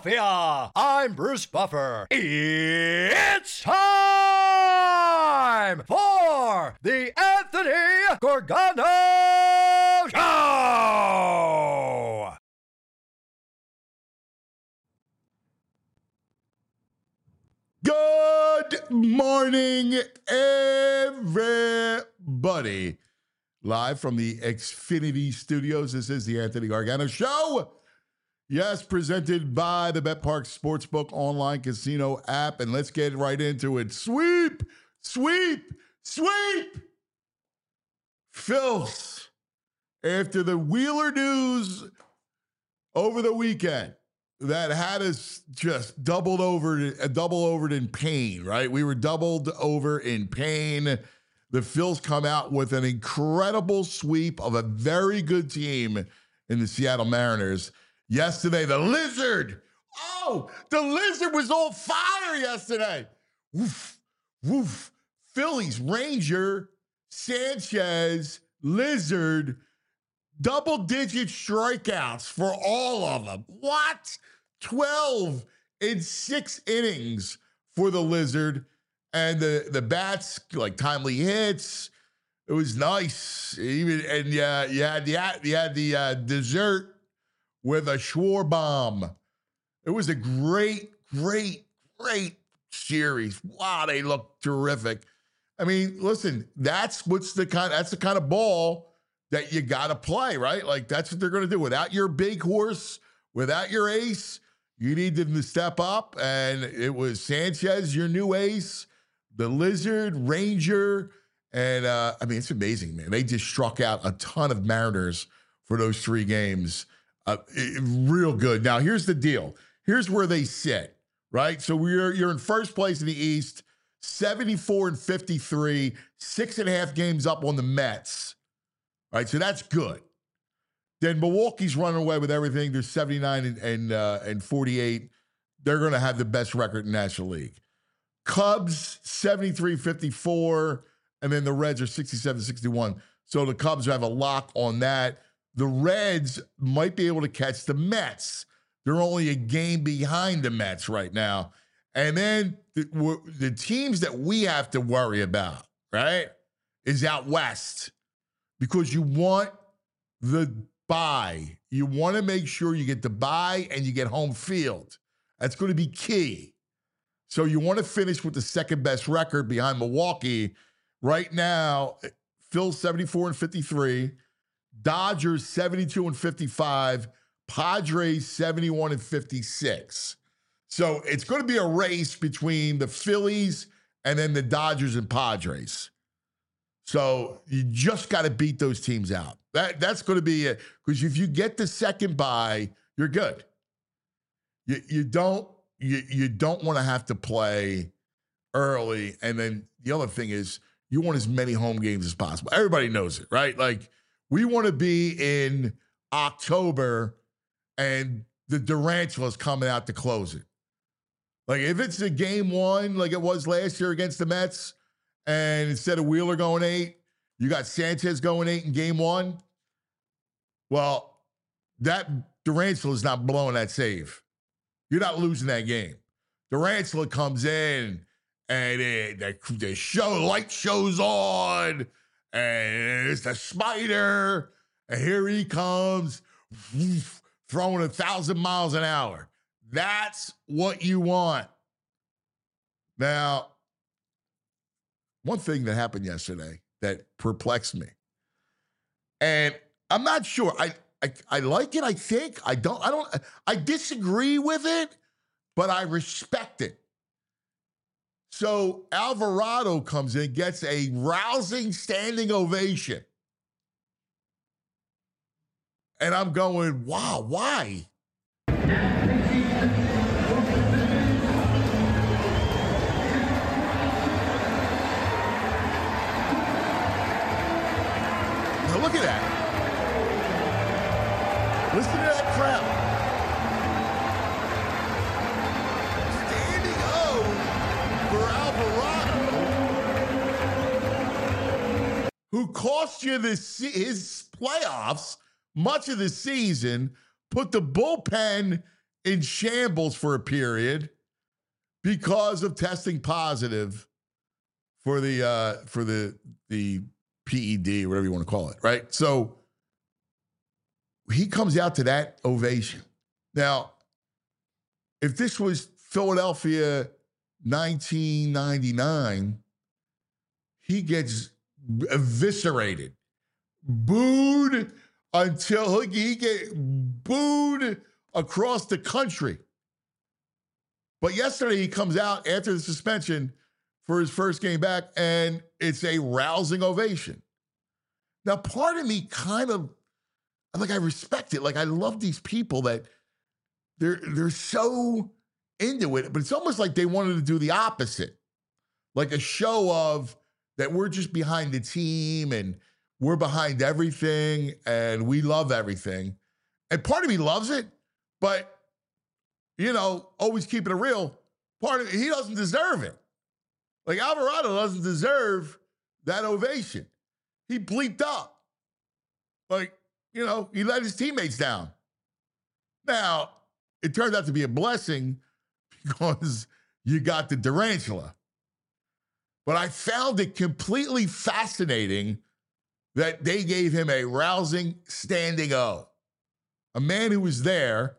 Philadelphia. I'm Bruce Buffer. It's time for the Anthony Gargano Show. Good morning, everybody. Live from the Xfinity Studios, this is the Anthony Gargano Show. Yes, presented by the BetPark Sportsbook online casino app. And let's get right into it. Sweep, sweep, sweep. Phils, after the Wheeler news over the weekend that had us just doubled over in pain, right? We were doubled over in pain. The Phils come out with an incredible sweep of a very good team in the Seattle Mariners. Yesterday, the Lizard. Oh, the Lizard was on fire yesterday. Woof, woof. Phillies, Ranger, Sanchez, Lizard, double-digit strikeouts for all of them. What? 12 in 6 innings for the Lizard. And the bats, like timely hits. It was nice. You had the dessert with a Schwarbomb. It was a great series. Wow, they look terrific. I mean, listen, that's the kind of ball that you got to play, right? Like, that's what they're going to do. Without your big horse, without your ace, you need them to step up. And it was Sanchez, your new ace, the Lizard, Ranger. And, it's amazing, man. They just struck out a ton of Mariners for those 3 games. Real good. Now, here's the deal. Here's where they sit, right? So you're in first place in the East, 74-53, 6.5 games up on the Mets. Right, so that's good. Then Milwaukee's running away with everything. They're 79 and 48. They're going to have the best record in the National League. Cubs, 73-54, and then the Reds are 67-61. So the Cubs have a lock on that. The Reds might be able to catch the Mets. They're only a game behind the Mets right now. And then the teams that we have to worry about, right, is out west. Because you want the bye. You want to make sure you get the bye and you get home field. That's going to be key. So you want to finish with the second best record behind Milwaukee. Right now, Phil's 74-53, Dodgers 72-55, Padres 71-56. So it's going to be a race between the Phillies and then the Dodgers and Padres. So you just got to beat those teams out. That's going to be it. Because if you get the second bye, you're good. You don't want to have to play early. And then the other thing is you want as many home games as possible. Everybody knows it, right? Like, we want to be in October and the Durantula's coming out to close it. Like, if it's a game 1 like it was last year against the Mets, and instead of Wheeler going 8, you got Sanchez going 8 in game 1. Well, that Durantula is not blowing that save. You're not losing that game. Durantula comes in, and the light shows on, and it's the spider, and here he comes, throwing 1,000 miles an hour. That's what you want. Now, one thing that happened yesterday that perplexed me, and I'm not sure. I like it. I think I don't. I disagree with it, but I respect it. So Alvarado comes in, gets a rousing standing ovation, and I'm going, wow, why? Look at that. Listen to that crowd. Standing O for Alvarado, who cost you his playoffs much of the season, put the bullpen in shambles for a period because of testing positive for the PED, whatever you want to call it, right? So he comes out to that ovation. Now, if this was Philadelphia 1999, he gets eviscerated, booed until he get booed across the country. But yesterday he comes out after the suspension for his first game back, and it's a rousing ovation. Now, part of me kind of, I respect it. Like, I love these people that they're so into it, but it's almost like they wanted to do the opposite. Like a show of that we're just behind the team and we're behind everything and we love everything. And part of me loves it, but, always keeping it real, part of it, he doesn't deserve it. Like, Alvarado doesn't deserve that ovation. He bleeped up. Like, he let his teammates down. Now, it turned out to be a blessing because you got the tarantula. But I found it completely fascinating that they gave him a rousing standing O. A man who was there,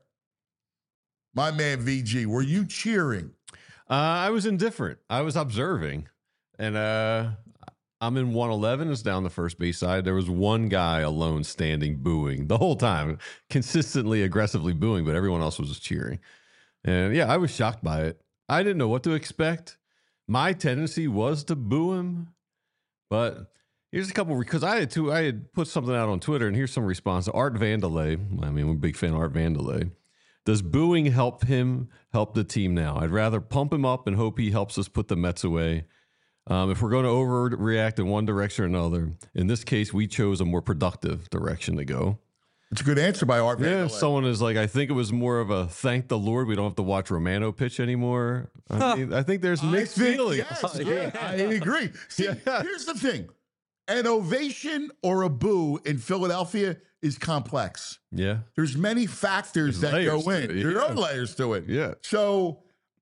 my man VG, were you cheering? I was indifferent. I was observing. And I'm in 111. It's down the first base side. There was one guy alone standing, booing the whole time, consistently, aggressively booing, but everyone else was just cheering. And yeah, I was shocked by it. I didn't know what to expect. My tendency was to boo him, but here's a couple, because I had put something out on Twitter, and here's some response. Art Vandelay, I'm a big fan of Art Vandelay. Does booing help him help the team now? I'd rather pump him up and hope he helps us put the Mets away. If we're going to overreact in one direction or another, in this case, we chose a more productive direction to go. It's a good answer by Art Vandelay. Yeah, someone is like, I think it was more of a thank the Lord we don't have to watch Romano pitch anymore. I think there's mixed feelings. Yes, I agree. See, here's the thing. An ovation or a boo in Philadelphia is complex. Yeah. There's many factors that go in. There are layers to it. Yeah. So,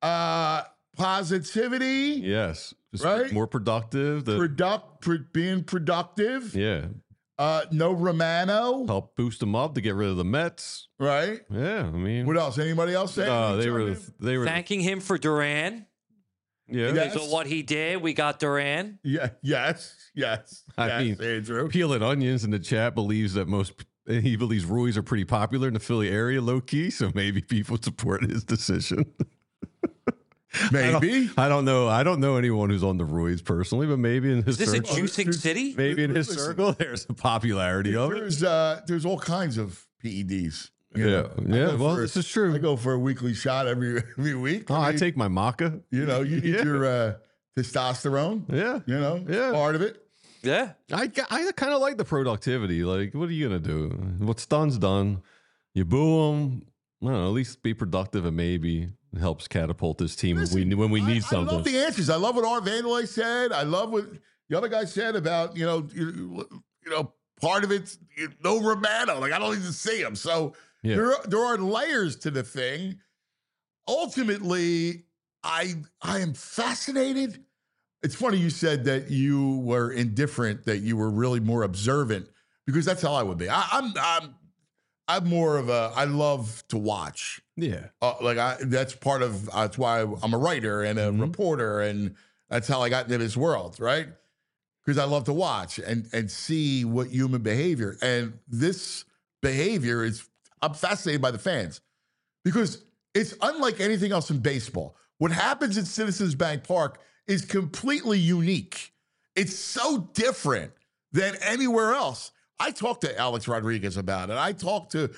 positivity. Yes. Just right? More productive. Being productive. Yeah. No Romano. Help boost them up to get rid of the Mets. Right. Yeah. I mean. What else? Anybody else say? They were thanking him for Duran. Yeah. Because of what he did, we got Duran. Yeah. Yes. I mean, Andrew. Peeling Onions in the chat believes that he believes Ruiz are pretty popular in the Philly area, low key. So maybe people support his decision. Maybe. I don't know. I don't know anyone who's on the Ruiz personally, but maybe in his Is this circle, a juicing city? Maybe in his circle, there's a popularity of it. There's all kinds of PEDs. Yeah. Well, this is true. I go for a weekly shot every week. I take my maca. You need your testosterone. Yeah. Part of it. Yeah. I kind of like the productivity. Like, what are you going to do? What's done's done. You boo them. I don't know, at least be productive, and maybe it helps catapult this team when we need something. I love the answers. I love what Art Vandelay said. I love what the other guy said about, part of it's no Romano. Like, I don't even see him. So there are layers to the thing. Ultimately, I am fascinated. It's funny you said that you were indifferent, that you were really more observant, because that's how I would be. I'm more of I love to watch. Yeah. That's why I'm a writer and a reporter, and that's how I got into this world, right? Because I love to watch and see what human behavior. And this behavior I'm fascinated by the fans, because it's unlike anything else in baseball. What happens at Citizens Bank Park is completely unique. It's so different than anywhere else. I talked to Alex Rodriguez about it. I talked to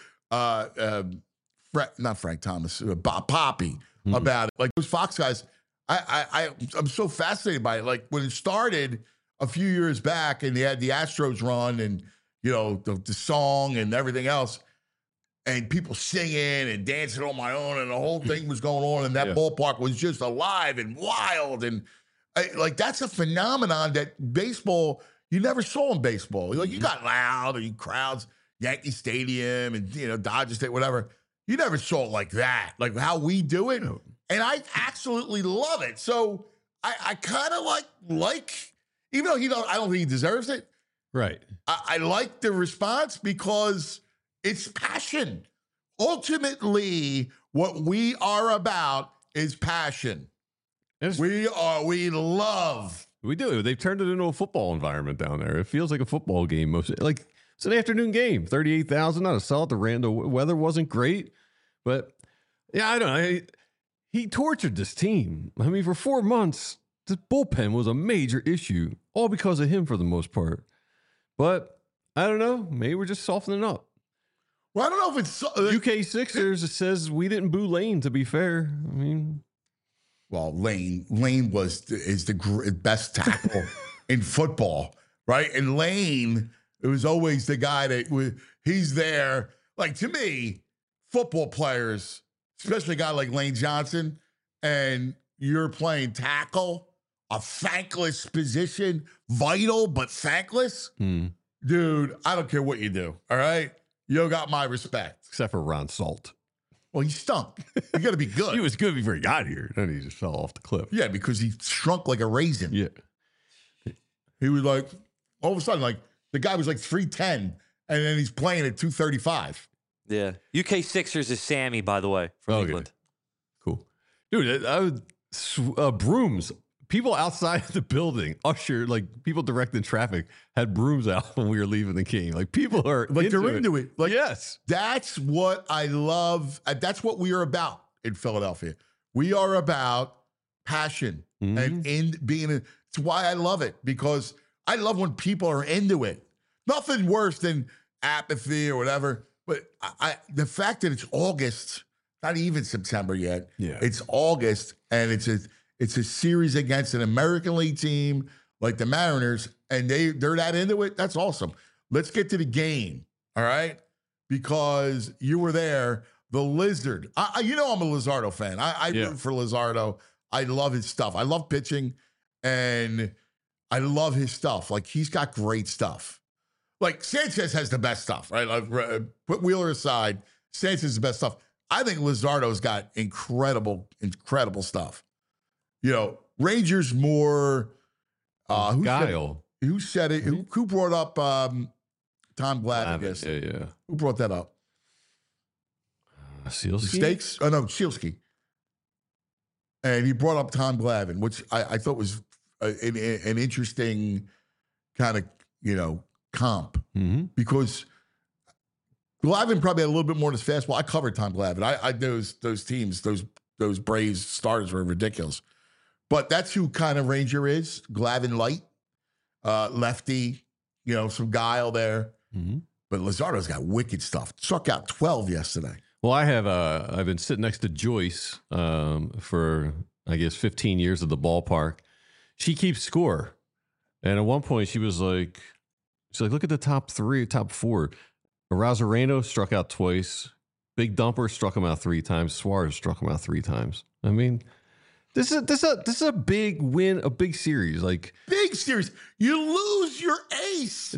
not Frank Thomas, Bob Poppy about it. Like, those Fox guys, I'm so fascinated by it. Like, when it started a few years back and they had the Astros run and, the song and everything else, and people singing and dancing on my own, and the whole thing was going on, and that ballpark was just alive and wild. And that's a phenomenon that baseball, you never saw in baseball. Like, you got loud, or you crowds, Yankee Stadium and, Dodger Stadium, whatever. You never saw it like that, like how we do it. And I absolutely love it. So I kind of like, even though I don't think he deserves it. Right. I like the response because it's passion. Ultimately, what we are about is passion. We love. We do. They've turned it into a football environment down there. It feels like a football game. Like it's an afternoon game. 38,000, not a solid. The weather wasn't great, but yeah, I don't know. He tortured this team. I mean, for 4 months, the bullpen was a major issue, all because of him for the most part. But I don't know. Maybe we're just softening up. Well, I don't know if it's UK Sixers says we didn't boo Lane. To be fair, I mean, well, Lane is the best tackle in football, right? And Lane, it was always the guy he's there. Like, to me, football players, especially a guy like Lane Johnson, and you're playing tackle, a thankless position, vital but thankless. Dude, I don't care what you do, all right? You got my respect. Except for Ron Salt. Well, he stunk. You got to be good. He was good before he got here. Then he just fell off the cliff. Yeah, because he shrunk like a raisin. Yeah. He was like, all of a sudden, like, the guy was like 310, and then he's playing at 235. Yeah. UK Sixers is Sammy, by the way, from England. Cool. Dude, brooms. People outside the building, like people directing traffic, had brooms out when we were leaving the game. Like people are like they're into it. Like, yes, that's what I love. That's what we are about in Philadelphia. We are about passion and being. It's why I love it, because I love when people are into it. Nothing worse than apathy or whatever. But the fact that it's August, not even September yet. Yeah, it's August, and it's a series against an American League team like the Mariners, and they're that into it. That's awesome. Let's get to the game, all right? Because you were there. The Lizard. I'm a Luzardo fan. I root for Luzardo. I love his stuff. I love pitching, and I love his stuff. Like, he's got great stuff. Like, Sanchez has the best stuff, right? Like, put Wheeler aside. Sanchez is the best stuff. I think Luzardo's got incredible stuff. Rangers more. Guile. Who said it? Who brought up Tom Glavine? I guess. Yeah. Who brought that up? Sealski? Stakes? Oh, no, Sealski. And he brought up Tom Glavine, which I thought was an interesting kind of, comp. Because Glavine probably had a little bit more in his fastball. I covered Tom Glavine. I those teams, those Braves starters were ridiculous. But that's who kind of Ranger is. Glavine light, lefty, some guile there. But Luzardo's got wicked stuff. Struck out 12 yesterday. Well, I've been sitting next to Joyce for, I guess, 15 years at the ballpark. She keeps score. And at one point, she's like, look at the top four. Arozarena struck out twice. Big Dumper struck him out 3 times. Suarez struck him out 3 times. I mean, this is a big win, a big series. Like, big series. You lose your ace.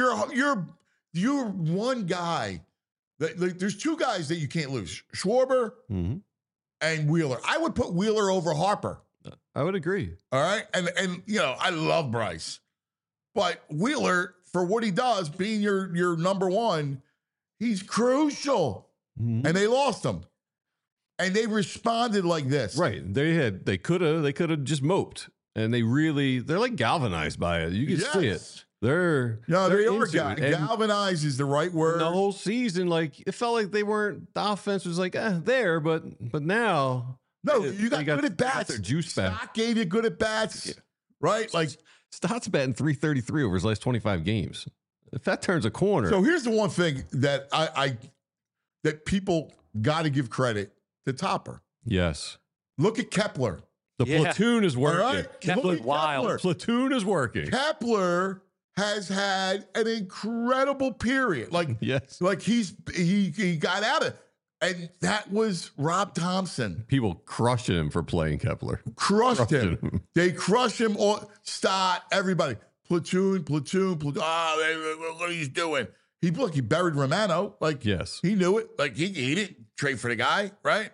You're one guy. There's 2 guys that you can't lose: Schwarber and Wheeler. I would put Wheeler over Harper. I would agree. All right, and I love Bryce, but Wheeler, for what he does, being your number one, he's crucial. And they lost him, and they responded like this. Right? They could have just moped, and they're like galvanized by it. You can see it. They're galvanized is the right word. The whole season, like, it felt like they weren't. The offense was like there, but now. No, you got good at bats. Their juice back. Stott gave you good at bats, right? Like, Stott's batting .333 over his last 25 games. If that turns a corner. So here's the one thing that that people got to give credit to Topper. Yes. Look at Kepler. The platoon is working. All right? Kepler, wild. Platoon is working. Kepler has had an incredible period. Like, yes. Like he got out of it. And that was Rob Thompson. People crushed him for playing Kepler. Crushed him. They crushed him. Stott, everybody. Platoon. What he's doing. He buried Romano. Like, Yes. he knew it. Like, he didn't trade for the guy, right?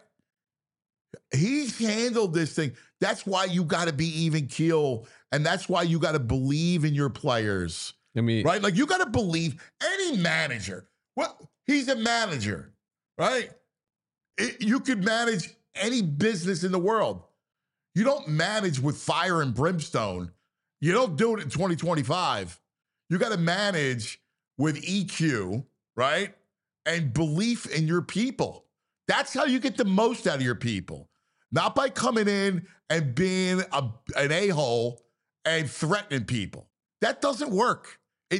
He's handled this thing. That's why you got to be even keel, and that's why you got to believe in your players. I mean, Right? Like, you got to believe any manager. Well, he's a manager, right? You could manage any business in the world. You don't manage with fire and brimstone. You don't do it in 2025. You got to manage with EQ, right? And belief in your people. That's how you get the most out of your people. Not by coming in and being an a-hole and threatening people. That doesn't work.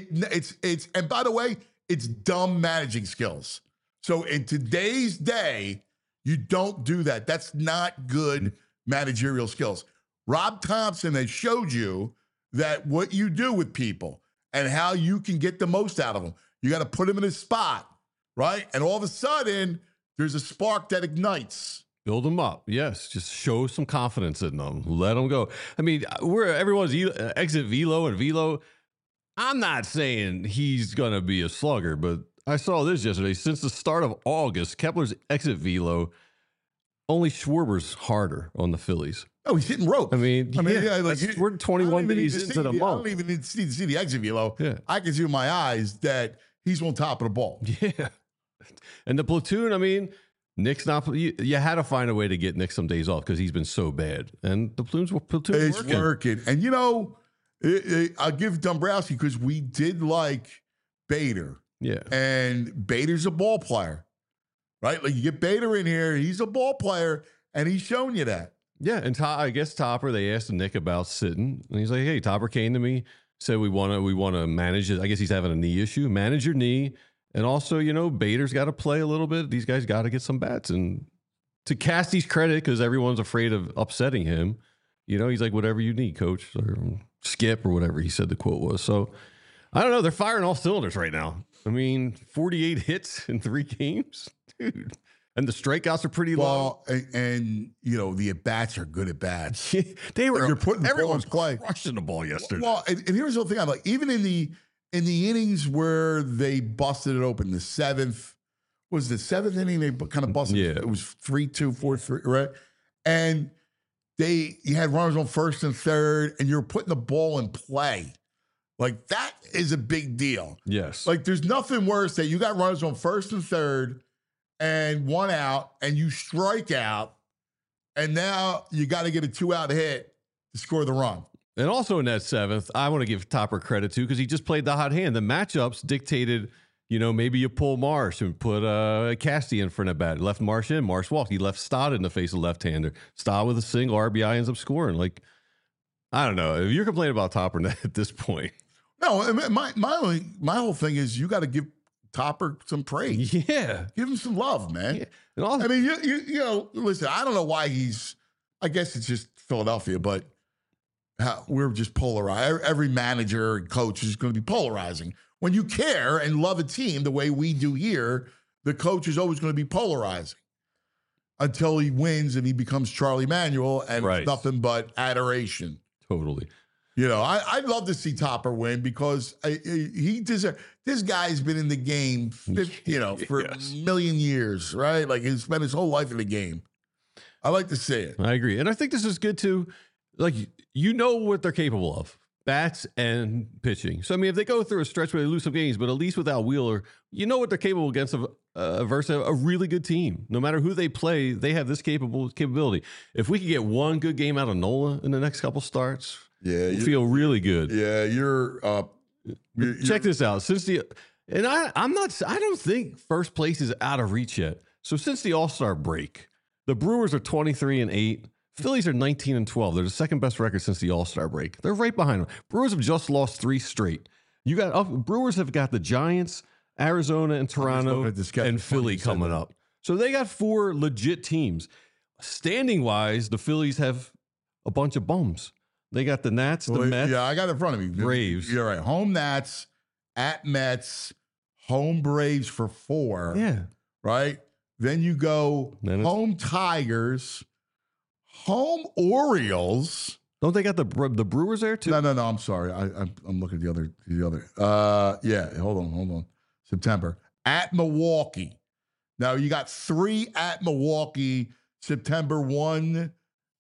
It's and by the way, it's dumb managing skills. So in today's day, you don't do that. That's not good managerial skills. Rob Thompson has showed you that what you do with people and how you can get the most out of them. You got to put them in a spot, right? And all of a sudden, there's a spark that ignites. build them up. Yes, just show some confidence in them. Let them go. I mean, everyone's exit velo and velo. I'm not saying he's going to be a slugger, but I saw this yesterday. Since the start of August, Kepler's exit velo, only Schwarber's harder on the Phillies. Oh, he's hitting rope. I mean, yeah, like we're 21 days into the month. I don't even need to see the exit velo. Yeah. I can see with my eyes that he's on top of the ball. Yeah. And the platoon, I mean, Nick's not, you had to find a way to get Nick some days off because he's been so bad. And the platoon's It's working. And, you know, I'll give Dombrowski because we did like Bader. Yeah. And Bader's a ball player, right? Like you get Bader in here, he's a ball player, and he's shown you that. Yeah, and I guess Topper, they asked Nick about sitting, and he's like, "Hey, Topper came to me, said we want to manage it. I guess he's having a knee issue. Manage your knee, and also, you know, Bader's got to play a little bit. These guys got to get some bats." And to Casty's credit, because everyone's afraid of upsetting him, you know, he's like, "Whatever you need, coach," or Skip, or whatever he said the quote was. So I don't know. They're firing all cylinders right now. I mean, 48 hits in 3 games, dude. And the strikeouts are pretty low. Well, and you know, the at-bats are good at-bats. They were, you're putting everyone's play. crushing the ball yesterday. Well, and here's the thing. I'm like, even in the innings where they busted it open, the 7th, was the 7th inning, they kind of busted it. It was 3-2, 4-3, right? And you had runners on first and third, and you're putting the ball in play. Like, that is a big deal. Yes. Like, there's nothing worse that you got runners on first and third and 1 out, and you strike out, and now you got to get a 2-out hit to score the run. And also in that 7th, I want to give Topper credit too, because he just played the hot hand. The matchups dictated, you know, maybe you pull Marsh and put Casty in front of bat. Left Marsh in, Marsh walked. He left Stott in the face of left-hander. Stott with a single, RBI ends up scoring. Like, I don't know. If you're complaining about Topper at this point. No, my whole thing is you got to give Topper some praise. Yeah. Give him some love, man. Yeah. And also, I mean, you know, listen, I don't know why I guess it's just Philadelphia, but we're just polarized. Every manager and coach is going to be polarizing. When you care and love a team the way we do here, the coach is always going to be polarizing until he wins and he becomes Charlie Manuel and it's nothing but adoration. Totally. You know, I'd love to see Topper win because he deserves. This guy's been in the game, you know, for a million years, right? Like he's spent his whole life in the game. I like to see it. I agree. And I think this is good too. Like, you know what they're capable of. Bats and pitching. So, I mean, if they go through a stretch where they lose some games, but at least without Wheeler, you know what they're capable against versus a really good team. No matter who they play, they have this capability. If we could get one good game out of Nola in the next couple starts, we'll feel really good. Yeah, you're Check this out. I don't think first place is out of reach yet. So since the All-Star break, the Brewers are 23-8. Phillies are 19-12. They're the second best record since the All-Star break. They're right behind them. Brewers have just lost 3 straight. Brewers have got the Giants, Arizona, and Toronto, and Philly coming up. So they got 4 legit teams. Standing-wise, the Phillies have a bunch of bums. They got the Nats, the Mets. Yeah, I got it in front of me. Braves. You're right. Home Nats, at Mets, home Braves for 4. Yeah. Right? Then you go home Tigers, home Orioles. Don't they got the Brewers there too? No. I'm sorry. I'm looking at the other. Yeah. Hold on. September. At Milwaukee. Now, you got 3 at Milwaukee, September 1,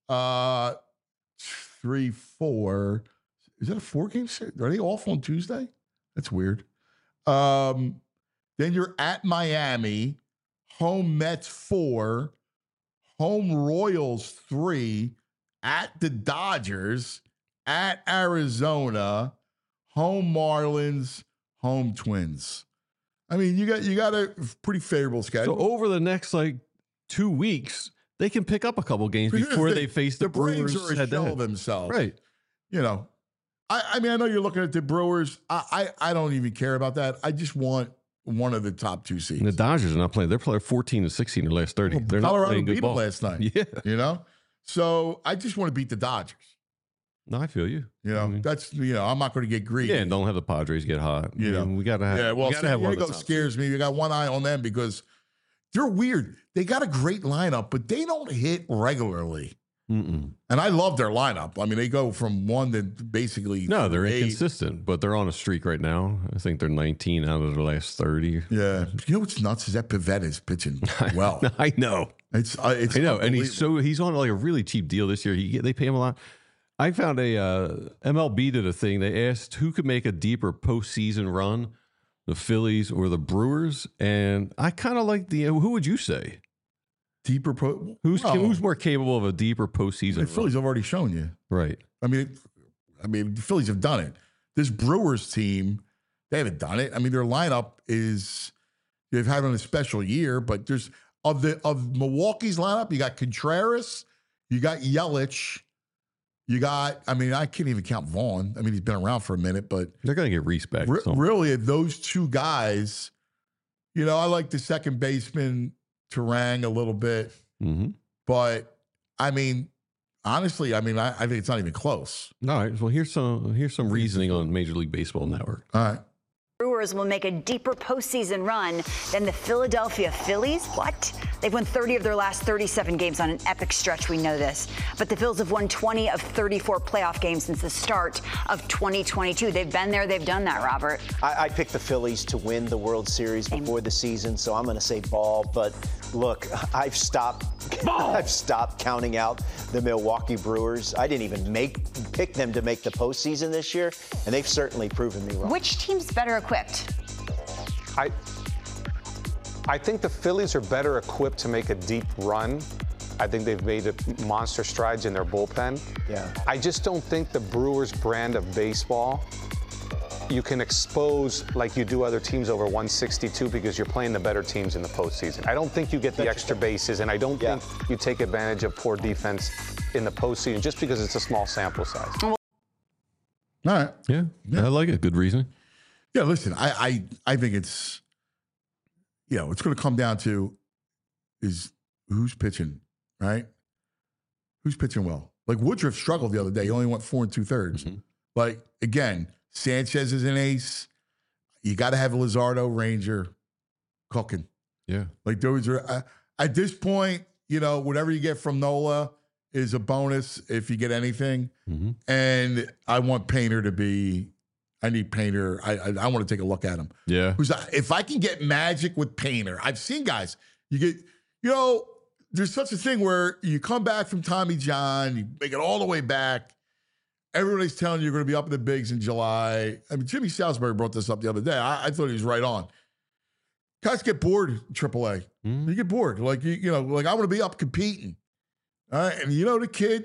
3, 4. Is that a 4-game series? Are they off on Tuesday? That's weird. Then you're at Miami, home Mets 4, home Royals 3, at the Dodgers, at Arizona, home Marlins, home Twins. I mean, you got a pretty favorable schedule. So over the next 2 weeks, they can pick up a couple games before they face the Brewers. Braves are a shell of themselves, right? You know, I mean, I know you're looking at the Brewers. I don't even care about that. I just want one of the top 2 seeds. And the Dodgers are not playing. They're playing 14-16 in the last 30. Well, They're Colorado not playing good beat ball them last night. Yeah. You know? So I just want to beat the Dodgers. No, I feel you. You know, that's, I'm not going to get greedy. Yeah, and don't have the Padres get hot. You know, we got to have. Yeah, well, we gotta have one of the San Diego top scares me. We got one eye on them because they're weird. They got a great lineup, but they don't hit regularly. Mm-mm. And I love their lineup. I mean, they go from 1 to basically No, they're 8. inconsistent, but they're on a streak right now. I think they're 19 out of their last 30. Yeah. You know what's nuts is that Pivetta is pitching well. I know. It's I know, and he's on a really cheap deal this year. They pay him a lot. I found MLB did a thing. They asked who could make a deeper postseason run, the Phillies or the Brewers, and I kind of like who would you say? Deeper Who's more capable of a deeper postseason The Phillies have already shown you. Right. I mean, the Phillies have done it. This Brewers team, they haven't done it. I mean, their lineup they've had a special year, but there's of Milwaukee's lineup, you got Contreras, you got Yelich, you got, I can't even count Vaughn. I mean, he's been around for a minute, but they're going to get Reese back. Really, those 2 guys, I like the second baseman Terang a little bit, but honestly, I think it's not even close. All right. Well, here's some reasoning on Major League Baseball Network. All right. Brewers will make a deeper postseason run than the Philadelphia Phillies. What? They've won 30 of their last 37 games on an epic stretch. We know this. But the Phils have won 20 of 34 playoff games since the start of 2022. They've been there. They've done that, Robert. I picked the Phillies to win the World Series before the season, so I'm going to say ball. But look, I've stopped counting out the Milwaukee Brewers. I didn't even pick them to make the postseason this year, and they've certainly proven me wrong. Which team's better equipped? I think the Phillies are better equipped to make a deep run. I think they've made monster strides in their bullpen. Yeah. I just don't think the Brewers brand of baseball you can expose like you do other teams over 162 because you're playing the better teams in the postseason. I don't think you get the extra bases, and I don't think you take advantage of poor defense in the postseason just because it's a small sample size. All right. Yeah. I like it. Good reasoning. Yeah, listen, I think it's, it's going to come down to is who's pitching, right? Who's pitching well? Like Woodruff struggled the other day. He only went 4 2/3. Mm-hmm. Like, again, Sanchez is an ace. You got to have Luzardo, Ranger, cooking. Yeah. Like those are, at this point, whatever you get from Nola is a bonus if you get anything. Mm-hmm. And I want Painter to be, I need Painter. I want to take a look at him. Yeah. If I can get magic with Painter, I've seen guys, you get, there's such a thing where you come back from Tommy John, you make it all the way back. Everybody's telling you you're going to be up in the bigs in July. I mean, Jimmy Salisbury brought this up the other day. I thought he was right on. Guys get bored in AAA. Mm-hmm. You get bored. Like, I want to be up competing. All right. And the kid,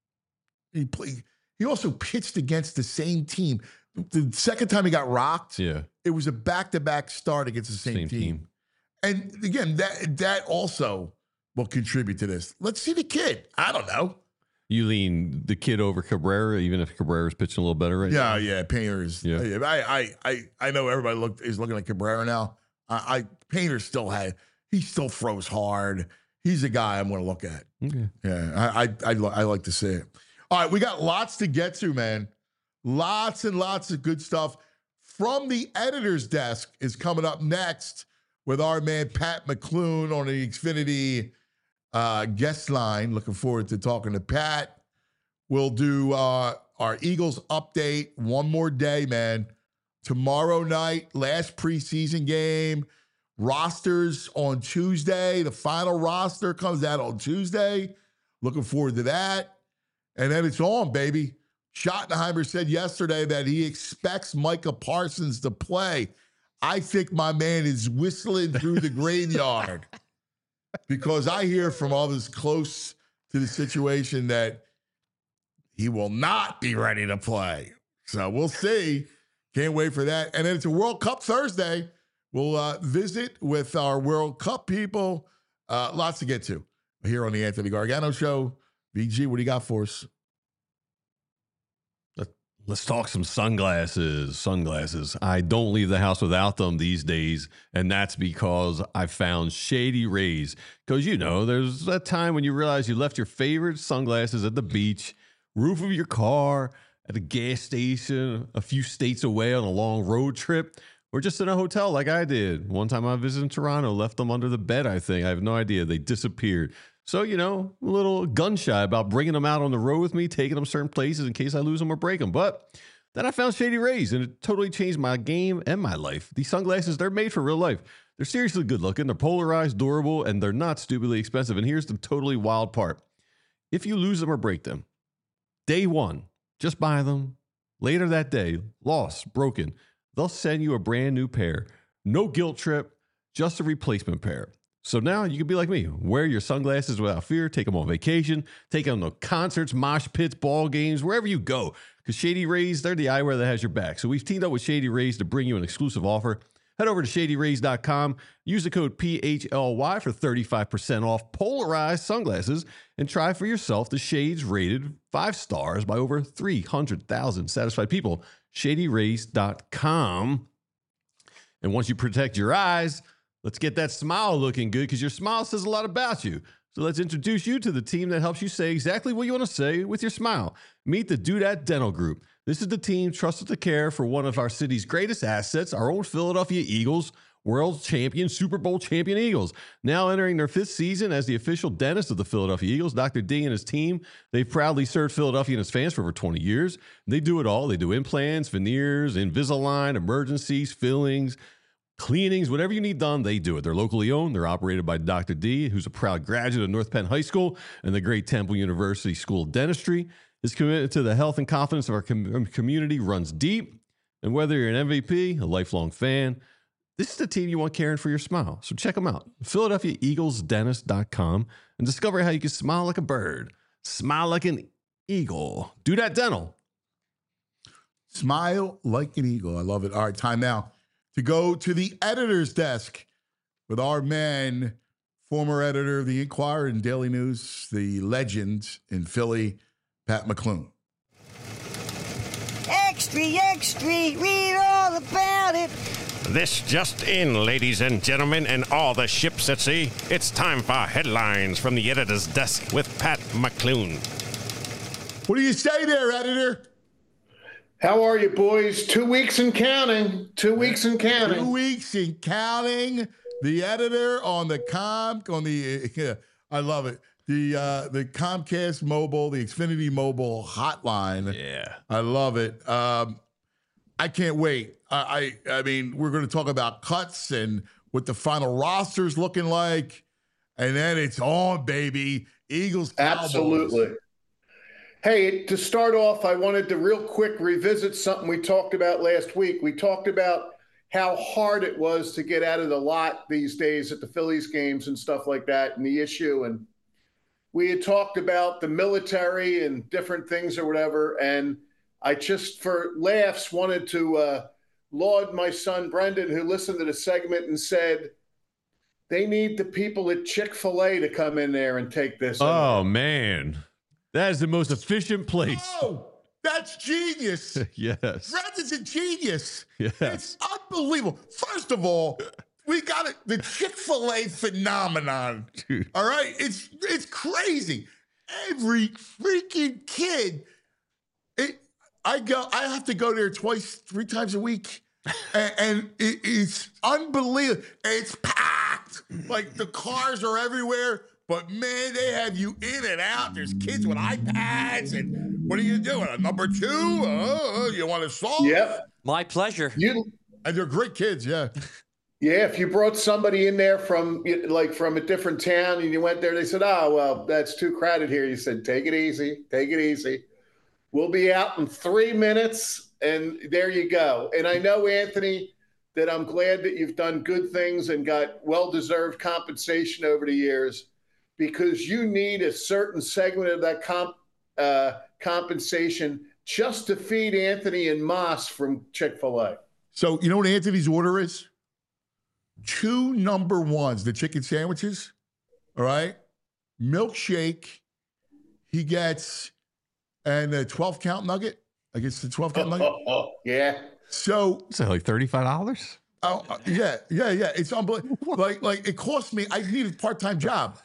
he also pitched against the same team. The second time he got rocked, it was a back-to-back start against the same team. And again, that also will contribute to this. Let's see the kid. I don't know. You lean the kid over Cabrera, even if Cabrera's pitching a little better right now? Yeah, Painter is. Yeah. I know everybody is looking at Cabrera now. Painter he still throws hard. He's a guy I'm going to look at. Okay. Yeah, I like to see it. All right, we got lots to get to, man. Lots and lots of good stuff. From the editor's desk is coming up next with our man Pat McClune on the Xfinity guest line. Looking forward to talking to Pat. We'll do our Eagles update one more day, man. tomorrow night, last preseason game. Rosters on Tuesday. The final roster comes out on Tuesday. Looking forward to that. And then it's on, baby. Schottenheimer said yesterday that he expects Micah Parsons to play. I think my man is whistling through the graveyard because I hear from others close to the situation that he will not be ready to play. So we'll see. Can't wait for that. And then it's a World Cup Thursday. We'll visit with our World Cup people. Lots to get to here on the Anthony Gargano Show. VG, what do you got for us? Let's talk some sunglasses. Sunglasses. I don't leave the house without them these days, and that's because I found Shady Rays. Because, you know, there's that time when you realize you left your favorite sunglasses at the beach, roof of your car, at a gas station, a few states away on a long road trip, or just in a hotel like I did. One time I visited in Toronto, left them under the bed, I think. I have no idea. They disappeared. So, you know, a little gun shy about bringing them out on the road with me, taking them certain places in case I lose them or break them. But then I found Shady Rays, and it totally changed my game and my life. These sunglasses, they're made for real life. They're seriously good looking. They're polarized, durable, and they're not stupidly expensive. And here's the totally wild part. If you lose them or break them, day one, just buy them. Later that day, lost, broken, they'll send you a brand new pair. No guilt trip, just a replacement pair. So now you can be like me. Wear your sunglasses without fear. Take them on vacation. Take them to concerts, mosh pits, ball games, wherever you go. Because Shady Rays, they're the eyewear that has your back. So we've teamed up with Shady Rays to bring you an exclusive offer. Head over to ShadyRays.com. Use the code PHLY for 35% off polarized sunglasses. And try for yourself the shades rated 5 stars by over 300,000 satisfied people. ShadyRays.com. And once you protect your eyes, let's get that smile looking good because your smile says a lot about you. So let's introduce you to the team that helps you say exactly what you want to say with your smile. Meet the Do That Dental Group. This is the team trusted to care for one of our city's greatest assets, our own Philadelphia Eagles, world champion, Super Bowl champion Eagles. Now entering their 5th season as the official dentist of the Philadelphia Eagles, Dr. D and his team, they've proudly served Philadelphia and its fans for over 20 years. They do it all. They do implants, veneers, Invisalign, emergencies, fillings, cleanings, whatever you need done, they do it. They're locally owned. They're operated by Dr. D, who's a proud graduate of North Penn High School and the great Temple University School of Dentistry. His commitment to the health and confidence of our community runs deep. And whether you're an MVP, a lifelong fan, this is the team you want caring for your smile. So check them out, PhiladelphiaEaglesDentist.com, and discover how you can smile like a bird, smile like an eagle. Do That Dental. Smile like an eagle. I love it. All right, time now to go to the editor's desk with our man, former editor of the Inquirer and Daily News, the legend in Philly, Pat McClune. Extra, extra, read all about it. This just in, ladies and gentlemen, and all the ships at sea. It's time for headlines from the editor's desk with Pat McClune. What do you say there, editor? How are you, boys? 2 weeks and counting. 2 weeks and counting. 2 weeks and counting. The editor on the I love it. The Comcast Mobile, the Xfinity Mobile hotline. Yeah. I love it. I can't wait. I mean, we're going to talk about cuts and what the final roster's looking like. And then it's on, baby. Eagles, Cowboys. Absolutely. Hey, to start off, I wanted to real quick revisit something we talked about last week. We talked about how hard it was to get out of the lot these days at the Phillies games and stuff like that, and the issue. And we had talked about the military and different things or whatever. And I just, for laughs, wanted to laud my son Brendan, who listened to the segment and said, they need the people at Chick-fil-A to come in there and take this. Oh, man. That is the most efficient place. Oh, that's genius. Yes. Brendan's a genius. Yes. It's unbelievable. First of all, we got the Chick-fil-A phenomenon. Dude. All right? It's crazy. Every freaking kid. I have to go there 3 times a week. And it's unbelievable. It's packed. Like the cars are everywhere. But, man, they have you in and out. There's kids with iPads and What are you doing? A number 2? You want to solve? Yep. My pleasure. And they're great kids, yeah. Yeah, if you brought somebody in there from a different town and you went there, they said, "Oh, well, that's too crowded here." You said, "Take it easy, take it easy. We'll be out in 3 minutes," and there you go. And I know, Anthony, that I'm glad that you've done good things and got well-deserved compensation over the years, because you need a certain segment of that compensation just to feed Anthony and Moss from Chick-fil-A. So you know what Anthony's order is? 2 number 1s, the chicken sandwiches, all right? Milkshake, he gets, and a 12-count nugget. I guess the 12-count nugget. Yeah. So is that like $35? Oh, yeah. It's unbelievable. Like it cost me, I need a part-time job.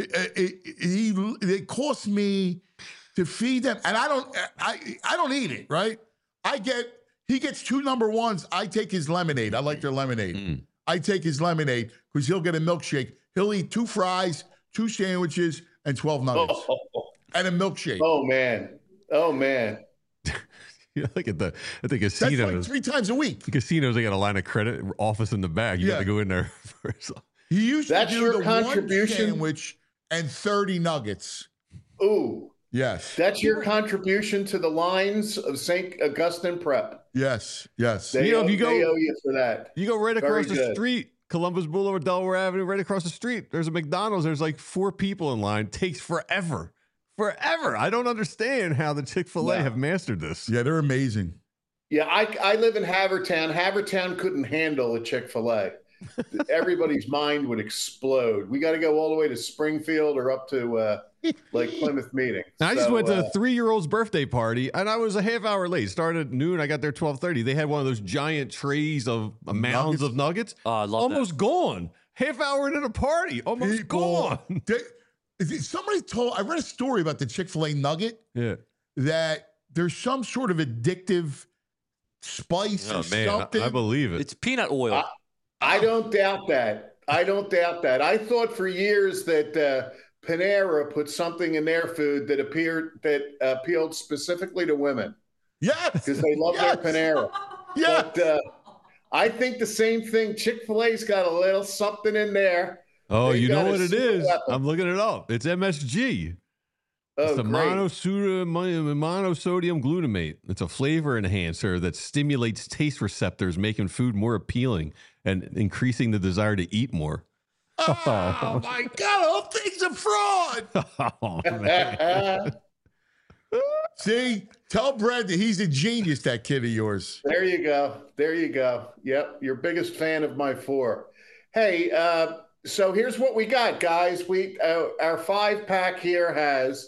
It cost me to feed them, and I don't eat it, right? He gets 2 number 1s. I take his lemonade. I like their lemonade. I take his lemonade because he'll get a milkshake. He'll eat 2 fries, 2 sandwiches, and 12 nuggets. And a milkshake. Oh, man. Yeah, like at the casinos. That's like 3 times a week. The casinos, they got a line of credit office in the back. You got to go in there first. He used That's to do your the contribution? 1 sandwich and 30 nuggets. Ooh. Yes. That's your contribution to the lines of St. Augustine Prep. Yes. They owe you for that. You go right Very across the good. street, Columbus Boulevard, Delaware Avenue, right across the street. There's a McDonald's. There's like 4 people in line. Takes forever. I don't understand how the Chick-fil-A have mastered this. Yeah, they're amazing. Yeah, I live in Havertown. Havertown couldn't handle a Chick-fil-A. Everybody's mind would explode. We got to go all the way to Springfield or up to like Plymouth Meeting. Now, I just went to a 3-year-old's birthday party, and I was a half hour late. Started at noon. I got there 12:30. They had one of those giant trays of mounds of nuggets. Oh, I love almost gone. Half hour into the party, almost gone. I read a story about the Chick-fil-A nugget. Yeah. That there's some sort of addictive spice or something. I believe it. It's peanut oil. I don't doubt that. I thought for years that Panera put something in their food that appealed specifically to women. Yes, because they love their Panera. Yeah, but I think the same thing. Chick-fil-A's got a little something in there. Oh, They you know got a what it super is? weapon. I'm looking it up. It's MSG. It's the great. monosodium glutamate. It's a flavor enhancer that stimulates taste receptors, making food more appealing and increasing the desire to eat more. Oh my God, all things a fraud. Oh, man. See, tell Brad that he's a genius, that kid of yours. There you go. Yep, your biggest fan of my 4. Hey, so here's what we got, guys. Our 5-pack here has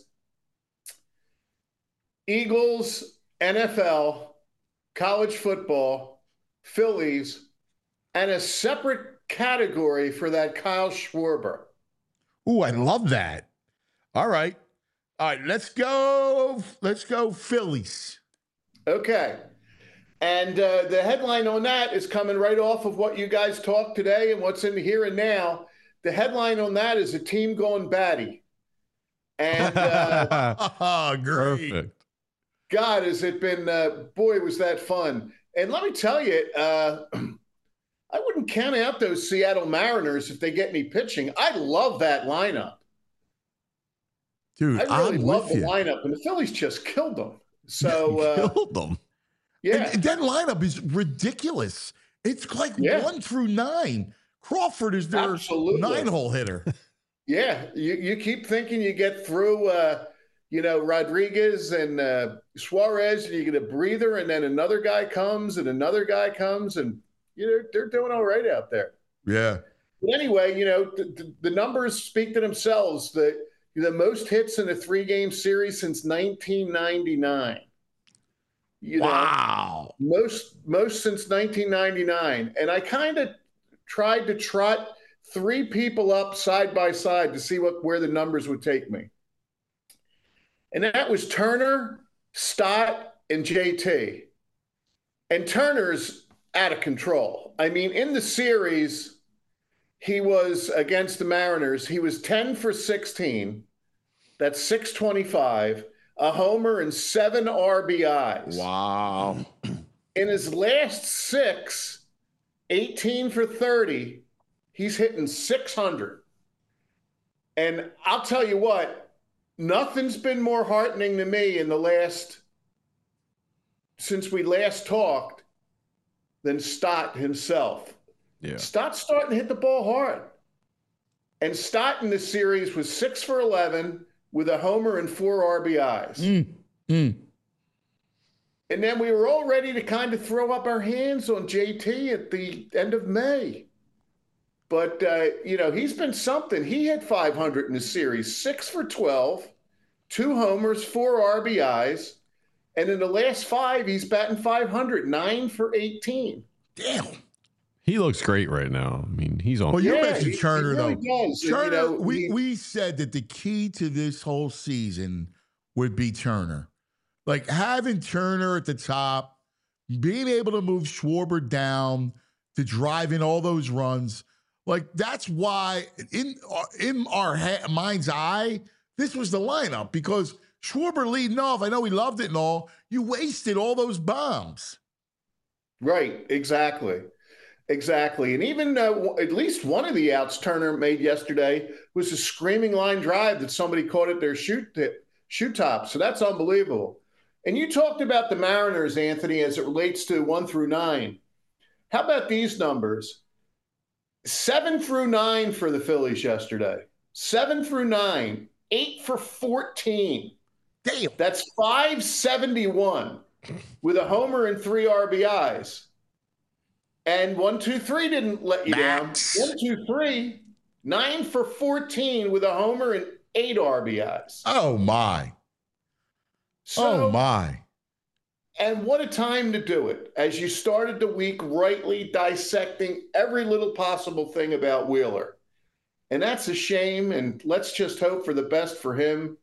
Eagles, NFL, college football, Phillies, and a separate category for that Kyle Schwarber. Ooh, I love that. All right, let's go Phillies. Okay. And the headline on that is coming right off of what you guys talked today and what's in the here and now. The headline on that is a team going batty. And great. Perfect. God, has it been, boy, was that fun. And let me tell you, I wouldn't count out those Seattle Mariners if they get any pitching. I love that lineup. Dude, I really I'm love with the you. lineup, and the Phillies just killed them. So Killed them. Yeah. And that lineup is ridiculous. It's like 1 through 9. Crawford is their Absolutely. 9-hole hitter. Yeah, you keep thinking you get through, Rodriguez and Suarez, and you get a breather, and then another guy comes, and they're doing all right out there. Yeah. But anyway, the numbers speak to themselves. The most hits in a 3-game series since 1999. Wow. Most since 1999. And I kind of tried to trot 3 people up side by side to see where the numbers would take me. And that was Turner, Stott, and JT. And Turner's out of control. I mean, in the series, he was against the Mariners. He was 10 for 16. That's 625. a homer, and 7 RBIs. Wow. In his last 6, 18 for 30, he's hitting 600. And I'll tell you what, nothing's been more heartening to me since we last talked than Stott himself. Yeah. Stott's starting to hit the ball hard. And Stott in this series was 6 for 11 with a homer and 4 RBIs. And then we were all ready to kind of throw up our hands on JT at the end of May. But, he's been something. He hit 500 in the series, 6 for 12, 2 homers, 4 RBIs. And in the last 5, he's batting 500, 9 for 18. Damn. He looks great right now. I mean, he's on. Well, you mentioned Turner, he really though. does. Turner, we said that the key to this whole season would be Turner. Like having Turner at the top, being able to move Schwarber down to drive in all those runs. Like that's why in our mind's eye, this was the lineup because Schwarber leading off. I know we loved it and all. You wasted all those bombs. Right, exactly. And even at least one of the outs Turner made yesterday was a screaming line drive that somebody caught at their shoot top. So that's unbelievable. And you talked about the Mariners, Anthony, as it relates to 1 through 9. How about these numbers? 7 through 9 for the Phillies yesterday. 7 through 9, 8 for 14. Damn. That's 571 with a homer and 3 RBIs. And 1, 2, 3 didn't let you down. 1, 2, 3, 9 for 14 with a homer and 8 RBIs. Oh, my. So, oh, my. And what a time to do it. As you started the week rightly dissecting every little possible thing about Wheeler. And that's a shame. And let's just hope for the best for him,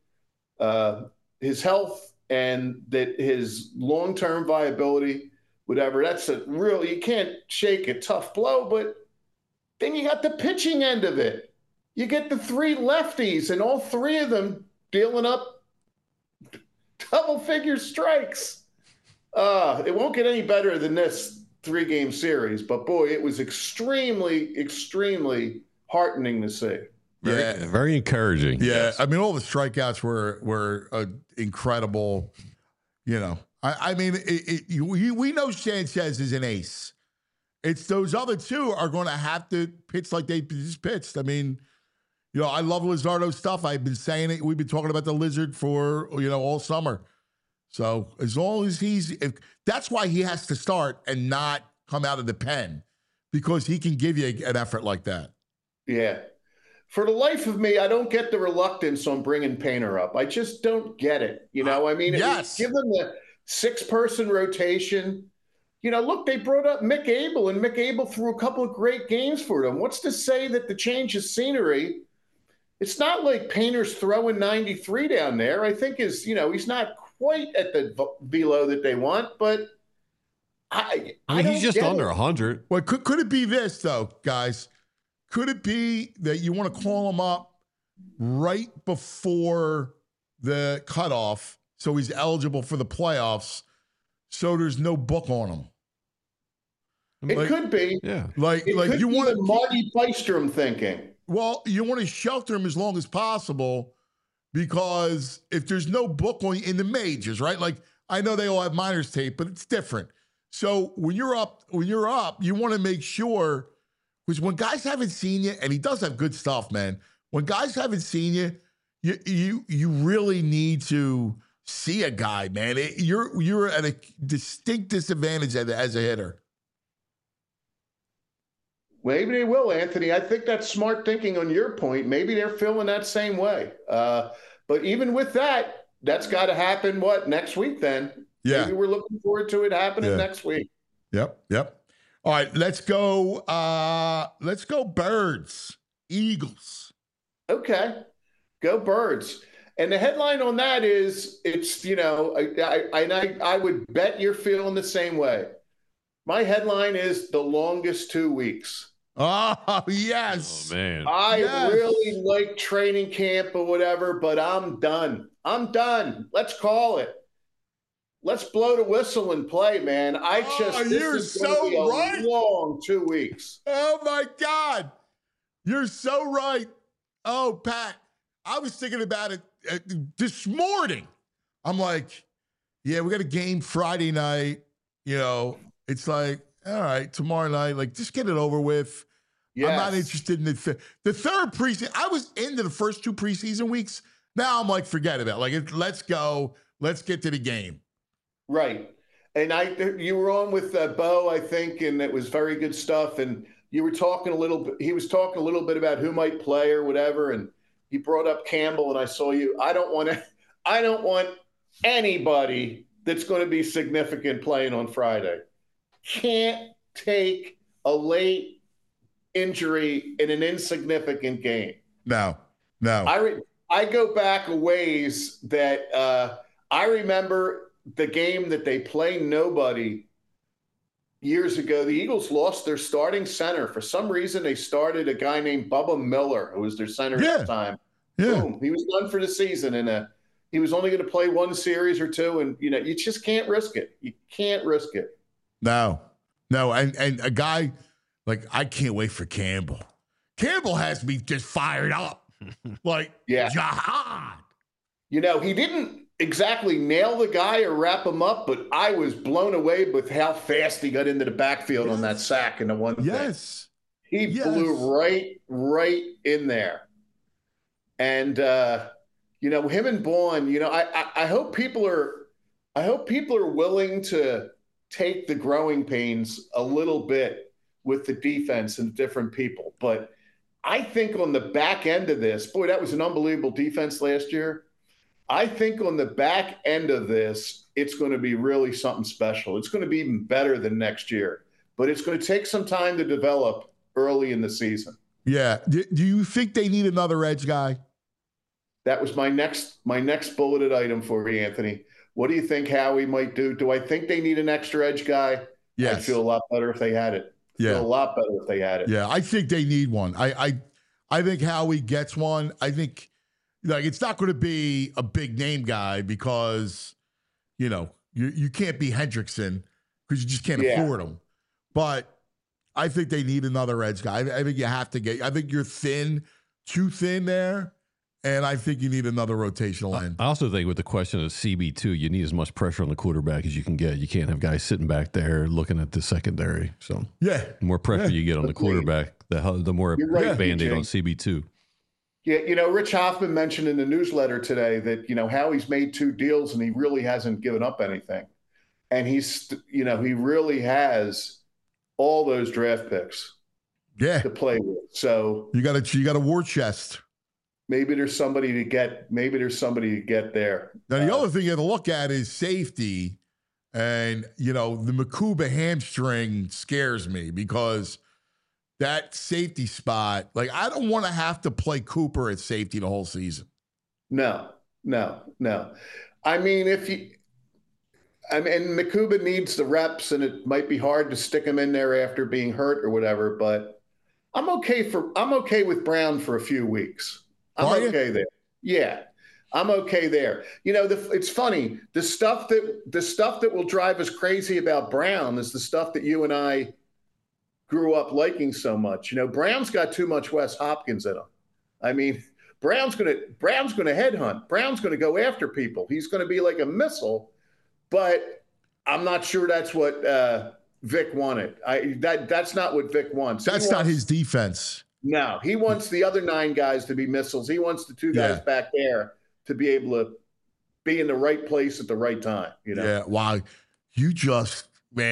his health, and that his long-term viability, whatever. That's you can't shake a tough blow, but then you got the pitching end of it. You get the 3 lefties and all 3 of them dealing up double-figure strikes. It won't get any better than this 3-game series, but boy, it was extremely, extremely heartening to see. Very encouraging. Yeah, Yes. I mean, all the strikeouts were incredible. You know, I mean, we know Sanchez is an ace. It's those other 2 are going to have to pitch like they just pitched. I mean, I love Luzardo's stuff. I've been saying it. We've been talking about the Lizard for, all summer. So as long as that's why he has to start and not come out of the pen, because he can give you an effort like that. Yeah. For the life of me, I don't get the reluctance on bringing Painter up. I just don't get it. I mean, yes. Give them the 6-person rotation. Look, they brought up Mick Abel, and Mick Abel threw a couple of great games for them. What's to say that the change of scenery, it's not like Painter's throwing 93 down there. I think he's not quite at the velo that they want, but I mean, he's just under 100. Well, could it be this, though, guys? Could it be that you want to call him up right before the cutoff so he's eligible for the playoffs so there's no book on him? It could be. Yeah. Like could you be want the Marty Bystrom thinking. Well, you want to shelter him as long as possible, because if there's no book on in the majors, right? Like I know they all have minors tape, but it's different. So when you're up, you want to make sure, because when guys haven't seen you, and he does have good stuff, man. When guys haven't seen you, you really need to see a guy, man. You're at a distinct disadvantage as a hitter. Maybe they will, Anthony. I think that's smart thinking on your point. Maybe they're feeling that same way. But even with that, that's got to happen, next week then? Yeah. Maybe we're looking forward to it happening next week. Yep. All right, let's go. Let's go Birds, Eagles. Okay, go Birds. And the headline on that is, it's, I would bet you're feeling the same way. My headline is the longest 2 weeks. Oh, yes. Oh, man. I Yes. really like training camp or whatever, but I'm done. I'm done. Let's call it. Let's blow the whistle and play, man. You're this is going to so be a right. long 2 weeks. Oh, my God. You're so right. Oh, Pat, I was thinking about it this morning. I'm like, yeah, we got a game Friday night. You know, it's like, all right, tomorrow night, like, just get it over with. Yes. I'm not interested in the third preseason. I was into the first 2 preseason weeks. Now I'm like, forget about it. Like, let's go. Let's get to the game. Right. And you were on with Bo, I think, and it was very good stuff. And you were talking a little bit, he was talking a little bit about who might play or whatever. And he brought up Campbell, and I saw you. I don't want anybody that's going to be significant playing on Friday. Can't take a late injury in an insignificant game. No. I go back a ways that I remember the game that they play nobody years ago. The Eagles lost their starting center. For some reason, they started a guy named Bubba Miller, who was their center at the time. Yeah. Boom. He was done for the season, and he was only going to play 1 series or 2, and you just can't risk it. You can't risk it. No. And a guy like, I can't wait for Campbell. Campbell has me just fired up. Like, yeah. Jihad. He didn't exactly nail the guy or wrap him up, but I was blown away with how fast he got into the backfield on that sack and the one thing. Yes. He blew right in there. And him and Bourne, I hope people are willing to take the growing pains a little bit with the defense and different people. But I think on the back end of this, boy, that was an unbelievable defense last year. I think on the back end of this, it's going to be really something special. It's going to be even better than next year, but it's going to take some time to develop early in the season. Yeah. Do you think they need another edge guy? That was my next bulleted item for you, Anthony. What do you think Howie might do? Do I think they need an extra edge guy? Yes. I'd feel a lot better if they had it. Yeah. Feel a lot better if they had it. Yeah, I think they need one. I think Howie gets one. I think it's not going to be a big name guy because you can't be Hendrickson because you just can't afford him. But I think they need another edge guy. I think you have to get. I think you're too thin there. And I think you need another rotational end. I also think with the question of CB2, you need as much pressure on the quarterback as you can get. You can't have guys sitting back there looking at the secondary. So the more pressure you get on the quarterback, the more Band-Aid on CB2. Yeah, Rich Hoffman mentioned in the newsletter today that, Howie's made 2 deals and he really hasn't given up anything. And he really has all those draft picks to play with. So you got a war chest. Maybe there's somebody to get. Maybe there's somebody to get there. Now the other thing you have to look at is safety, and the Makuba hamstring scares me because that safety spot. Like, I don't want to have to play Cooper at safety the whole season. No. I mean, Makuba needs the reps, and it might be hard to stick him in there after being hurt or whatever. But I'm okay with Brown for a few weeks. I'm okay there. Yeah, I'm okay there. It's funny. The stuff that will drive us crazy about Brown is the stuff that you and I grew up liking so much. Brown's got too much Wes Hopkins in him. I mean, Brown's gonna headhunt. Brown's gonna go after people. He's gonna be like a missile. But I'm not sure that's what Vic wanted. That's not what Vic wants. That's not his defense. No, he wants the other 9 guys to be missiles. He wants the 2 guys back there to be able to be in the right place at the right time. Yeah, wow. You just,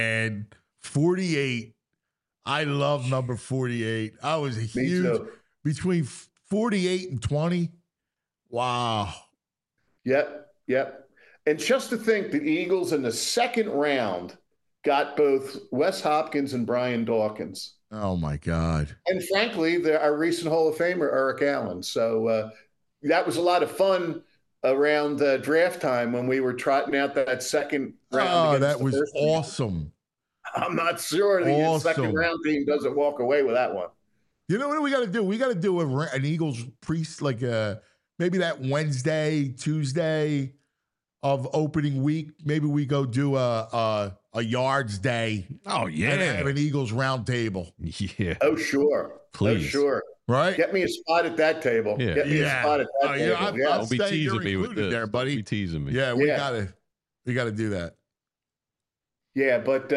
48. I love number 48. I was a huge between 48 and 20. Wow. Yep. And just to think the Eagles in the second round got both Wes Hopkins and Brian Dawkins. Oh, my God. And frankly, our recent Hall of Famer, Eric Allen. So that was a lot of fun around draft time when we were trotting out that second round. Oh, that was awesome. I'm not sure the second round team doesn't walk away with that one. You know what we got to do? We got to do an Eagles like maybe that Wednesday, Tuesday of opening week. Maybe we go do a yards day. Oh yeah, and have an Eagles round table. Yeah. Oh sure, please. Oh sure. Right. Get me a spot at that table. Yeah. Get me a spot at that table. Yeah, Don't be teasing me with this. There, buddy. Don't be teasing me. Yeah, we gotta do that. Yeah, but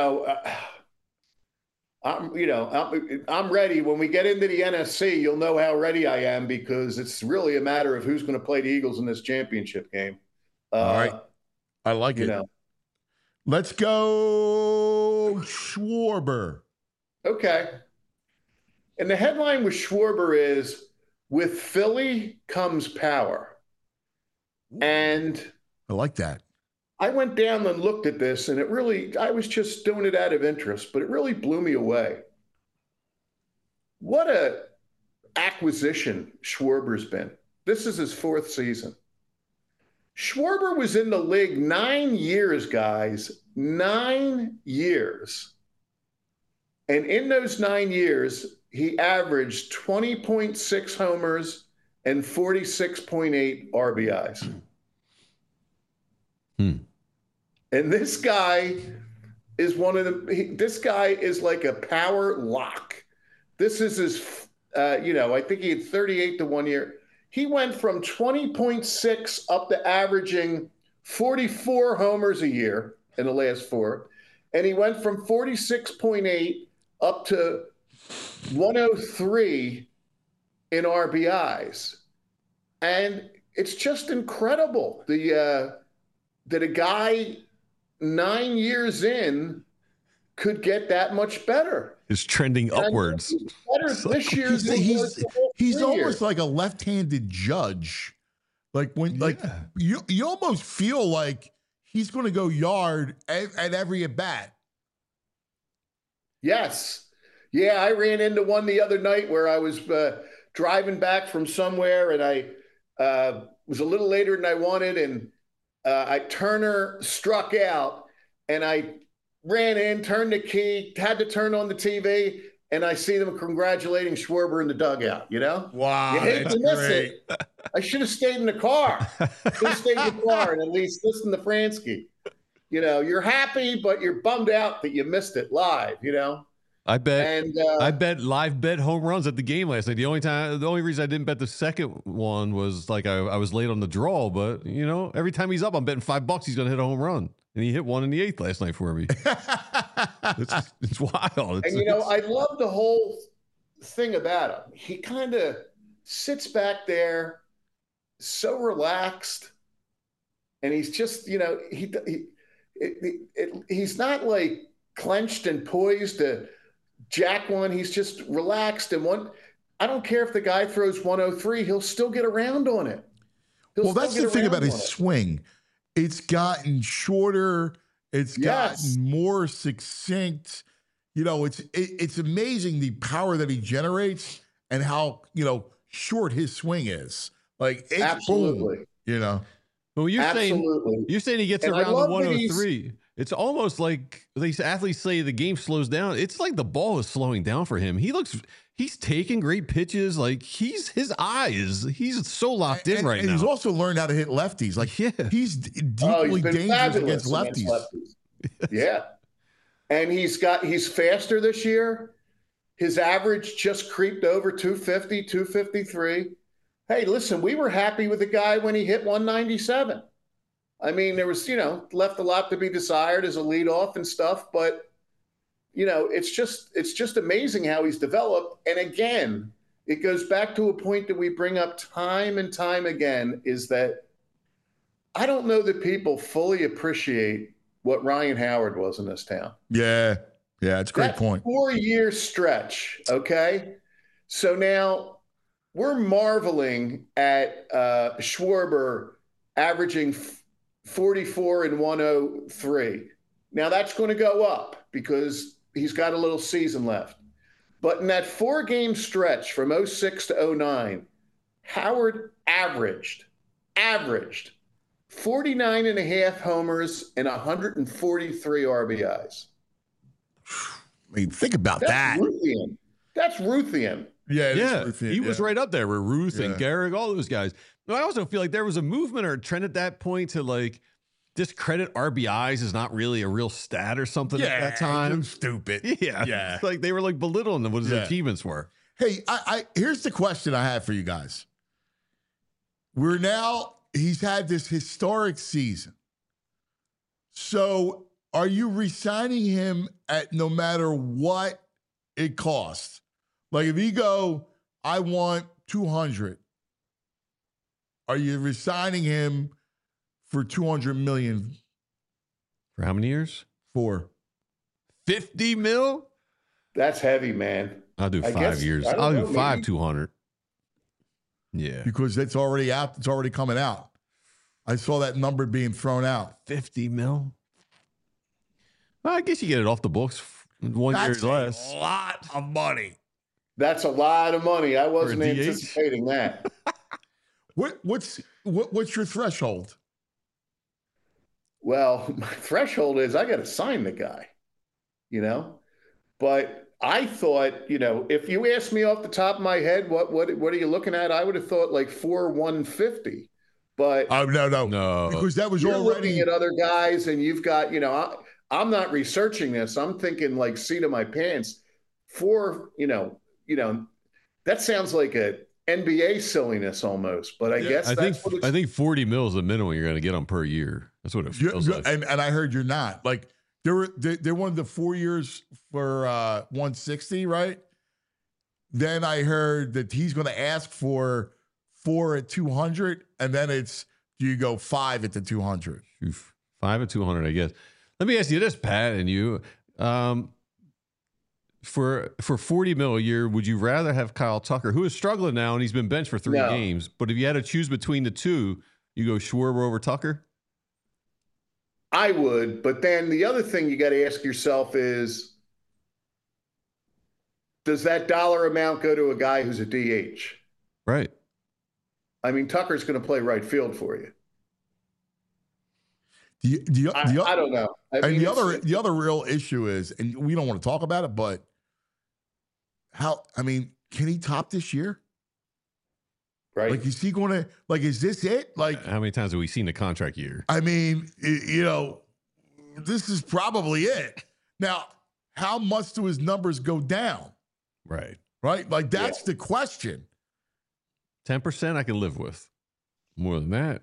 I'm ready. When we get into the NFC, you'll know how ready I am because it's really a matter of who's going to play the Eagles in this championship game. All right, I like it. Let's go, Schwarber. Okay. And the headline with Schwarber is, with Philly comes power. And I like that. I went down and looked at this, and I was just doing it out of interest, but it really blew me away. What a acquisition Schwarber's been. This is his 4th season. Schwarber was in the league 9 years, guys. 9 years. And in those 9 years, he averaged 20.6 homers and 46.8 RBIs. And this guy is this guy is like a power lock. This is his, I think he had 38 to 1 year. He went from 20.6 up to averaging 44 homers a year in the last 4. And he went from 46.8 up to 103 in RBIs. And it's just incredible. That a guy 9 years in could get that much better. It's trending upwards. Better this year. He's almost like a left-handed Judge. Like you almost feel like he's going to go yard at every at bat. Yes. Yeah, I ran into one the other night where I was driving back from somewhere, and I was a little later than I wanted, and Turner struck out, and I ran in, turned the key, had to turn on the TV, and I see them congratulating Schwarber in the dugout, Wow, you hate to miss it. I should have stayed in the car. And at least listen to Fransky. You're happy, but you're bummed out that you missed it live, I bet live bet home runs at the game last night. The only reason I didn't bet the second one was like I was late on the draw, but every time he's up, I'm betting $5 he's gonna hit a home run. And he hit one in the 8th last night for me. It's wild. I love the whole thing about him. He kind of sits back there so relaxed, and he's just, he's not like clenched and poised to jack one. He's just relaxed, and I don't care if the guy throws 103, he'll still get around on it. Well, that's the thing about his swing. It's gotten shorter. It's gotten more succinct. It's amazing the power that he generates and how, short his swing is. Like, it's absolutely. Boom, Well, you're saying he gets around the 103. It's almost like these athletes say the game slows down. It's like the ball is slowing down for him. He's taking great pitches. Like he's so locked in right now. He's also learned how to hit lefties. Like he's deeply dangerous against lefties. Yeah. And he's faster this year. His average just creeped over 250, 253. Hey, listen, we were happy with the guy when he hit 197. I mean, there was, left a lot to be desired as a leadoff and stuff, but it's just amazing how he's developed. And again, it goes back to a point that we bring up time and time again, is that I don't know that people fully appreciate what Ryan Howard was in this town. Yeah, it's a great point. 4-year stretch, okay? So now we're marveling at Schwarber averaging 44 and 103. Now that's going to go up because he's got a little season left. But in that 4-game stretch from 06 to 09, Howard averaged 49 and a half homers and 143 RBIs. I mean, think about that. Ruthian. That's Ruthian. Yeah, Ruthian, he was right up there with Ruth and Garrick, all those guys. But I also feel like there was a movement or a trend at that point to like discredit RBIs is not really a real stat or something at that time. Stupid. Yeah. It's like they were like belittling what his achievements were. Hey, I here's the question I have for you guys. He's had this historic season. So are you re-signing him at no matter what it costs? Like if you go, I want 200, are you re-signing him for $200 million? For how many years? 4. 50 mil? That's heavy, man. I'll do 5 years. I'll do 200. Yeah. Because it's already out. It's already coming out. I saw that number being thrown out. 50 mil? Well, I guess you get it off the books 1 year less. That's a lot of money. That's a lot of money. I wasn't anticipating that. What's your threshold? Well, my threshold is I got to sign the guy, But I thought, if you asked me off the top of my head, what are you looking at? I would have thought like 150. But no, because that was you're already looking at other guys, and you've got, I'm not researching this. I'm thinking like seat of my pants. 4, that sounds like a NBA silliness almost, but I guess I think 40 mil is the minimum you're going to get on per year. That's what it feels like. And I heard you're not. Like they wanted the 4 years for 160, right? Then I heard that he's going to ask for 4 at 200, and then do you go 5 at the 200? 5 at 200, I guess. Let me ask you this, Pat, and you. For 40 mil a year, would you rather have Kyle Tucker, who is struggling now and he's been benched for 3 games, but if you had to choose between the two, you go Schwarber over Tucker? I would, but then the other thing you got to ask yourself is, does that dollar amount go to a guy who's a DH? Right. I mean, Tucker's going to play right field for you. I don't know. The other real issue is, and we don't want to talk about it, but can he top this year? Right. Like, is he going to, like, is this it? Like, how many times have we seen the contract year? I mean, this is probably it. Now, how much do his numbers go down? Right. Right? Like, that's the question. 10% I can live with. More than that.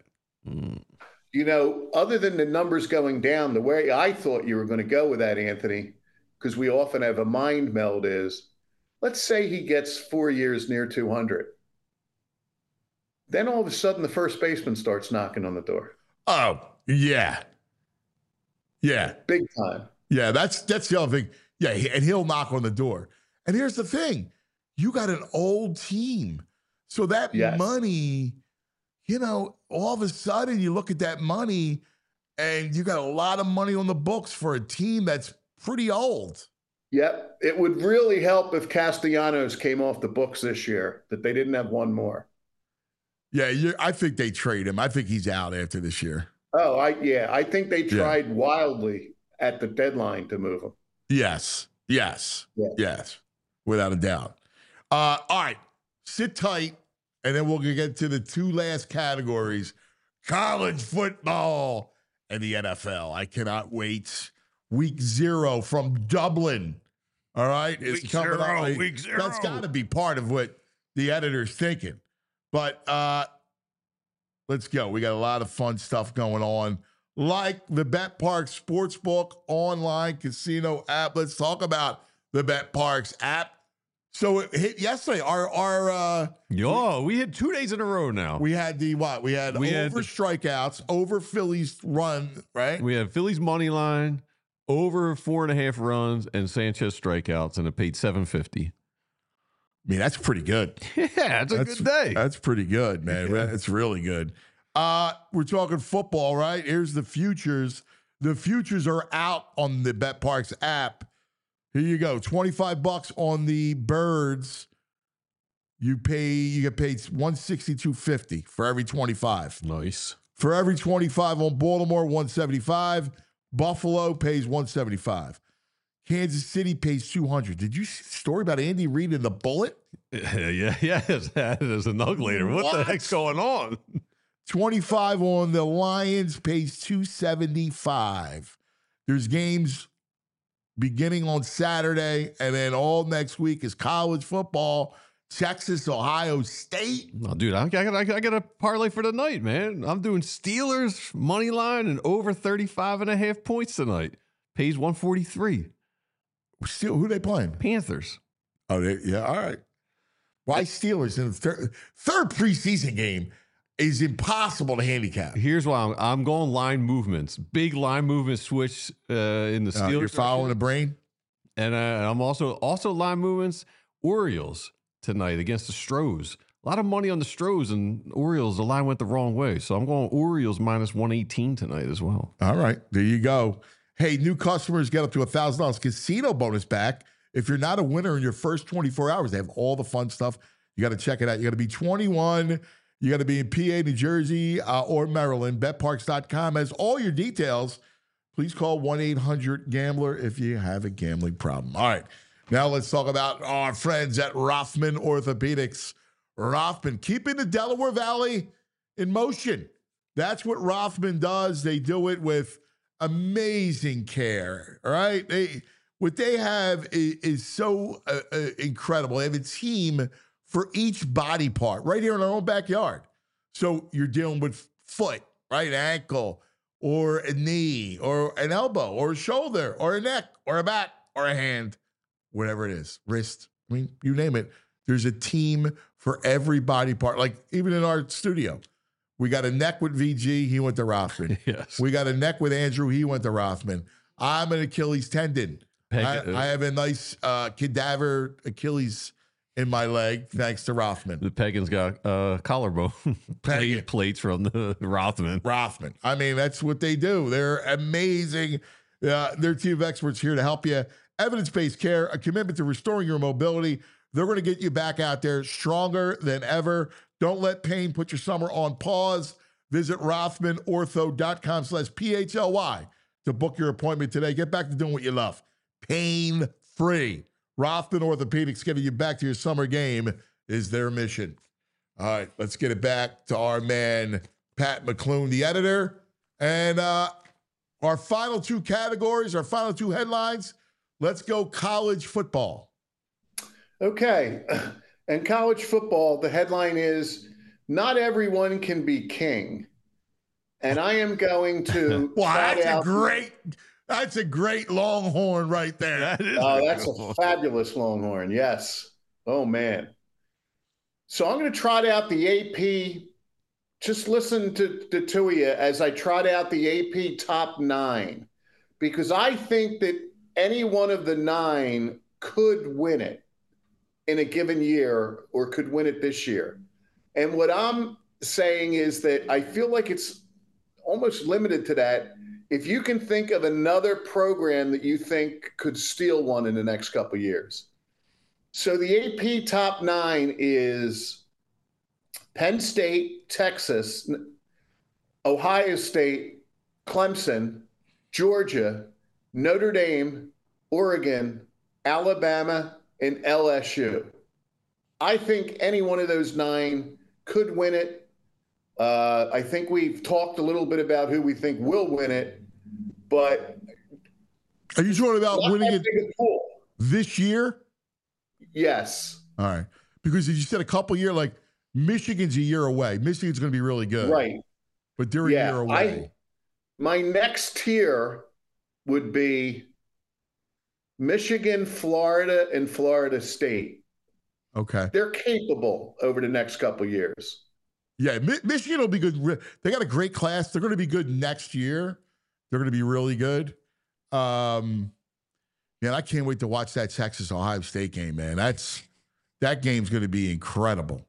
Other than the numbers going down, the way I thought you were going to go with that, Anthony, because we often have a mind meld is, let's say he gets 4 years near 200. Then all of a sudden the first baseman starts knocking on the door. Oh, yeah. Yeah. Big time. Yeah, that's the other thing. Yeah, and he'll knock on the door. And here's the thing. You got an old team. So that money, all of a sudden you look at that money and you got a lot of money on the books for a team that's pretty old. Yep. It would really help if Castellanos came off the books this year, that they didn't have one more. Yeah, I think they trade him. I think he's out after this year. Oh, I think they tried wildly at the deadline to move him. Yes, without a doubt. All right, sit tight, and then we'll get to the 2 last categories, college football and the NFL. I cannot wait. Week 0 from Dublin, all right? Week 0. That's got to be part of what the editor's thinking. But let's go. We got a lot of fun stuff going on, like the BetParx Sportsbook online casino app. Let's talk about the BetParx app. So it hit yesterday. We had 2 days in a row now. We had We had over strikeouts, over Phillies run, right? We had Phillies money line, over 4.5 runs, and Sanchez strikeouts, and it paid $750. I mean, that's pretty good. Yeah, it's a good day. That's pretty good, man. Yeah. It's really good. We're talking football, right? Here's the futures. The futures are out on the BetParx app. Here you go. $25 on the Birds. You get paid $162.50 for every 25. Nice. For every 25 on Baltimore, $175. Buffalo pays $175. Kansas City pays 200. Did you see the story about Andy Reid and the bullet? Yes, there's a nug later. What the heck's going on? 25 on the Lions pays 275. There's games beginning on Saturday, and then all next week is college football. Texas, Ohio State. Oh, dude, I got a parlay for tonight, man. I'm doing Steelers money line and over 35.5 points tonight. Pays 143. Still, who they playing? Panthers. Oh, yeah, all right. Why Steelers in the third preseason game is impossible to handicap. Here's why I'm going line movements. Big line movement switch in the Steelers. You're following the brain? And I'm also line movements. Orioles tonight against the Stros. A lot of money on the Stros and Orioles. The line went the wrong way. So I'm going Orioles minus 118 tonight as well. All right. There you go. Hey, new customers get up to $1,000 casino bonus back if you're not a winner in your first 24 hours. They have all the fun stuff. You got to check it out. You got to be 21. You got to be in PA, New Jersey, or Maryland. BetParks.com has all your details. Please call 1-800-GAMBLER if you have a gambling problem. All right. Now let's talk about our friends at Rothman Orthopedics. Rothman, keeping the Delaware Valley in motion. That's what Rothman does. They do it with amazing care, all right? What they have is so incredible. They have a team for each body part right here in our own backyard. So you're dealing with foot, right, ankle, or a knee, or an elbow, or a shoulder, or a neck, or a back, or a hand, whatever it is, wrist. I mean, you name it. There's a team for every body part, like even in our studio. We got a neck with VG. He went to Rothman. Yes. We got a neck with Andrew. He went to Rothman. I'm an Achilles tendon. I have a nice cadaver Achilles in my leg, thanks to Rothman. The Pegan's got collarbone plates from the Rothman. Rothman. I mean, that's what they do. They're amazing. Their team of experts here to help you. Evidence-based care, a commitment to restoring your mobility. They're going to get you back out there stronger than ever. Don't let pain put your summer on pause. Visit RothmanOrtho.com/PHLY to book your appointment today. Get back to doing what you love. Pain-free. Rothman Orthopedics, giving you back to your summer game is their mission. All right, let's get it back to our man, Pat McClune, the editor. And our final two categories, our final two headlines. Let's go college football. Okay. And college football, the headline is, not everyone can be king. And I am going to that's a great Longhorn right there. That's a fabulous Longhorn. Yes. Oh, man. So I'm going to trot out the AP. Just listen to two of you as I trot out the AP top 9, because I think that any one of the 9 could win it in a given year, or could win it this year. And what I'm saying is that I feel like it's almost limited to that. If you can think of another program that you think could steal one in the next couple of years. So the AP top 9 is Penn State, Texas, Ohio State, Clemson, Georgia, Notre Dame, Oregon, Alabama, and LSU. I think any one of those 9 could win it. I think we've talked a little bit about who we think will win it, but are you talking about winning it this year? Yes. All right. Because as you said, a couple years, like Michigan's a year away. Michigan's going to be really good. Right. But they're a year away. My next tier would be Michigan, Florida, and Florida State. Okay. They're capable over the next couple of years. Yeah, Michigan will be good. They got a great class. They're going to be good next year. They're going to be really good. Man, I can't wait to watch that Texas-Ohio State game, man. That game's going to be incredible.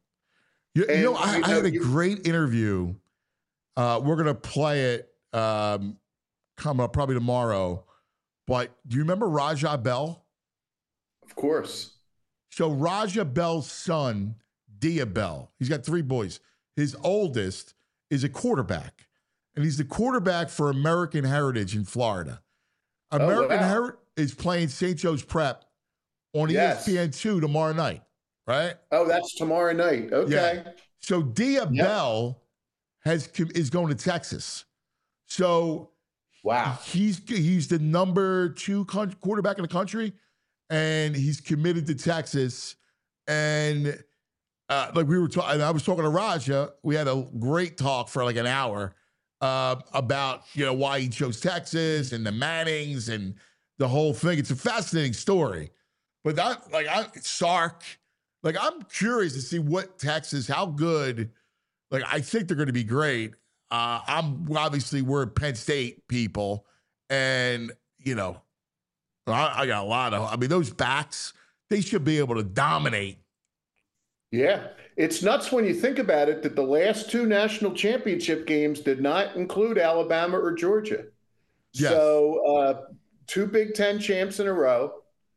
I had a great interview. We're going to play it come up probably tomorrow. But do you remember Raja Bell? Of course. So Raja Bell's son, Dia Bell, he's got 3 boys. His oldest is a quarterback, and he's the quarterback for American Heritage in Florida. American is playing St. Joe's Prep on ESPN2 tomorrow night, right? Oh, that's tomorrow night. Okay. Yeah. So Dia Bell is going to Texas. So wow, he's the number 2 quarterback in the country, and he's committed to Texas. And like we were talking, I was talking to Raja. We had a great talk for like an hour about why he chose Texas and the Mannings and the whole thing. It's a fascinating story. But Sark. Like, I'm curious to see what Texas, how good. Like, I think they're going to be great. We're Penn State people, and I got a lot of. I mean, those backs, they should be able to dominate. Yeah, it's nuts when you think about it that the last 2 national championship games did not include Alabama or Georgia. Yes. So 2 Big Ten champs in a row.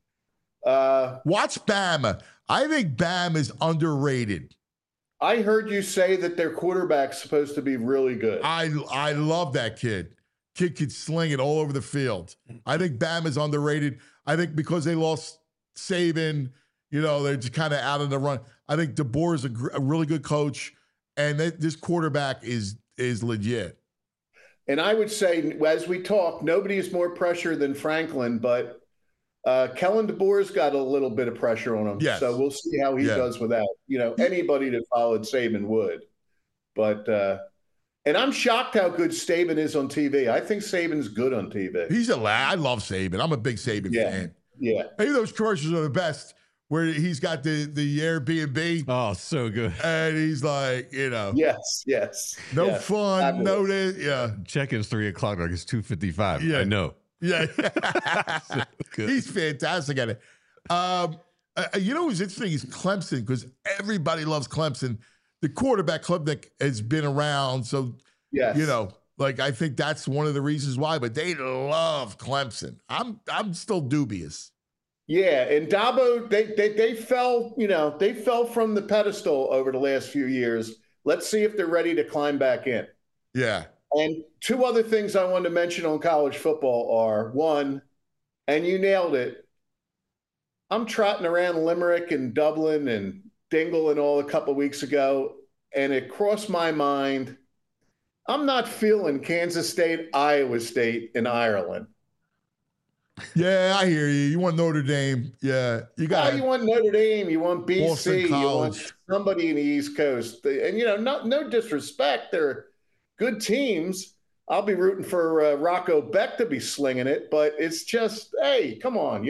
Watch Bama. I think Bama is underrated. I heard you say that their quarterback's supposed to be really good. I love that kid. Kid could sling it all over the field. I think Bama's underrated. I think because they lost Saban, they're just kind of out of the run. I think DeBoer is a really good coach, and this quarterback is legit. And I would say, as we talk, nobody is more pressure than Franklin, but Kellen DeBoer's got a little bit of pressure on him. Yes. So we'll see how he does without, anybody that followed Saban would. But, and I'm shocked how good Saban is on TV. I think Saban's good on TV. He's a lad. I love Saban. I'm a big Saban fan. Yeah. Maybe those commercials are the best where he's got the Airbnb. Oh, so good. And he's like, Yes. No fun. No this. Yeah. Check-in's 3:00, like it's 2:55. Yeah. I know. Yeah. So he's fantastic at it. What's interesting is Clemson, because everybody loves Clemson. The quarterback club that has been around. So, I think that's one of the reasons why, but they love Clemson. I'm still dubious. Yeah. And Dabo, they fell from the pedestal over the last few years. Let's see if they're ready to climb back in. Yeah. And 2 other things I wanted to mention on college football are, one, and you nailed it, I'm trotting around Limerick and Dublin and Dingle and all a couple of weeks ago, and it crossed my mind, I'm not feeling Kansas State, Iowa State, and Ireland. Yeah, I hear you. You want Notre Dame. Yeah. You want Notre Dame. You want BC. You want somebody in the East Coast. And, no disrespect. They're good teams. I'll be rooting for Rocco Beck to be slinging it, but it's just, hey, come on,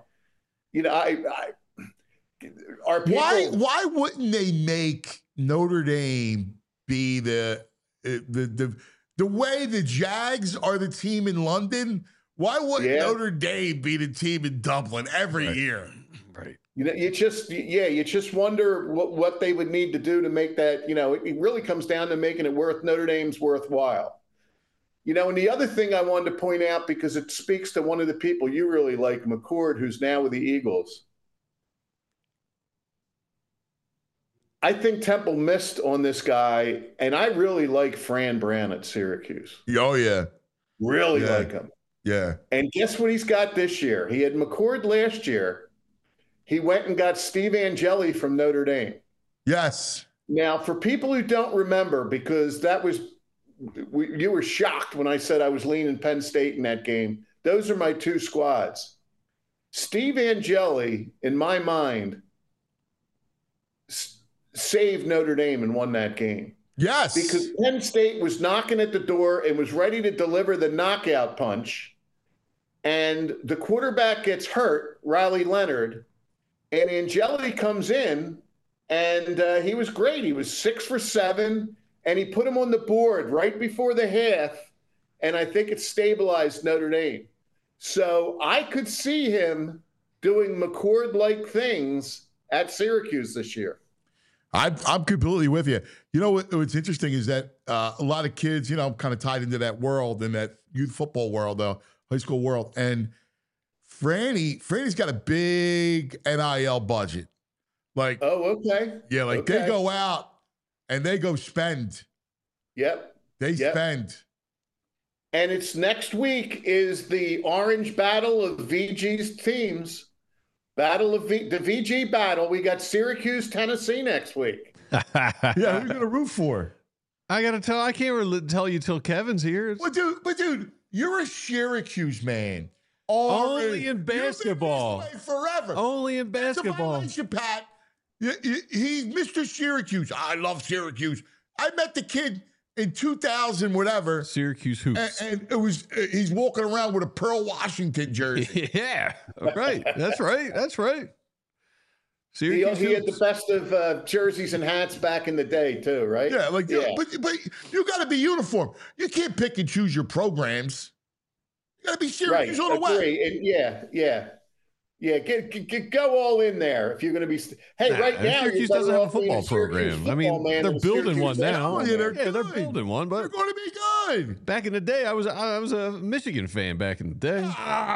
our people. Why wouldn't they make Notre Dame be the way the Jags are the team in London? Why wouldn't Notre Dame be the team in Dublin every year? Right. You just wonder what they would need to do to make that, it really comes down to making it Notre Dame's worthwhile. And the other thing I wanted to point out, because it speaks to one of the people you really like, McCord, who's now with the Eagles. I think Temple missed on this guy, and I really like Fran Brown at Syracuse. Oh, yeah. Really like him. Yeah. And guess what he's got this year? He had McCord last year. He went and got Steve Angeli from Notre Dame. Yes. Now, for people who don't remember, because you were shocked when I said I was leaning Penn State in that game. Those are my 2 squads. Steve Angeli, in my mind, saved Notre Dame and won that game. Yes. Because Penn State was knocking at the door and was ready to deliver the knockout punch. And the quarterback gets hurt, Riley Leonard, and Angeli comes in, and he was great. He was 6 for 7, and he put him on the board right before the half, and I think it stabilized Notre Dame. So I could see him doing McCord-like things at Syracuse this year. I'm completely with you. What's interesting is that a lot of kids, I'm kind of tied into that world, in that youth football world, though, high school world. And Franny's got a big NIL budget. Like, oh, okay. Yeah, like they go out and they go spend. Yep. They spend. And it's next week is the Orange Battle of VG's teams. The VG battle. We got Syracuse, Tennessee next week. Yeah, who are you going to root for? I can't really tell you till Kevin's here. But dude, you're a Syracuse man. Only in basketball. Forever. Only in basketball. That's a violation, Pat. He's Mr. Syracuse. I love Syracuse. I met the kid in 2000, whatever. Syracuse hoops. And it was he's walking around with a Pearl Washington jersey. Yeah, right. That's right. That's right. Syracuse he had the best of jerseys and hats back in the day, too, right? Yeah, but you got to be uniform. You can't pick and choose your programs. You got to be Syracuse all the way. And yeah. Go all in there if you're going to be. Hey, right now Syracuse doesn't have a football program. I mean, they're building one now. They're building one, but they're going to be good. Back in the day, I was a Michigan fan. Back in the day,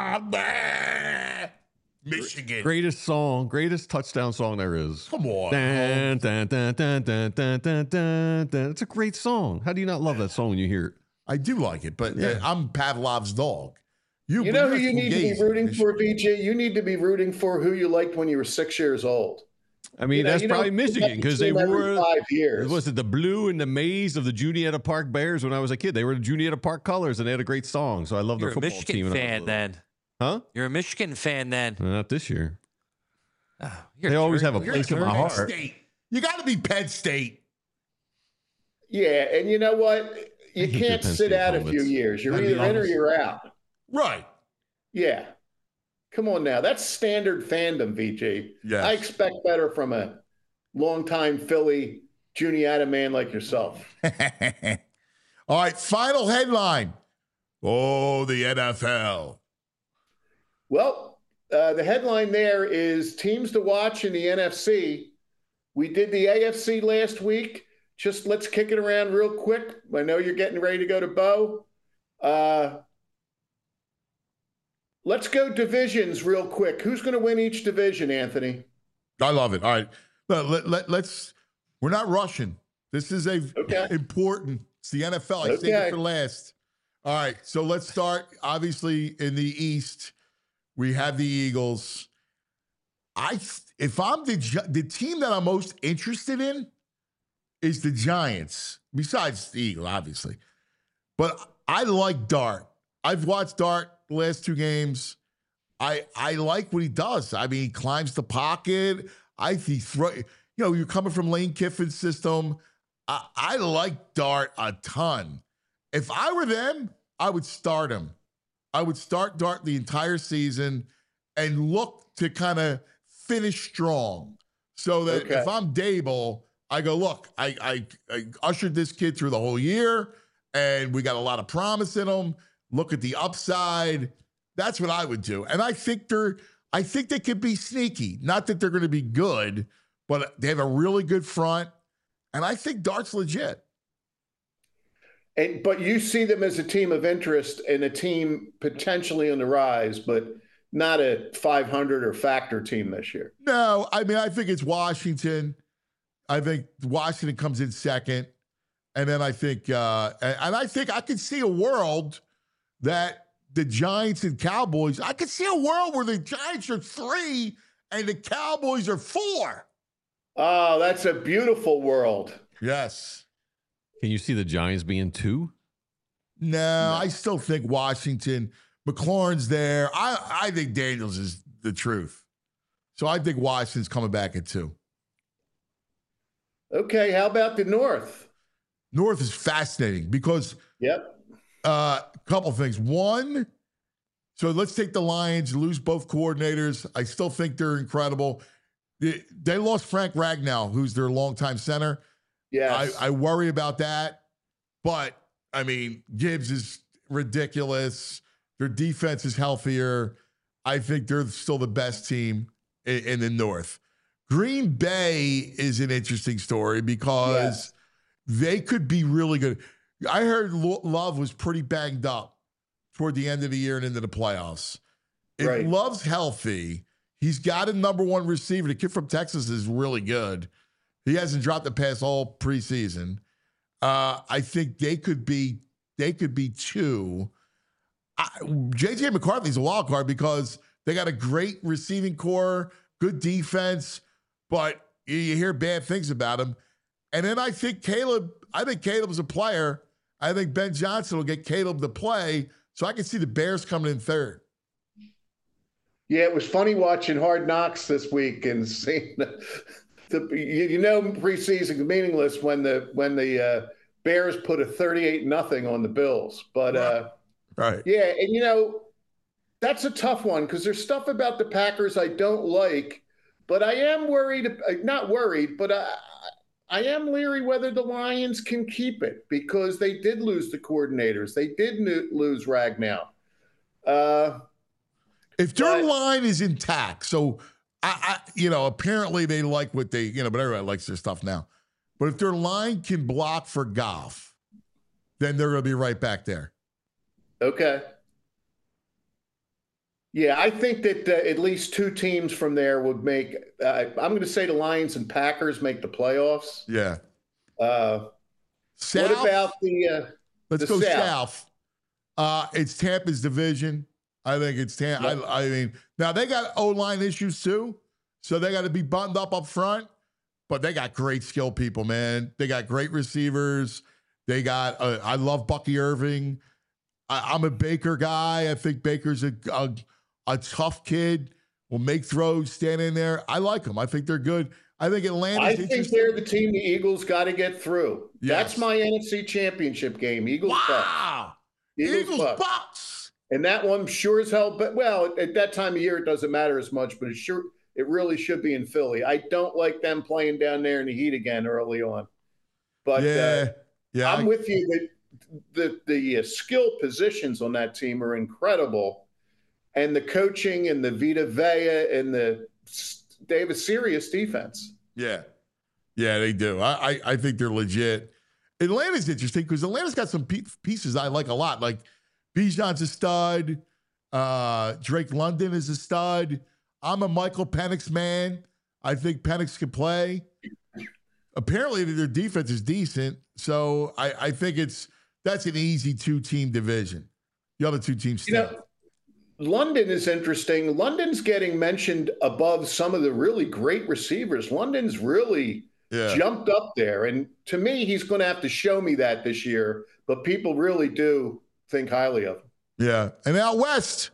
Michigan. Greatest touchdown song there is. Come on. Dun, dun, dun, dun, dun, dun, dun, dun, dun. It's a great song. How do you not love that song when you hear it? I do like it, but I'm Pavlov's dog. You know who you need to be rooting for, BJ? You need to be rooting for who you liked when you were 6 years old. I mean, that's probably Michigan because they were 5 years. Was it the blue and the maize of the Juniata Park Bears when I was a kid? They were the Juniata Park colors and they had a great song. So I love their football team. You're a Michigan fan then. Huh? You're a Michigan fan then. Not this year. They always have a place in my heart. State. You got to be Penn State. Yeah, and you know what? You can't sit out a few years. You're either in or you're out. Right. Yeah. Come on now. That's standard fandom, VG. Yes. I expect better from a longtime Philly Juniata man like yourself. All right, final headline. Oh, the NFL. Well, the headline there is teams to watch in the NFC. We did the AFC last week. Just let's kick it around real quick. I know you're getting ready to go to Bo. Let's go divisions real quick. Who's going to win each division, Anthony? I love it. All right. Let's we're not rushing. This is important. It's the NFL. I saved it for last. All right. So let's start. Obviously, in the East, we have the Eagles. If I'm the team that I'm most interested in is the Giants, besides the Eagles, obviously. But I like Dart. I've watched Dart the last 2 games. I like what he does. I mean, he climbs the pocket. You're coming from Lane Kiffin's system. I like Dart a ton. If I were them, I would start him. I would start Dart the entire season and look to kind of finish strong. So that if I'm Dable, I go, look, I ushered this kid through the whole year, and we got a lot of promise in him. Look at the upside. That's what I would do. And I think they could be sneaky. Not that they're going to be good, but they have a really good front. And I think Dart's legit. But you see them as a team of interest and a team potentially on the rise, but not a 500 or factor team this year. No, I mean, I think it's Washington. I think Washington comes in second. And then I think, I can see a world that the Giants and Cowboys, I could see a world where the Giants are 3 and the Cowboys are 4. Oh, that's a beautiful world. Yes. Can you see the Giants being 2? No, I still think Washington. McLaurin's there. I think Daniels is the truth. So I think Washington's coming back at 2. Okay, how about the North? North is fascinating because a couple things. One, so let's take the Lions, lose both coordinators. I still think they're incredible. They lost Frank Ragnow, who's their longtime center. Yes. I worry about that. But, I mean, Gibbs is ridiculous. Their defense is healthier. I think they're still the best team in the North. Green Bay is an interesting story because they could be really good. I heard Love was pretty banged up toward the end of the year and into the playoffs. If Love's healthy, he's got a number 1 receiver. The kid from Texas is really good. He hasn't dropped a pass all preseason. I think they could be they could be 2. J.J. McCarthy's a wild card because they got a great receiving core, good defense, but you hear bad things about him. And then I think Caleb's a player. I think Ben Johnson will get Caleb to play, so I can see the Bears coming in 3rd. Yeah, it was funny watching Hard Knocks this week and seeing preseason meaningless when the Bears put a 38-0 on the Bills. But right. Yeah, and that's a tough one because there's stuff about the Packers I don't like, but I am worried. Not worried, but I am leery whether the Lions can keep it because they did lose the coordinators. They did lose Ragnow. If their line is intact, so apparently they like what they, but everybody likes their stuff now. But if their line can block for Goff, then they're going to be right back there. Okay. Yeah, I think that at least 2 teams from there would make. I'm going to say the Lions and Packers make the playoffs. Yeah. South, what about the? Let's go South. It's Tampa's division. I think it's Tampa. Yep. I mean, now they got O-line issues too, so they got to be buttoned up front. But they got great skill people, man. They got great receivers. They got. I love Bucky Irving. I'm a Baker guy. I think Baker's a tough kid. Will make throws, stand in there. I like them. I think they're good. I think Atlanta's I think they're the team the Eagles got to get through. Yes. That's my NFC Championship game. Eagles. Wow. Bucks. Eagles Bucks. And that one sure as hell. But at that time of year, it doesn't matter as much. But it really should be in Philly. I don't like them playing down there in the heat again early on. But I'm with you that the skill positions on that team are incredible. And the coaching and the Vita Vea and they have a serious defense. Yeah. Yeah, they do. I think they're legit. Atlanta's interesting because Atlanta's got some pieces I like a lot. Like Bijan's a stud. Drake London is a stud. I'm a Michael Penix man. I think Penix can play. Apparently their defense is decent. So I think that's an easy 2-team division. The other 2 teams stay. London is interesting. London's getting mentioned above some of the really great receivers. London's really jumped up there. And to me, he's going to have to show me that this year. But people really do think highly of him. Yeah. And out west,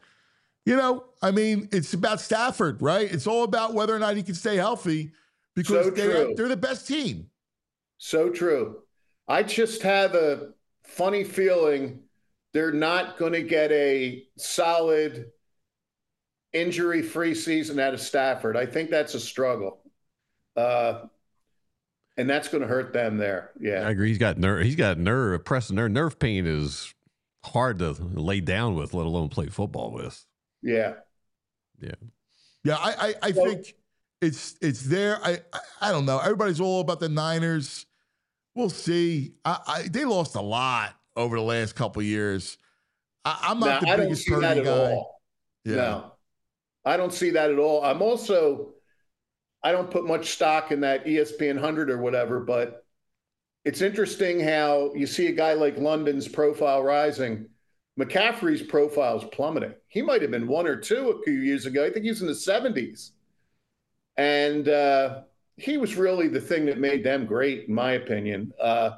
it's about Stafford, right? It's all about whether or not he can stay healthy because they're the best team. So true. I just have a funny feeling they're not going to get a solid injury-free season out of Stafford. I think that's a struggle. And that's going to hurt them there. Yeah. I agree. He's got nerve, pressing nerve. Nerve pain is hard to lay down with, let alone play football with. Yeah. Yeah. Yeah. I think it's there. I don't know. Everybody's all about the Niners. We'll see. They lost a lot over the last couple of years. I'm not the biggest Purdy guy. Yeah. No, I don't see that at all. I don't put much stock in that ESPN 100 or whatever, but it's interesting how you see a guy like London's profile rising. McCaffrey's profile is plummeting. He might have been 1 or 2 a few years ago. I think he was in the 70s. And he was really the thing that made them great, in my opinion.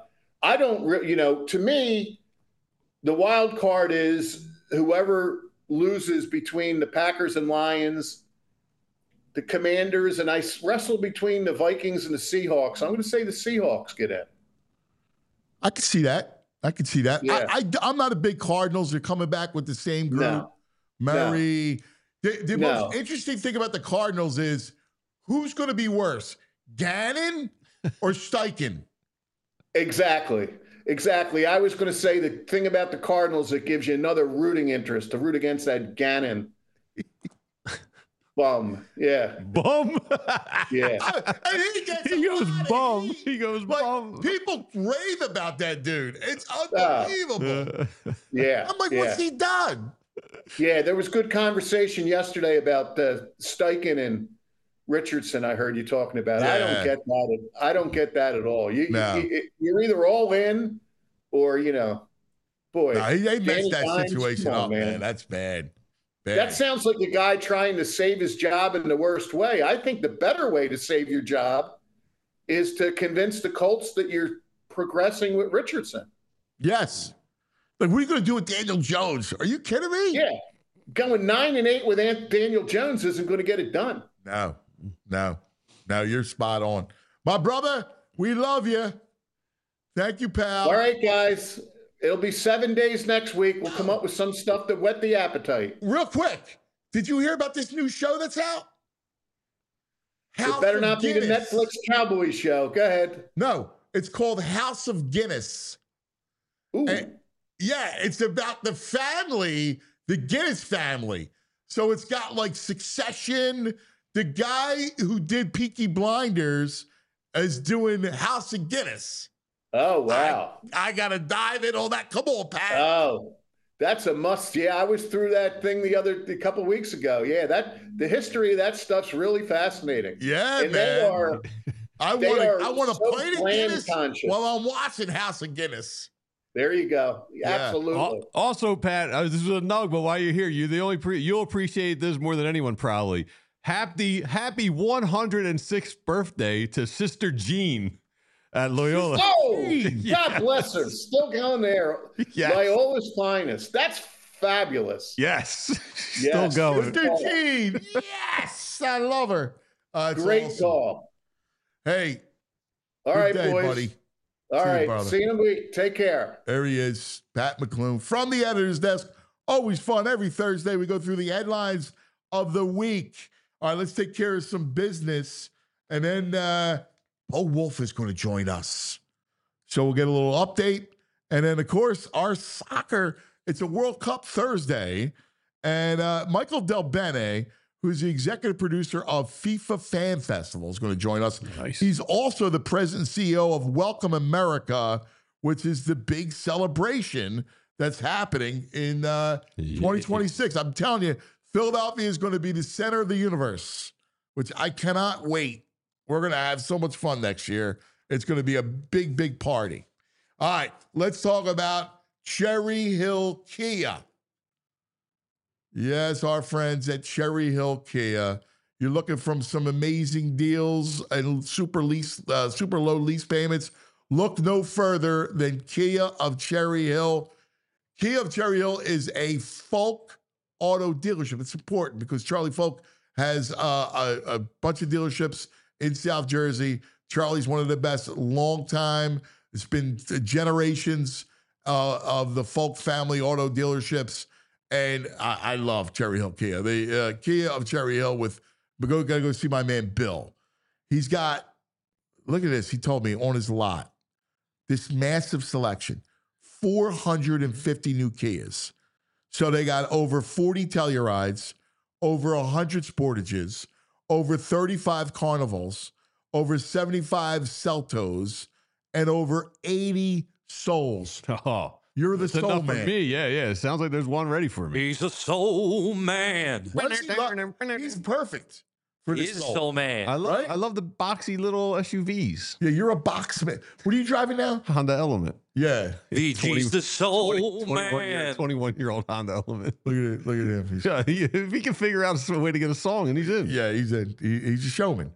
To me, the wild card is whoever loses between the Packers and Lions, the Commanders, and I wrestle between the Vikings and the Seahawks. I'm going to say the Seahawks get in. I can see that. Yeah. I'm not a big Cardinals. They're coming back with the same group. No. Murray. The most interesting thing about the Cardinals is who's going to be worse, Gannon or Steichen? Exactly. I was going to say the thing about the Cardinals that gives you another rooting interest to root against that Gannon bum. Yeah. Bum? Yeah. He goes bum. He goes bum. People rave about that dude. It's unbelievable. Yeah. I'm like, what's he done? Yeah, there was good conversation yesterday about Steichen and Richardson. I heard you talking about. Yeah. I don't get that at all. You're either all in, or Boy, they messed that Hines, situation come on, up, man. That's bad. That sounds like a guy trying to save his job in the worst way. I think the better way to save your job is to convince the Colts that you're progressing with Richardson. Yes. Like, what are you going to do with Daniel Jones? Are you kidding me? Yeah. Going 9-8 with Daniel Jones isn't going to get it done. No, you're spot on. My brother, we love you. Thank you, pal. All right, guys. It'll be 7 days next week. We'll come up with some stuff to whet the appetite. Real quick, did you hear about this new show that's out? It better not be the Netflix Cowboys show. Go ahead. No, it's called House of Guinness. Ooh. Yeah, it's about the family, the Guinness family. So it's got like Succession. The guy who did Peaky Blinders is doing House of Guinness. Oh, wow. I got to dive in all that. Come on, Pat. Oh, that's a must. Yeah, I was through that thing a couple weeks ago. Yeah, the history of that stuff's really fascinating. Yeah, and man. I want to so play the Guinness conscious. while I'm watching House of Guinness. There you go. Yeah. Absolutely. Also, Pat, this is a nug, but while you're here, you'll appreciate this more than anyone probably. Happy 106th birthday to Sister Jean at Loyola. Oh, God bless her. Still going there. Yes. Loyola's finest. That's fabulous. Yes. Yes. Still going. Sister Jean. Yes. I love her. Great awesome. call. Hey. All right, day, boys. buddy. All right. brother. See you in a week. Take care. There he is, Pat McClune from the editor's desk. Always fun. Every Thursday, we go through the headlines of the week. All right, let's take care of some business. And then Bo Wolf is going to join us. So we'll get a little update. And then, of course, our soccer. It's a World Cup Thursday. And Michael Del Bene, who's the executive producer of FIFA Fan Festival, is going to join us. Nice. He's also the president and CEO of Welcome America, which is the big celebration that's happening in 2026. I'm telling you, Philadelphia is going to be the center of the universe, which I cannot wait. We're going to have so much fun next year. It's going to be a big, big party. All right, let's talk about Cherry Hill Kia. Yes, our friends at Cherry Hill Kia. You're looking for some amazing deals and super low lease payments. Look no further than Kia of Cherry Hill. Kia of Cherry Hill is a Folk auto dealership. It's important because Charlie Folk has a bunch of dealerships in South Jersey. Charlie's one of the best, long time. It's been generations of the Folk family auto dealerships. And I love Cherry Hill Kia. The Kia of Cherry Hill gotta go see my man Bill. He's got, look at this, he told me on his lot, this massive selection, 450 new Kias. So they got over 40 Tellurides, over 100 Sportages, over 35 Carnivals, over 75 Celtos, and over 80 Souls. Oh, you're the that's soul enough man. for me. Yeah. It sounds like there's one ready for me. He's a soul man. He's perfect for He the is a soul. soul man. I love the boxy little SUVs. Yeah, you're a box man. What are you driving now? Honda Element. Yeah. VG's the soul man. 21-year-old Honda Element. Look at him. He's, Yeah, if he can figure out a way to get a song, and he's in. yeah, he's a showman.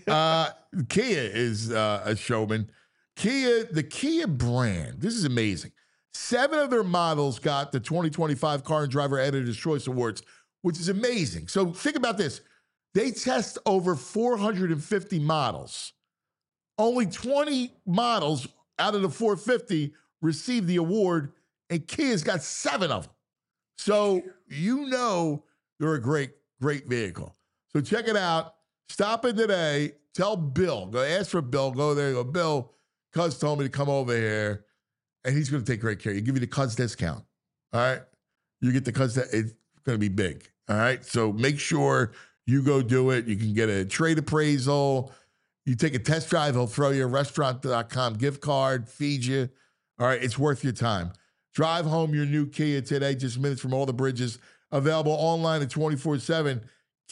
Kia is a showman. The Kia brand, this is amazing. 7 of their models got the 2025 Car and Driver Editor's Choice Awards, which is amazing. So think about this. They test over 450 models. Only 20 models out of the 450 received the award, and Kia's got 7 of them. So you know they're a great, great vehicle. So check it out. Stop in today. Tell Bill. Go ask for Bill. Go there. Go, Bill, Cuz told me to come over here, and he's going to take great care. He'll give you the Cuz discount. All right? You get the Cuz. It's going to be big. All right? So make sure you go do it. You can get a trade appraisal. You take a test drive. He'll throw you a restaurant.com gift card, feed you. All right? It's worth your time. Drive home your new Kia today, just minutes from all the bridges. Available online at 24/7.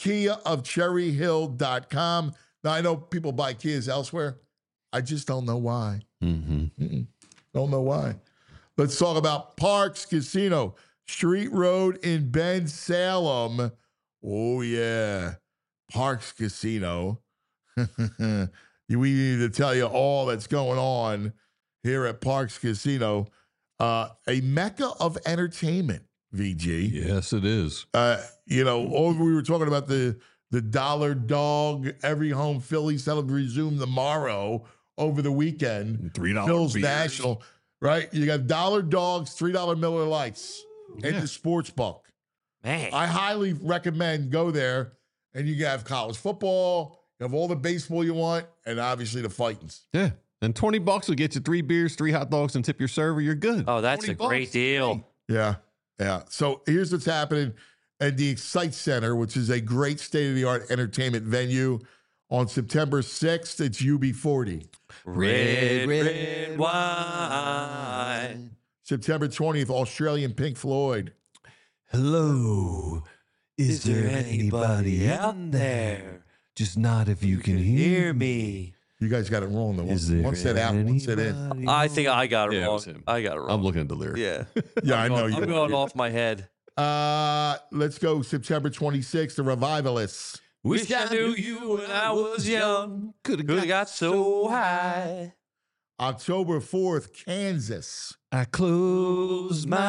KiaofCherryHill.com. Now, I know people buy Kias elsewhere. I just don't know why. Mm-hmm. Don't know why. Let's talk about Parks Casino, Street Road in Bensalem. Oh, yeah. Parks Casino. We need to tell you all that's going on here at Parks Casino. A mecca of entertainment, VG. Yes, it is. We were talking about the Dollar Dog, every home Philly that'll resume tomorrow over the weekend. $3 Phil's beers. National, right? You got Dollar Dogs, $3 Miller Lights, and the sports book. Man. I highly recommend go there, and you have college football, you have all the baseball you want, and obviously the fightings. Yeah. And $20 will get you 3 beers, 3 hot dogs, and tip your server. You're good. Oh, that's a $20. great deal. Yeah. So here's what's happening at the Excite Center, which is a great state-of-the-art entertainment venue. On September 6th, it's UB40. Red wine. September 20th, Australian Pink Floyd. Hello. Is there anybody out there? Just nod if you can hear me. You guys got it wrong, though. Is there One set out, one set in. I think I got it Yeah, it wrong. was him. I got it wrong. I'm looking at the lyrics. Yeah. Yeah, I know you. I'm going off my head. Let's go September 26th, the Revivalists. Wish I knew you when I was young. Could have got so high. October 4th, Kansas. I close my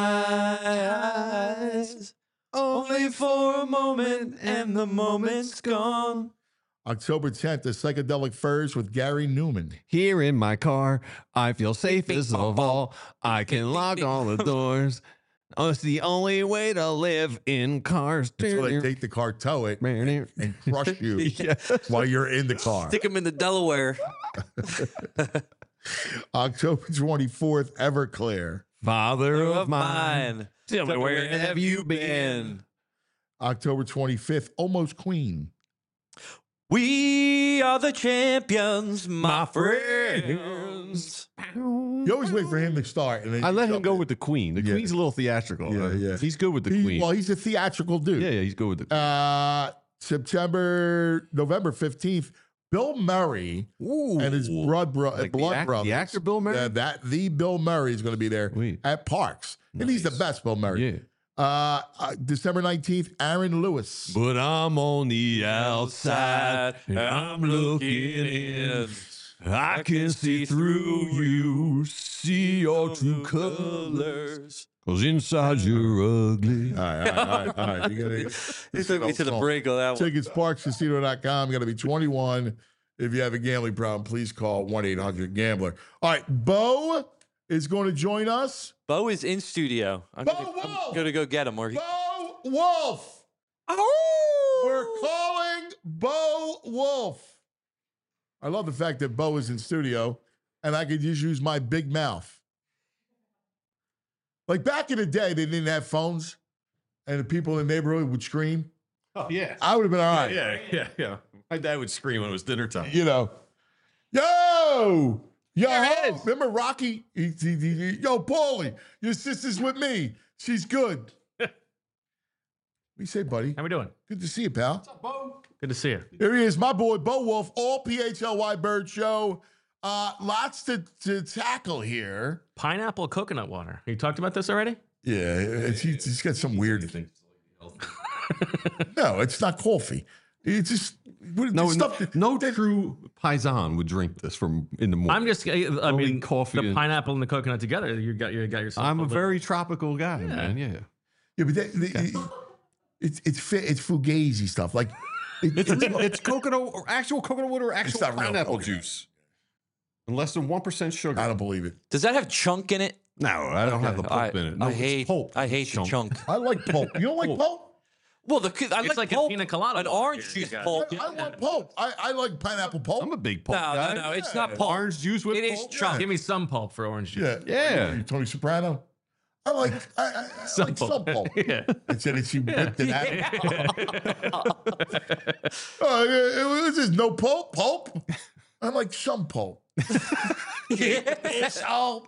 eyes Only for a moment, and the moment's gone. October 10th, the Psychedelic Furs with Gary Newman. Here in my car, I feel safest of all. I can lock all the doors. Oh, it's the only way to live in cars. So they take the car, tow it, and crush you while you're in the car. Stick him in the Delaware. October 24th, Everclear. Father of mine, tell me where have you been? October 25th, Almost Queen. We are the champions, my friends. You always wait for him to start. And then I let him jump go in. with the Queen. The Queen's a little theatrical. Yeah. He's good with the Queen. Well, he's a theatrical dude. Yeah, he's good with the Queen. November 15th, Bill Murray and his blood brothers. The actor Bill Murray? The Bill Murray is going to be there at Parks. And he's the best Bill Murray. Yeah. December 19th, Aaron Lewis. But I'm on the outside and I'm looking in. I can see through you, see your true colors. Cause inside you're ugly. All right. You took me to the break of that one. Tickets, parkscasino.com. You got to be 21. If you have a gambling problem, please call 1-800-GAMBLER. All right, Bo is going to join us. Bo is in studio. I'm going to go get him. Bo Wolf. Oh! We're calling Bo Wolf. I love the fact that Bo is in studio and I could just use my big mouth. Like back in the day, they didn't have phones and the people in the neighborhood would scream. Oh, yeah. I would have been all right. Yeah. My dad would scream when it was dinner time. You know, yo, remember Rocky? Yo, Paulie, your sister's with me. She's good. What do you say, buddy? How we doing? Good to see you, pal. What's up, Bo? Good to see you. Here he is, my boy, Bo Wolf, all PHLY Bird Show. Lots to tackle here. Pineapple coconut water. You talked about this already? Yeah, he's got some weird thing. No, it's not coffee. It's just no true paisan would drink this from in the morning. I'm just, I mean, coffee the pineapple and the coconut together, you got yourself. I'm a very tropical guy, man. Yeah. Yeah, but it's fugazi stuff. Like it's coconut or actual coconut water or actual not real pineapple coconut. juice. And less than 1% sugar. I don't believe it. Does that have chunk in it? No, I don't have the pulp in it. No, I it's hate pulp. I hate the chunk. I like pulp. You don't like pulp? Well, It's like a pulp, pina colada. an orange juice pulp. I like pulp. I like pineapple pulp. I'm a big pulp guy. No, it's not pulp. Orange juice with It is pulp? chunk. Give me some pulp for orange juice. Yeah. Tony Soprano. I like some pulp. Yeah. And said that she whipped it out. It was just no pulp. I like some pulp. It's all.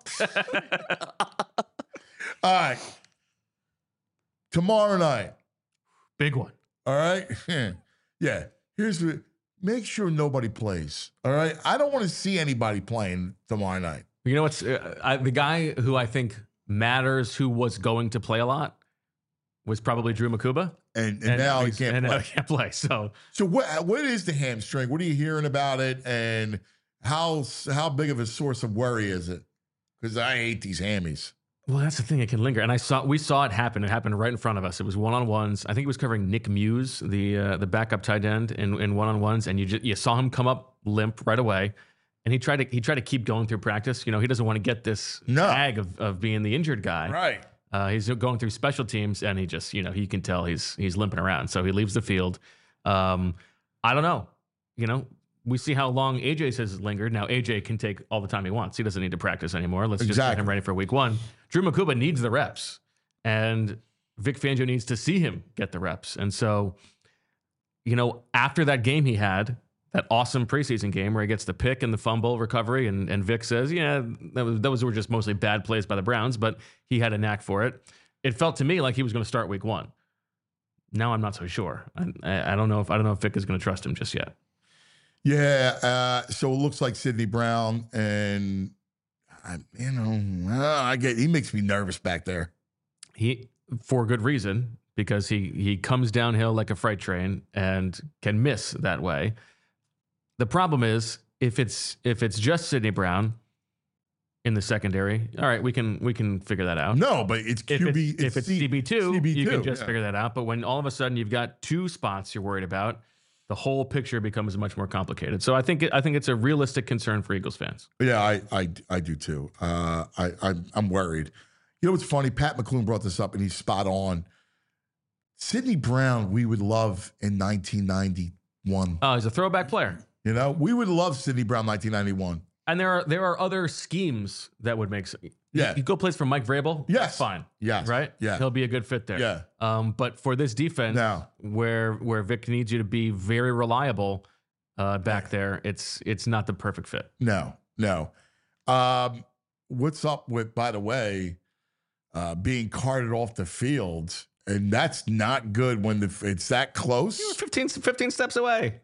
All right. Tomorrow night. Big one. All right. Yeah. Make sure nobody plays. All right. I don't want to see anybody playing tomorrow night. You know what's the guy who I think matters who was going to play a lot was probably Drew Makuba. And now he can't play. Now he can't play. So what is the hamstring? What are you hearing about it? And how big of a source of worry is it? Because I hate these hammies. Well, that's the thing. It can linger. And we saw it happen. It happened right in front of us. It was one-on-ones. I think he was covering Nick Muse, the backup tight end in one-on-ones. And you saw him come up limp right away. And he tried to keep going through practice. He doesn't want to get this tag of being the injured guy. Right. He's going through special teams, and he just, you can tell he's limping around. So he leaves the field. I don't know. We see how long AJ says lingered. Now, AJ can take all the time he wants. He doesn't need to practice anymore. Let's just get him ready for week 1. Drew Makuba needs the reps, and Vic Fangio needs to see him get the reps. And so, after that game he had, that awesome preseason game where he gets the pick and the fumble recovery, and Vic says, those were just mostly bad plays by the Browns, but he had a knack for it. It felt to me like he was going to start week 1. Now I'm not so sure. I don't know if Vic is going to trust him just yet. Yeah, so it looks like Sidney Brown, and he makes me nervous back there. He, for good reason, because he comes downhill like a freight train and can miss that way. The problem is if it's just Sidney Brown in the secondary, all right, we can figure that out. No, but it's QB. If it's CB2, you can just yeah. figure that out. But when all of a sudden you've got 2 spots you're worried about, the whole picture becomes much more complicated. So I think it's a realistic concern for Eagles fans. Yeah, I do too. I'm worried. You know what's funny? Pat McClune brought this up, and he's spot on. Sidney Brown, we would love in 1991. Oh, he's a throwback player. We would love Sidney Brown 1991. And there are other schemes that would make sense. Yeah. You go plays for Mike Vrabel. Yes. That's fine. Yes. Right? Yeah. He'll be a good fit there. Yeah. But for this defense, where Vic needs you to be very reliable back there, it's not the perfect fit. No. What's up with, by the way, being carted off the field? And that's not good when it's that close. You were 15 steps away.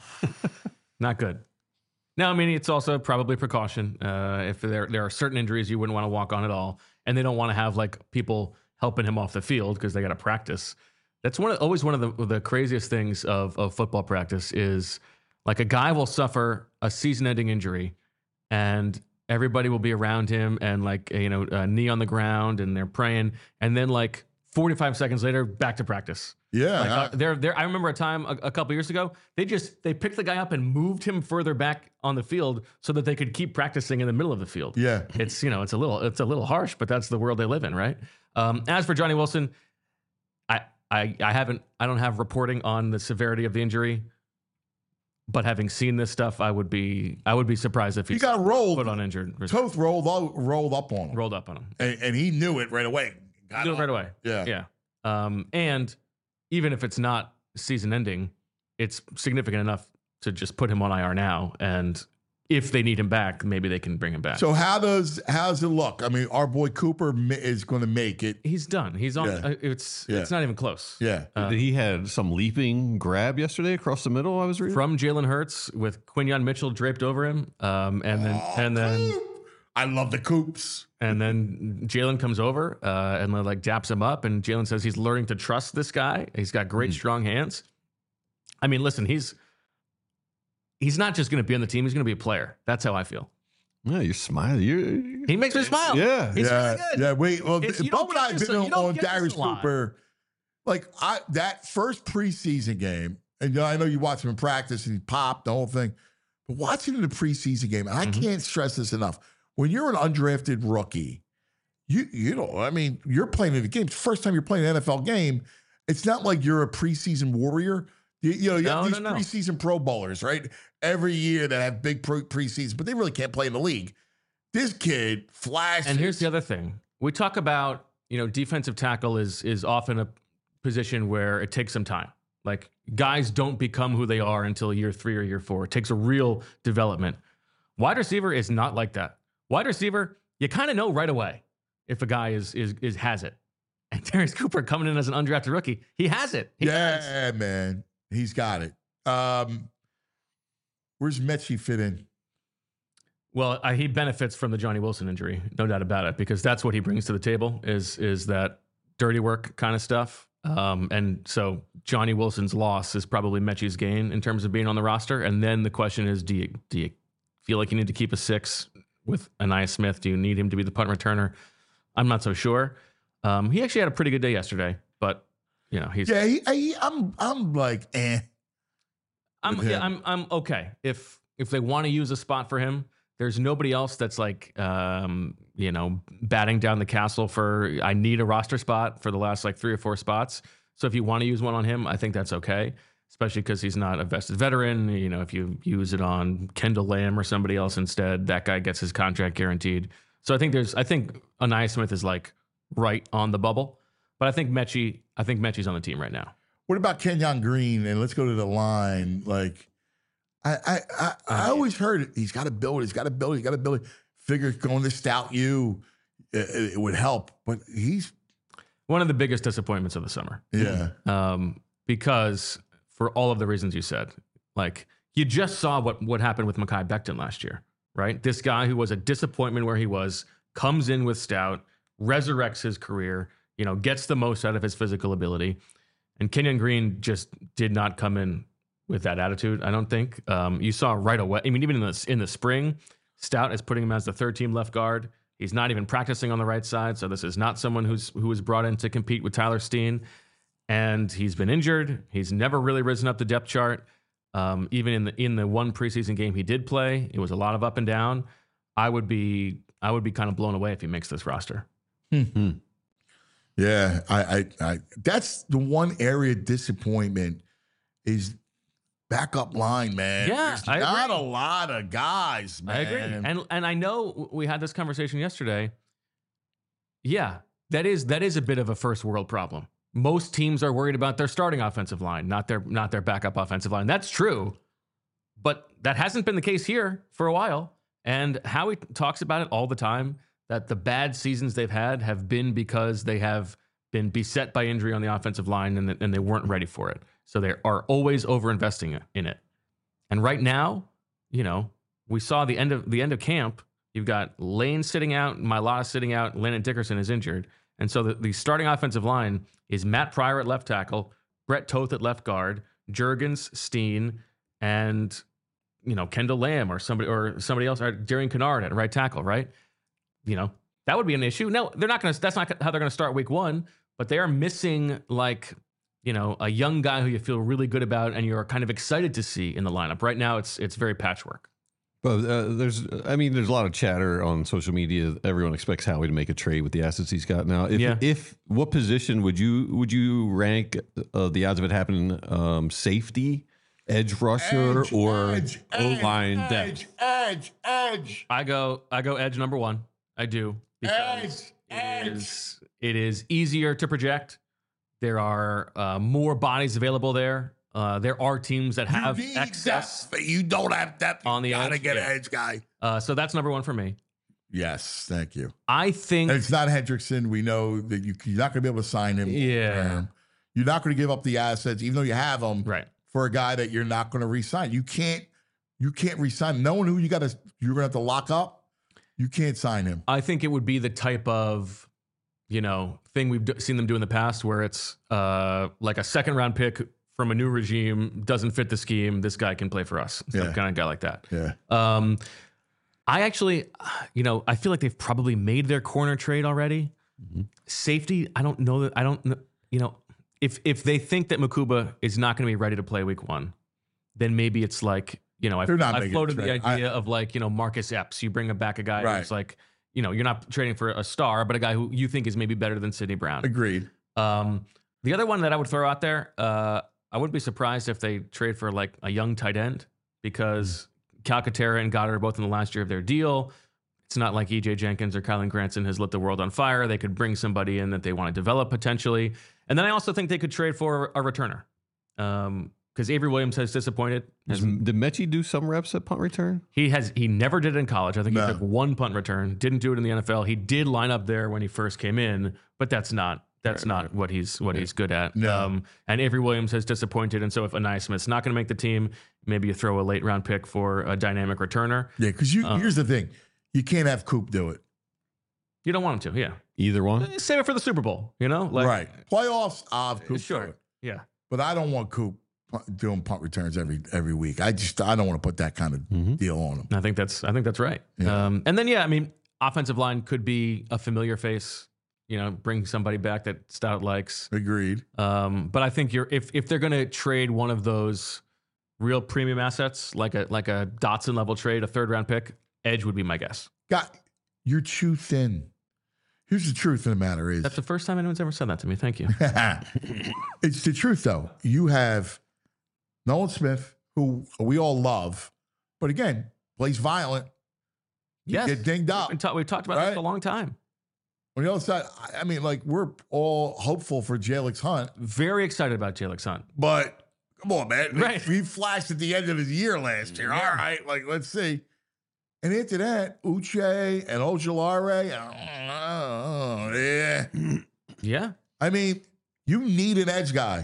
Not good. Now, I mean, it's also probably precaution. If there are certain injuries you wouldn't want to walk on at all, and they don't want to have people helping him off the field because they got to practice. That's always one of the craziest things of football practice is a guy will suffer a season-ending injury, and everybody will be around him and a knee on the ground, and they're praying, and then 45 seconds later, back to practice. Yeah. I remember a time a couple years ago, they picked the guy up and moved him further back on the field so that they could keep practicing in the middle of the field. Yeah. It's a little harsh, but that's the world they live in, right? As for Johnny Wilson, I don't have reporting on the severity of the injury, but having seen this stuff, I would be surprised if he got rolled, put on injured. Toth rolled up on him. And he knew it right away. Do it right away. Yeah. And even if it's not season ending, it's significant enough to just put him on IR now. And if they need him back, maybe they can bring him back. So how's it look? I mean, our boy Cooper is going to make it. He's done. He's on. Yeah. It's not even close. Yeah. He had some leaping grab yesterday across the middle. I was reading from Jalen Hurts with Quinyon Mitchell draped over him. And then I love the Coops. And then Jalen comes over and daps him up, and Jalen says he's learning to trust this guy. He's got great, strong hands. I mean, listen, he's not just going to be on the team; he's going to be a player. That's how I feel. Yeah, you're smiling. He makes me smile. Yeah, he's really good. Yeah, wait. Well, Bo and I have been on Darius Cooper. That first preseason game, and I know you watch him in practice, and he popped the whole thing. But watching in the preseason game, and I can't stress this enough. When you're an undrafted rookie, you're playing in the game. It's the first time you're playing an NFL game. It's not like you're a preseason warrior. You have these preseason Pro Bowlers, right? Every year that have big preseason, but they really can't play in the league. This kid flashes. And here's the other thing. We talk about, defensive tackle is often a position where it takes some time. Guys don't become who they are until year 3 or year 4. It takes a real development. Wide receiver is not like that. Wide receiver, you kind of know right away if a guy has it. And Darius Cooper coming in as an undrafted rookie, he has it. He does. Man, he's got it. Where's Mechie fit in? Well, he benefits from the Johnny Wilson injury, no doubt about it, because that's what he brings to the table is that dirty work kind of stuff. And so Johnny Wilson's loss is probably Mechie's gain in terms of being on the roster. And then the question is, do you feel like you need to keep a 6 with Ainias Smith? Do you need him to be the punt returner? I'm not so sure. He actually had a pretty good day yesterday, but he's I'm like, I'm okay. If they want to use a spot for him, there's nobody else that's like, batting down the castle for, I need a roster spot for the last like 3 or 4 spots. So if you want to use one on him, I think that's okay, especially because he's not a vested veteran. If you use it on Kendall Lamb or somebody else instead, that guy gets his contract guaranteed. So I think Ainias Smith is like right on the bubble, but I think Mechie's on the team right now. What about Kenyon Green? And let's go to the line. Like, I always heard he's got to build. Figure going to Stout U, it would help, but he's one of the biggest disappointments of the summer. Yeah. Because for all of the reasons you said, like you just saw what happened with Mekhi Becton last year, right? This guy who was a disappointment where he was, comes in with Stout, resurrects his career, gets the most out of his physical ability. And Kenyon Green just did not come in with that attitude, I don't think. You saw right away. I mean, even in the spring, Stout is putting him as the 3rd-team left guard. He's not even practicing on the right side, so this is not someone who was brought in to compete with Tyler Steen. And he's been injured. He's never really risen up the depth chart. Even in the one preseason game he did play, it was a lot of up and down. I would be kind of blown away if he makes this roster. Mm-hmm. Yeah, I that's the one area of disappointment is backup line, man. Yeah, there's not a lot of guys, man. I agree, and I know we had this conversation yesterday. Yeah, that is a bit of a first world problem. Most teams are worried about their starting offensive line, not their backup offensive line. That's true, but that hasn't been the case here for a while. And Howie talks about it all the time, that the bad seasons they've had have been because they have been beset by injury on the offensive line and they weren't ready for it. So they are always over-investing in it. And right now, we saw the end of camp. You've got Lane sitting out, Mailata sitting out, Landon Dickerson is injured. And so the starting offensive line is Matt Pryor at left tackle, Brett Toth at left guard, Juergens, Steen, and Kendall Lamb or somebody else, or Darian Kennard at right tackle, right? That would be an issue. No, that's not how they're gonna start week 1, but they are missing a young guy who you feel really good about and you're kind of excited to see in the lineup. Right now it's very patchwork. But there's a lot of chatter on social media. Everyone expects Howie to make a trade with the assets he's got now. If what position would you rank the odds of it happening? Safety, edge rusher, or O-line depth? Edge. I go edge number 1. I do, because it is easier to project. There are more bodies available there. There are teams that have excess. Depth, but you don't have depth on the edge. Gotta get an edge guy. So that's number 1 for me. Yes, thank you. I think it's not Hendrickson. We know that you're not going to be able to sign him. Yeah, you're not going to give up the assets, even though you have them, right, for a guy that you're not going to re-sign. You can't re-sign. Knowing who you're going to have to lock up. You can't sign him. I think it would be the type of thing we've seen them do in the past, where it's like a 2nd-round pick from a new regime, doesn't fit the scheme. This guy can play for us. Some kind of guy like that. Yeah. I actually, I feel like they've probably made their corner trade already. Mm-hmm. Safety, I don't know that. I don't know. If they think that Mukuba is not going to be ready to play week 1, then maybe it's like, I floated the idea of Marcus Epps. You bring back a guy who's like, you're not trading for a star, but a guy who you think is maybe better than Sidney Brown. Agreed. The other one that I would throw out there, I wouldn't be surprised if they trade for like a young tight end, because Calcaterra and Goddard are both in the last year of their deal. It's not like EJ Jenkins or Kylan Granson has lit the world on fire. They could bring somebody in that they want to develop potentially. And then I also think they could trade for a returner. Because Avery Williams has disappointed. Did Mechie do some reps at punt return? He never did it in college. I think he took 1 punt return. Didn't do it in the NFL. He did line up there when he first came in, but that's not That's not what he's good at. No. And Avery Williams has disappointed. And so if Anais Smith's not going to make the team, maybe you throw a late round pick for a dynamic returner. Yeah, because here's the thing. You can't have Coop do it. You don't want him to, yeah. Either one? Save it for the Super Bowl, right. Playoffs, Coop. Sure, yeah. But I don't want Coop doing punt returns every week. I don't want to put that kind of deal on him. I think that's right. Yeah. And then, offensive line could be a familiar face. Bring somebody back that Stout likes. Agreed. But I think if they're going to trade one of those real premium assets, like a Dotson level trade, a 3rd round pick, edge would be my guess. You're too thin. Here's the truth of the matter is. That's the first time anyone's ever said that to me. Thank you. It's the truth, though. You have Nolan Smith, who we all love, but again, plays violent. Yes. Get dinged up. We've talked about this for a long time. On the other side, we're all hopeful for Jalix Hunt. Very excited about Jalix Hunt. But come on, man. Right. He flashed at the end of his year last year. Yeah. All right, let's see. And after that, Uche and Ojulari, yeah. Yeah. You need an edge guy.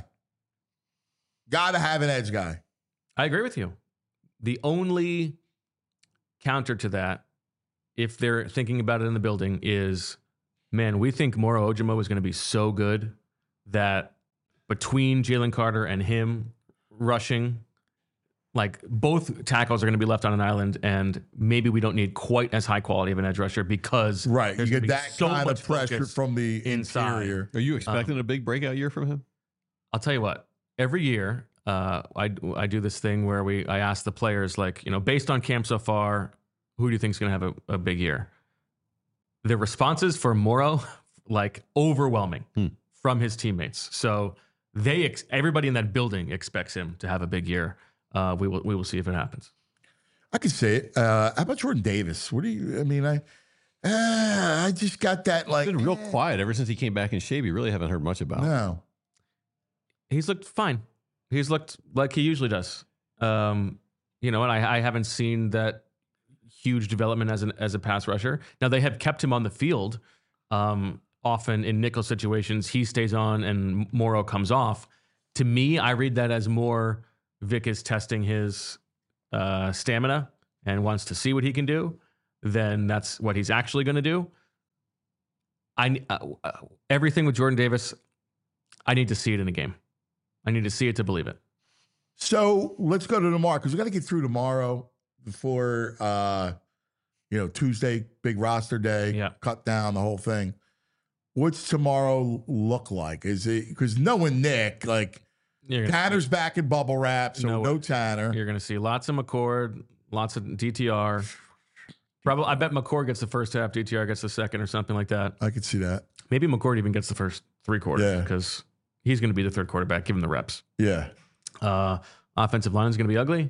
Got to have an edge guy. I agree with you. The only counter to that, if they're thinking about it in the building, is, man, we think Moro Ojomo is going to be so good that between Jalen Carter and him rushing, like both tackles are going to be left on an island, and maybe we don't need quite as high quality of an edge rusher because you get that so kind much of pressure focus from the inside. interior. Are you expecting a big breakout year from him? I'll tell you what. Every year, I do this thing where I ask the players, based on camp so far, who do you think is going to have a big year? The responses for Moro, overwhelming from his teammates. So everybody in that building expects him to have a big year. We will see if it happens. I can say it. How about Jordan Davis? What do you? I just got that He's been real quiet ever since he came back in shape. You really haven't heard much about him. No. He's looked fine. He's looked like he usually does. And I haven't seen that huge development as a pass rusher. Now they have kept him on the field. Often in nickel situations, he stays on and Moro comes off. To me, I read that as more Vic is testing his stamina and wants to see what he can do. Then that's what he's actually going to do. Everything with Jordan Davis, I need to see it in a game. I need to see it to believe it. So let's go to tomorrow because we got to get through tomorrow before Tuesday, big roster day. Yeah. Cut down the whole thing. What's tomorrow look like? Is it because knowing Nick, Tanner's back in bubble wrap, so no Tanner. You're going to see lots of McCord, lots of DTR. Probably, I bet McCord gets the first half, DTR gets the second, or something like that. I could see that. Maybe McCord even gets the first 3 quarters because he's going to be the third quarterback, give him the reps. Yeah. Offensive line is going to be ugly.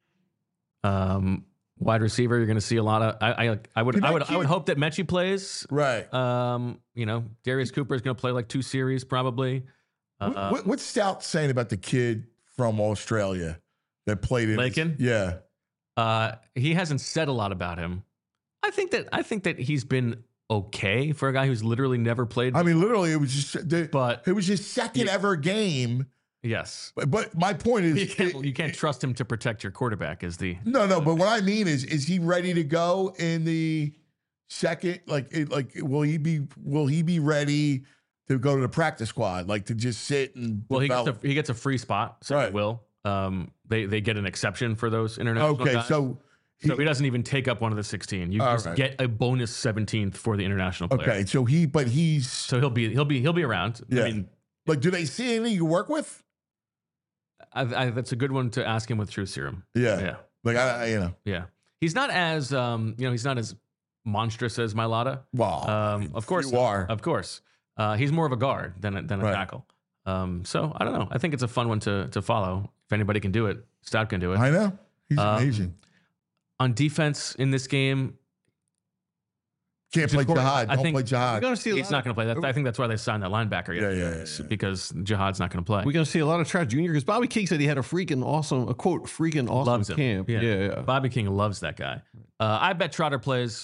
Wide receiver, you're going to see a lot of. I would hope that Mechie plays. Right. Darius Cooper is going to play 2 series probably. What's Stout saying about the kid from Australia that played in Lakin? Yeah. He hasn't said a lot about him. I think that he's been okay for a guy who's literally never played. Literally, it was just. It was his second ever game. Yes, but my point is, you can't trust him to protect your quarterback. No. But what I mean is he ready to go in the second? Will he be ready to go to the practice squad? To just sit and he gets a free spot. So right. He will. They get an exception for those international guys. So he doesn't even take up one of the 16. You just get a bonus 17th for the international player. Okay, so he'll be around. Yeah. Do they see anything you work with? That's a good one to ask him with True Serum. Yeah. Yeah. He's not as he's not as monstrous as Mailata. Wow. Of course you are. Of course. He's more of a guard than a tackle. So I don't know. I think it's a fun one to follow. If anybody can do it, Stout can do it. I know. He's amazing. On defense in this game, can't play Jihad. Don't play Jihad. He's not going to play. I think that's why they signed that linebacker. Yeah. Because Jihad's not going to play. We're going to see a lot of Trout Jr. because Bobby King said he had a freaking awesome loves camp. Yeah. Bobby King loves that guy. I bet Trotter plays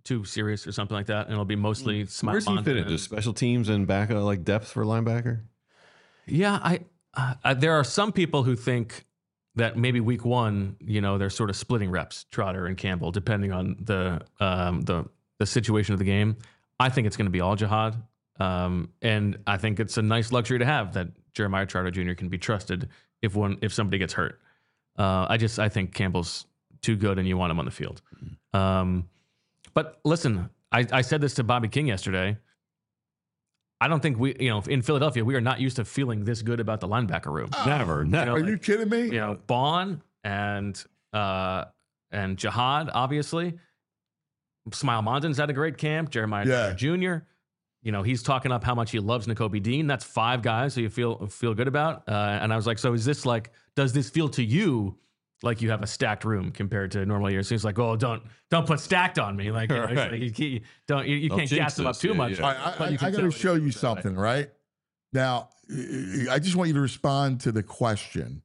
too serious or something like that, and it'll be mostly Smile. Where's he fit into special teams and back like depth for linebacker? Yeah, there are some people who think that maybe week one, they're sort of splitting reps, Trotter and Campbell, depending on the situation of the game. I think it's going to be all Jihad, and I think it's a nice luxury to have that Jeremiah Trotter Jr. can be trusted if somebody gets hurt. I think Campbell's too good, and you want him on the field. But listen, I said this to Bobby King yesterday. I don't think in Philadelphia, we are not used to feeling this good about the linebacker room. Never. Are you kidding me? Bond and Jihad, obviously. Smile Monden's had a great camp. Jeremiah Jr. He's talking up how much he loves Nakobe Dean. That's 5 guys who you feel good about. And I was like, so is this does this feel to you like you have a stacked room compared to normal years? He's like, oh, don't put stacked on me. Like, you can't gas them up too much. I got to show you something, right? Now, I just want you to respond to the question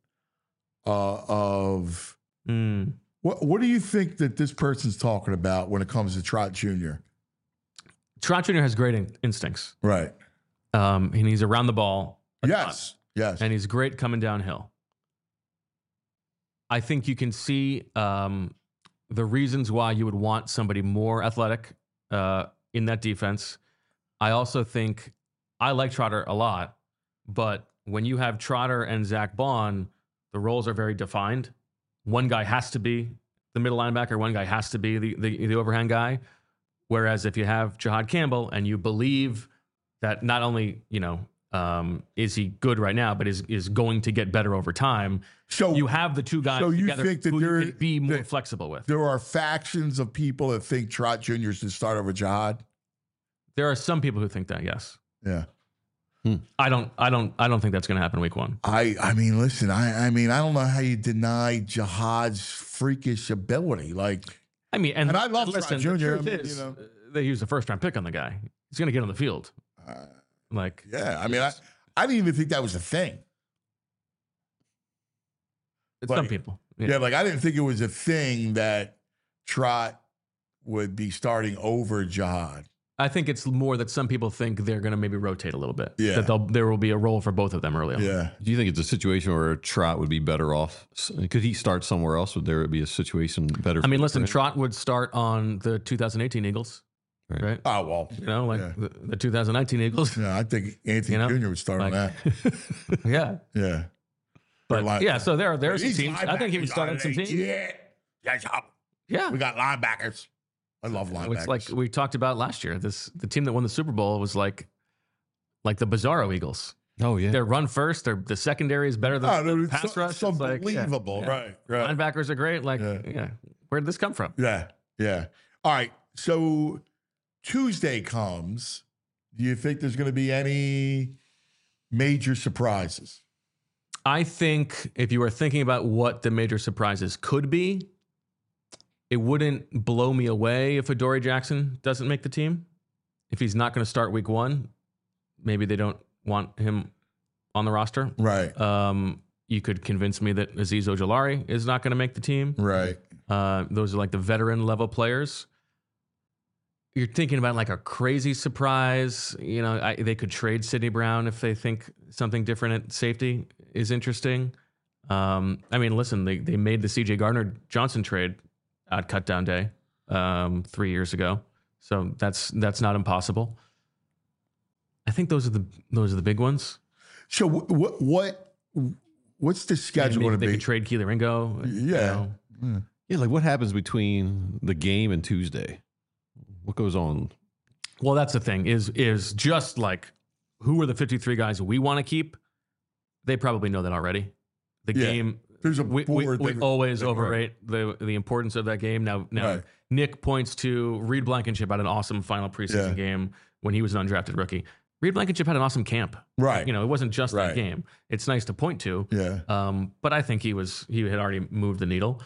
of what do you think that this person's talking about when it comes to Trot Jr.? Trot Jr. has great instincts. Right. And he's around the ball. Yes. And he's great coming downhill. I think you can see the reasons why you would want somebody more athletic in that defense. I also think I like Trotter a lot, but when you have Trotter and Zach Bond, the roles are very defined. One guy has to be the middle linebacker. One guy has to be the overhand guy. Whereas if you have Jihad Campbell and you believe that not only, is he good right now, but is going to get better over time. So you have the two guys together think that who you could be more flexible with. There are factions of people that think Trot Jr. should start over Jihad. There are some people who think that, yes. Yeah. I don't think that's going to happen week one. I mean, listen, I don't know how you deny Jihad's freakish ability. And I love Trot Jr. They used a first round pick on the guy. He's going to get on the field. I didn't even think that was a thing. Some people. Yeah, I didn't think it was a thing that Trot would be starting over Jihad. I think it's more that some people think they're going to maybe rotate a little bit. Yeah. That there will be a role for both of them early on. Yeah. Do you think it's a situation where Trot would be better off? Could he start somewhere else? Would there be a situation better? Listen, Trot would start on the 2018 Eagles. Right. Oh, well. The 2019 Eagles. Yeah, I think Anthony Jr. would start on that. Yeah. Yeah. But so there are some teams. I think he would start on some teams. Yeah. Yeah. We got linebackers. I love linebackers. It's like we talked about last year. The team that won the Super Bowl was like the Bizarro Eagles. Oh yeah, they run first. The secondary is better than the pass rush. It's unbelievable, right? Linebackers are great. Where did this come from? Yeah. All right. So Tuesday comes. Do you think there's going to be any major surprises? I think if you were thinking about what the major surprises could be, it wouldn't blow me away if Adoree Jackson doesn't make the team. If he's not going to start week one, maybe they don't want him on the roster. Right. You could convince me that Azeez Ojulari is not going to make the team. Right. Those are the veteran level players. You're thinking about a crazy surprise. They could trade Sidney Brown if they think something different at safety is interesting. Listen, they made the C.J. Gardner-Johnson trade at cutdown day 3 years ago, so that's not impossible. I think those are the big ones. So what's the schedule going to be? They could trade Kelee Ringo. Yeah. Yeah, what happens between the game and Tuesday? What goes on? Well, that's the thing is just who are the 53 guys we want to keep? They probably know that already. The game. There's we always overrate the importance of that game. Now right. Nick points to Reed Blankenship had an awesome final preseason game when he was an undrafted rookie. Reed Blankenship had an awesome camp. Right. It wasn't just that game. It's nice to point to. Yeah. But I think he had already moved the needle.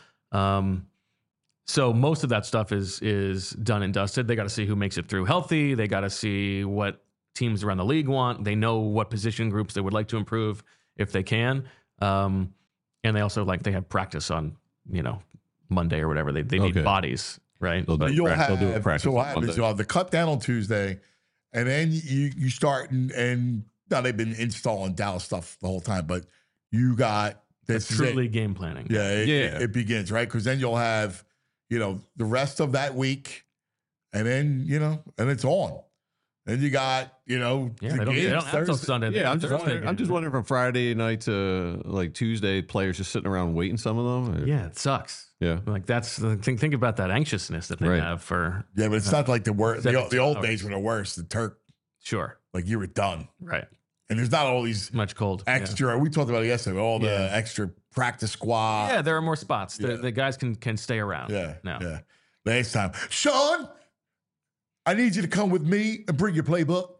So most of that stuff is done and dusted. They got to see who makes it through healthy. They got to see what teams around the league want. They know what position groups they would like to improve if they can. And they also they have practice on, Monday or whatever. They need bodies. right? They'll But You'll do have, practice so what on happens, Monday. you'll have the cut down on Tuesday, and then you start, and now they've been installing Dallas stuff the whole time, but you got That's this truly game planning. Yeah, it begins, right? Because then you'll have, the rest of that week, and then, and it's on. Then you got, Yeah, the they don't games have till Thursday. Sunday. Yeah, I'm Thursday. just wondering from Friday night to like Tuesday, players just sitting around waiting. Some of them. Yeah, it sucks. Yeah. Like that's the thing. Think about that anxiousness that they Right. have for. Yeah, but it's not like the worst. The 72 old hours. days were the worst. The Turk, Sure. like you were done. Right. And there's not all these Much cold. Yeah. extra, we talked about it yesterday, all the extra practice squad. Yeah, there are more spots. The guys can stay around. Yeah. No. Yeah. Next time. Sean, I need you to come with me and bring your playbook.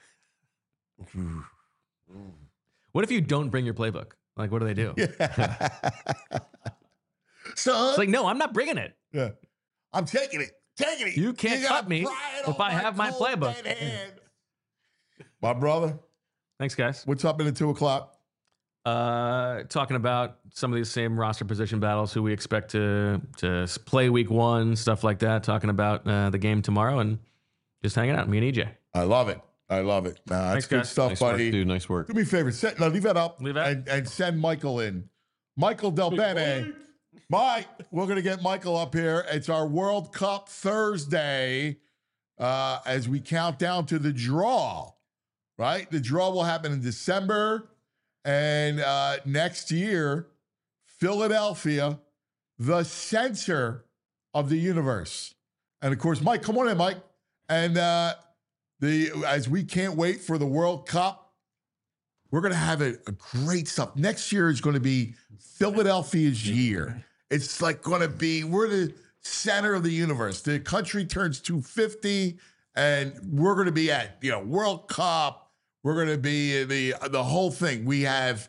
What if you don't bring your playbook? Like, what do they do? Son. It's like, no, I'm not bringing it. Yeah. I'm taking it. Taking it. You can't gotta cut me pry it if off I have my cold playbook. dead hand. My brother, Thanks, guys. what's up in the 2 o'clock? Talking about some of these same roster position battles, who we expect to play week 1, stuff like that. Talking about the game tomorrow and just hanging out. Me and EJ. I love it. I love it. That's Thanks, good guys. stuff, Nice work, buddy. dude. Nice work. Do me a favor. Leave that up. Leave that. And send Michael in. Michael Del Bene. Mike, we're going to get Michael up here. It's our World Cup Thursday as we count down to the draw, right? The draw will happen in December. And next year, Philadelphia, the center of the universe. And of course, Mike, come on in, Mike. And as we can't wait for the World Cup, we're going to have a great stuff. Next year is going to be Philadelphia's year. It's like going to be, we're the center of the universe. The country turns 250, and we're going to be at, World Cup. We're going to be the whole thing. We have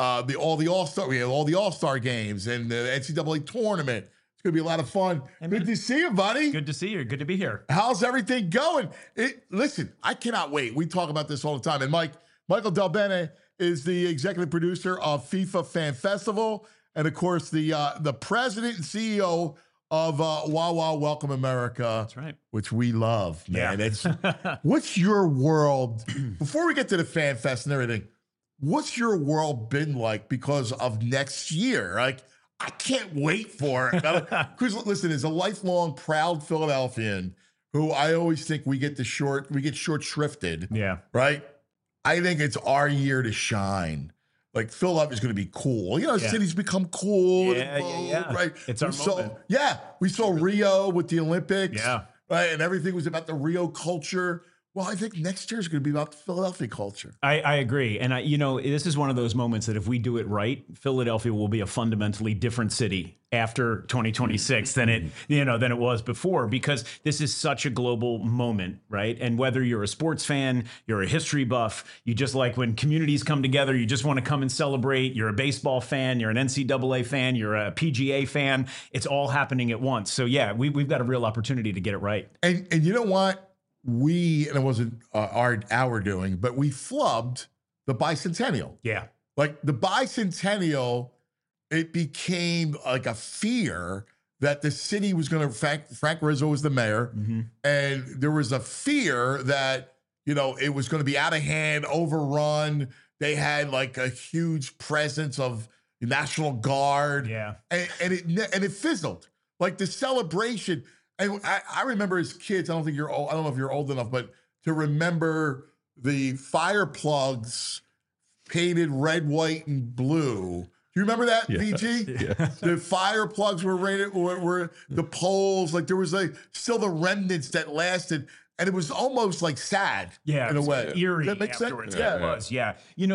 all the All-Star. We have all the All-Star games and the NCAA tournament. It's going to be a lot of fun. Good to see you, buddy. Good to see you. Good to be here. How's everything going? Listen, I cannot wait. We talk about this all the time. And Michael Del Bene is the executive producer of FIFA Fan Festival, and of course the president and CEO of Wawa Welcome America. That's right. Which we love, man. Yeah. What's your world, before we get to the Fan Fest and everything, what's your world been like because of next year? Like, I can't wait for it. Because listen, as a lifelong proud Philadelphian, who I always think we get short shrifted. Yeah. Right? I think it's our year to shine. Like, Philadelphia's going to be cool. Cities become cool. Yeah. Right? It's our moment. We saw Rio with the Olympics. Yeah. Right? And everything was about the Rio culture. Well, I think next year is going to be about the Philadelphia culture. I agree. And this is one of those moments that if we do it right, Philadelphia will be a fundamentally different city after 2026 than it was before, because this is such a global moment, right? And whether you're a sports fan, you're a history buff, you just like when communities come together, you just want to come and celebrate. You're a baseball fan, you're an NCAA fan, you're a PGA fan. It's all happening at once. So yeah, we've got a real opportunity to get it right. And you know what? And it wasn't our doing, but we flubbed the bicentennial. Yeah. Like the bicentennial, it became like a fear that the city was going to, Frank Rizzo was the mayor, and there was a fear that, it was going to be out of hand, overrun. They had like a huge presence of National Guard. Yeah. And it fizzled. Like the celebration. And I remember as kids, I don't know if you're old enough, but to remember the fire plugs painted red, white, and blue. Do you remember that, VG? Yeah. The fire plugs were rated, were the poles, like there was still the remnants that lasted. And it was almost like sad, in a way. Eerie. Does that make sense? Afterwards. Yeah, it was. Yeah,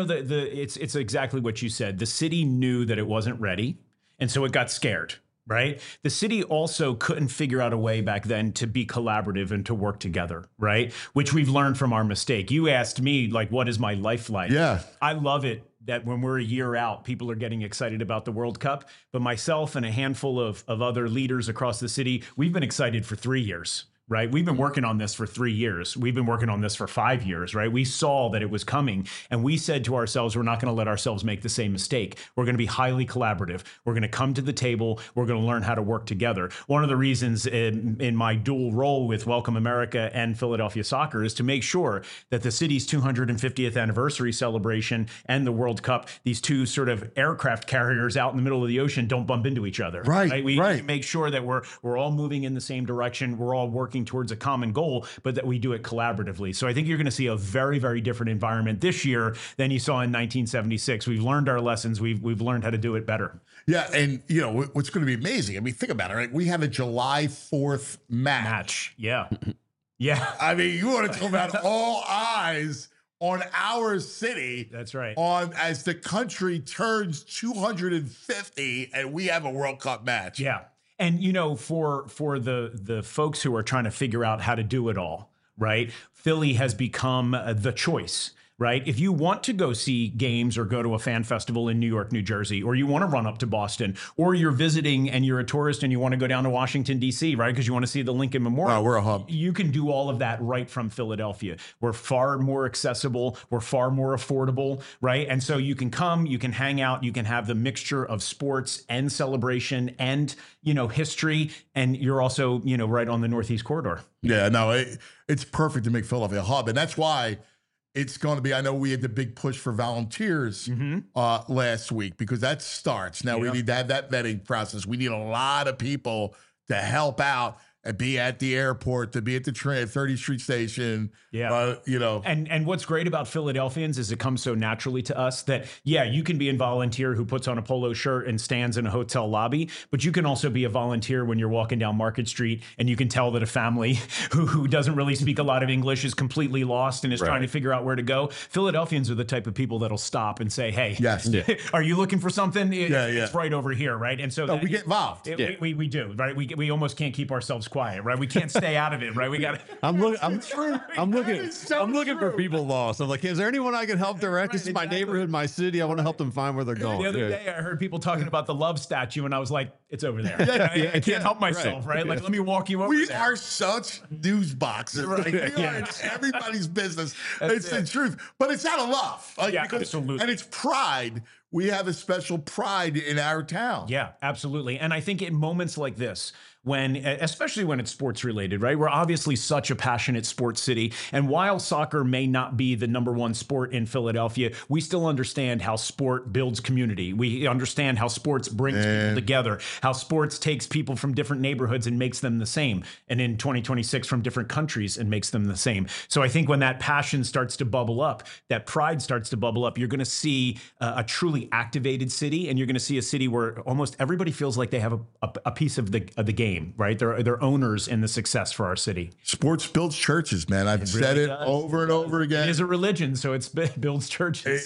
it's exactly what you said. The city knew that it wasn't ready, and so it got scared. Right. The city also couldn't figure out a way back then to be collaborative and to work together. Right. Which we've learned from our mistake. You asked me, like, what is my life like? Yeah. I love it that when we're a year out, people are getting excited about the World Cup. But myself and a handful of other leaders across the city, we've been excited for 3 years. right? We've been working on this for 3 years. We've been working on this for 5 years, right? We saw that it was coming, and we said to ourselves, we're not going to let ourselves make the same mistake. We're going to be highly collaborative. We're going to come to the table. We're going to learn how to work together. One of the reasons in my dual role with Welcome America and Philadelphia Soccer is to make sure that the city's 250th anniversary celebration and the World Cup, these two sort of aircraft carriers out in the middle of the ocean, don't bump into each other. Right. We need to make sure that we're all moving in the same direction. We're all working towards a common goal, but that we do it collaboratively. So I think you're going to see a very, very different environment this year than you saw in 1976. We've learned our lessons. We've learned how to do it better. Yeah, and you know what's going to be amazing. I mean, think about it. Right? We have a July 4th match. Yeah, yeah. I mean, you want to talk about all eyes on our city. That's right. On as the country turns 250, and we have a World Cup match. Yeah. And, you know, for the folks who are trying to figure out how to do it all, right? Philly has become the choice, right? If you want to go see games or go to a fan festival in New York, New Jersey, or you want to run up to Boston, or you're visiting and you're a tourist and you want to go down to Washington, D.C., right? Because you want to see the Lincoln Memorial. We're a hub. You can do all of that right from Philadelphia. We're far more accessible. We're far more affordable, right? And so you can come, you can hang out, you can have the mixture of sports and celebration and, you know, history. And you're also, you know, right on the Northeast Corridor. Yeah, no, it's perfect to make Philadelphia a hub. And that's why it's going to be, I know we had the big push for volunteers last week because that starts. Now we need to have that vetting process. We need a lot of people to help out and be at the airport, to be at the 30th Street Station. Yeah. You know. And what's great about Philadelphians is it comes so naturally to us that, yeah, you can be a volunteer who puts on a polo shirt and stands in a hotel lobby, but you can also be a volunteer when you're walking down Market Street and you can tell that a family who doesn't really speak a lot of English is completely lost and is trying to figure out where to go. Philadelphians are the type of people that'll stop and say, hey, are you looking for something? It's right over here, right? And so we get involved. We do, right? We almost can't keep ourselves quiet, right? We can't stay out of it, right? We got. I'm looking for people lost. I'm like, is there anyone I can help direct? This is my neighborhood, my city. I want to help them find where they're going. The other day, I heard people talking about the love statue, and I was like, it's over there. I can't help myself, right? Like, let me walk you over. We there. are such news boxes. Right? We are in everybody's business. It's the truth, but it's out of love. Like, absolutely. And it's pride. We have a special pride in our town. Yeah, absolutely. And I think in moments like this, especially when it's sports related, right? We're obviously such a passionate sports city. And while soccer may not be the number one sport in Philadelphia, we still understand how sport builds community. We understand how sports brings people together, how sports takes people from different neighborhoods and makes them the same. And in 2026 from different countries and makes them the same. So I think when that passion starts to bubble up, that pride starts to bubble up, you're going to see a truly activated city. And you're going to see a city where almost everybody feels like they have a piece of the game. Right, they're owners in the success for our city. Sports builds churches, man. I've said it over and over again. It is a religion, so it builds churches.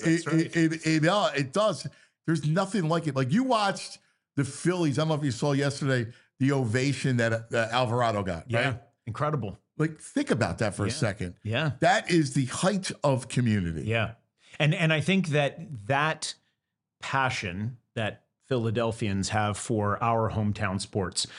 It does. There's nothing like it. Like you watched the Phillies. I don't know if you saw yesterday the ovation that Alvarado got. Yeah, right? Incredible. Like think about that for a second. Yeah, that is the height of community. Yeah, and I think that passion that Philadelphians have for our hometown sports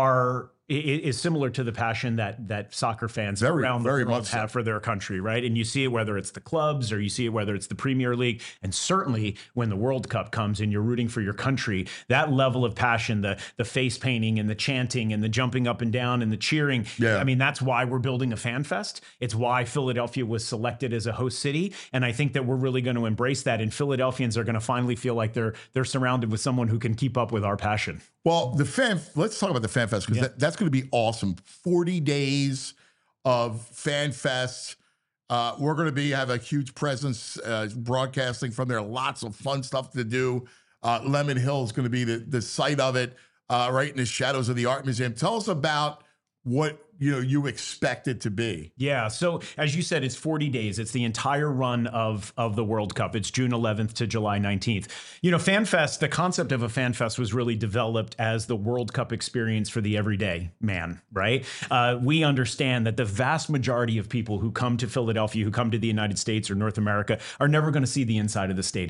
is similar to the passion that soccer fans around the world have for their country, right? And you see it whether it's the clubs or you see it whether it's the Premier League, and certainly when the World Cup comes and you're rooting for your country, that level of passion, the face painting and the chanting and the jumping up and down and the cheering. Yeah. I mean, that's why we're building a fan fest. It's why Philadelphia was selected as a host city, and I think that we're really going to embrace that. And Philadelphians are going to finally feel like they're surrounded with someone who can keep up with our passion. Well, let's talk about the Fan Fest because that's going to be awesome. 40 days of Fan Fest. We're going to have a huge presence broadcasting from there. Lots of fun stuff to do. Lemon Hill is going to be the site of it, right in the shadows of the Art Museum. Tell us about what you expect it to be. Yeah. So as you said, it's 40 days. It's the entire run of the World Cup. It's June 11th to July 19th. Fan Fest, the concept of a Fan Fest was really developed as the World Cup experience for the everyday man, right? We understand that the vast majority of people who come to Philadelphia, who come to the United States or North America, are never going to see the inside of the stadium.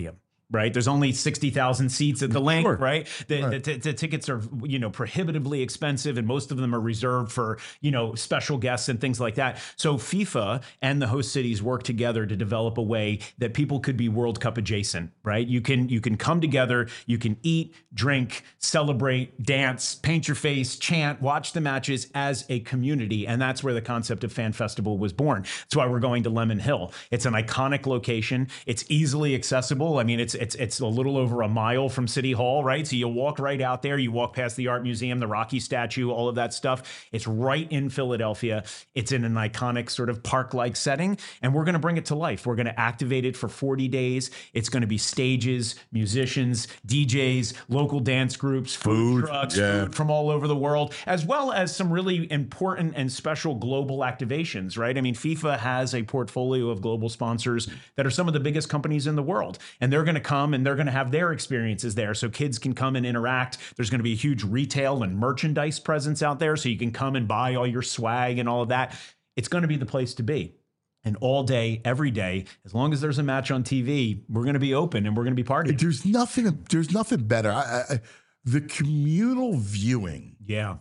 right? There's only 60,000 seats at the Link, Sure. right? The tickets are, prohibitively expensive, and most of them are reserved for, special guests and things like that. So FIFA and the host cities work together to develop a way that people could be World Cup adjacent, right? You can come together, you can eat, drink, celebrate, dance, paint your face, chant, watch the matches as a community. And that's where the concept of Fan Festival was born. That's why we're going to Lemon Hill. It's an iconic location. It's easily accessible. I mean, it's a little over a mile from City Hall, right? So you walk right out there. You walk past the Art Museum, the Rocky statue, all of that stuff. It's right in Philadelphia. It's in an iconic sort of park-like setting, and we're going to bring it to life. We're going to activate it for 40 days. It's going to be stages, musicians, DJs, local dance groups, food trucks, food from all over the world, as well as some really important and special global activations, right? I mean, FIFA has a portfolio of global sponsors that are some of the biggest companies in the world, and they're going to come and they're going to have their experiences there, so kids can come and interact. There's going to be a huge retail and merchandise presence out there, so you can come and buy all your swag and all of that. It's going to be the place to be. And all day, every day, as long as there's a match on TV, we're going to be open and we're going to be partying. There's nothing better. The communal viewing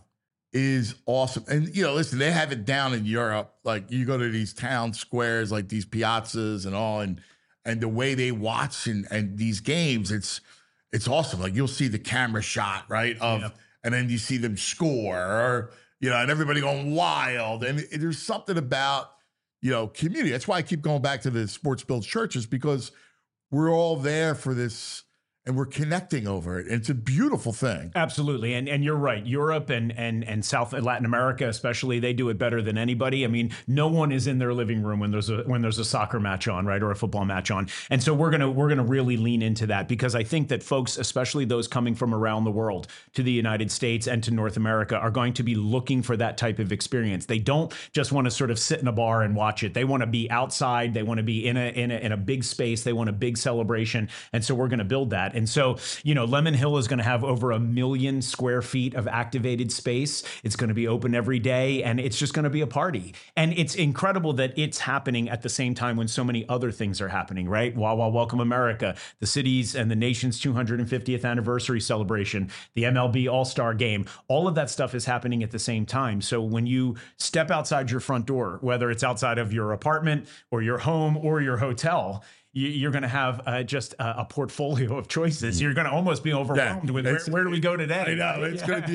is awesome. And, listen, they have it down in Europe. Like, you go to these town squares, like these piazzas and all, and the way they watch and these games, it's awesome. Like, you'll see the camera shot, right, and then you see them score, or, and everybody going wild. And there's something about, community. That's why I keep going back to the Sports Builds churches, because we're all there for this and we're connecting over it. And it's a beautiful thing. Absolutely. And you're right. Europe and South Latin America, especially, they do it better than anybody. I mean, no one is in their living room when there's a soccer match on, right? Or a football match on. And so we're going to really lean into that, because I think that folks, especially those coming from around the world to the United States and to North America, are going to be looking for that type of experience. They don't just want to sort of sit in a bar and watch it. They want to be outside. They want to be in a big space. They want a big celebration. And so we're going to build that. And so, Lemon Hill is going to have over 1 million square feet of activated space. It's going to be open every day, and it's just going to be a party. And it's incredible that it's happening at the same time when so many other things are happening, right? Wawa Welcome America, the city's and the nation's 250th anniversary celebration, the MLB All-Star Game, all of that stuff is happening at the same time. So when you step outside your front door, whether it's outside of your apartment or your home or your hotel, you're going to have just a portfolio of choices. You're going to almost be overwhelmed with where do we go today? I know it's going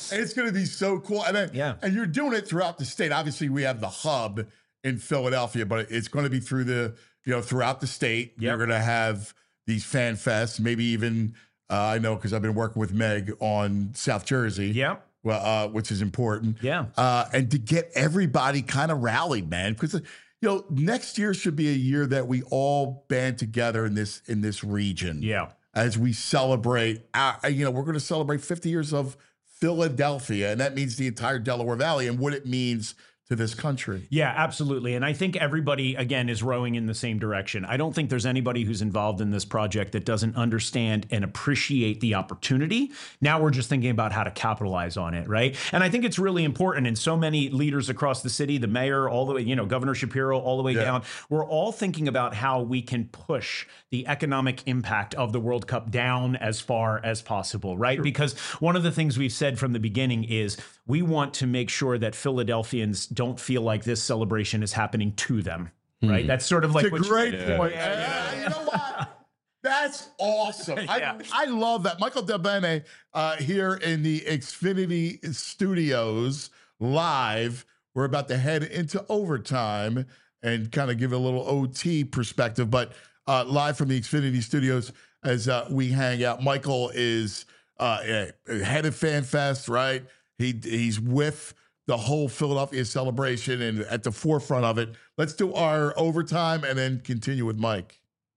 to be so cool. And you're doing it throughout the state. Obviously, we have the hub in Philadelphia, but it's going to be throughout the state. You're going to have these fan fests, maybe even I know, because I've been working with Meg on South Jersey. Yep. Well, which is important. Yeah. And to get everybody kind of rallied, man, because next year should be a year that we all band together in this region. Yeah. As we celebrate, we're going to celebrate 50 years of Philadelphia, and that means the entire Delaware Valley and what it means to this country. Yeah, absolutely. And I think everybody, again, is rowing in the same direction. I don't think there's anybody who's involved in this project that doesn't understand and appreciate the opportunity. Now we're just thinking about how to capitalize on it, right? And I think it's really important. And so many leaders across the city, the mayor, all the way, Governor Shapiro, all the way down, we're all thinking about how we can push the economic impact of the World Cup down as far as possible, right? Sure. Because one of the things we've said from the beginning is we want to make sure that Philadelphians don't feel like this celebration is happening to them, right? That's sort of like it's a great point. You know what? That's awesome. I love that. Michael DeBene here in the Xfinity Studios live. We're about to head into overtime and kind of give a little OT perspective, but live from the Xfinity Studios as we hang out. Michael is head of Fan Fest, right? He's with the whole Philadelphia celebration and at the forefront of it. Let's do our overtime and then continue with Mike.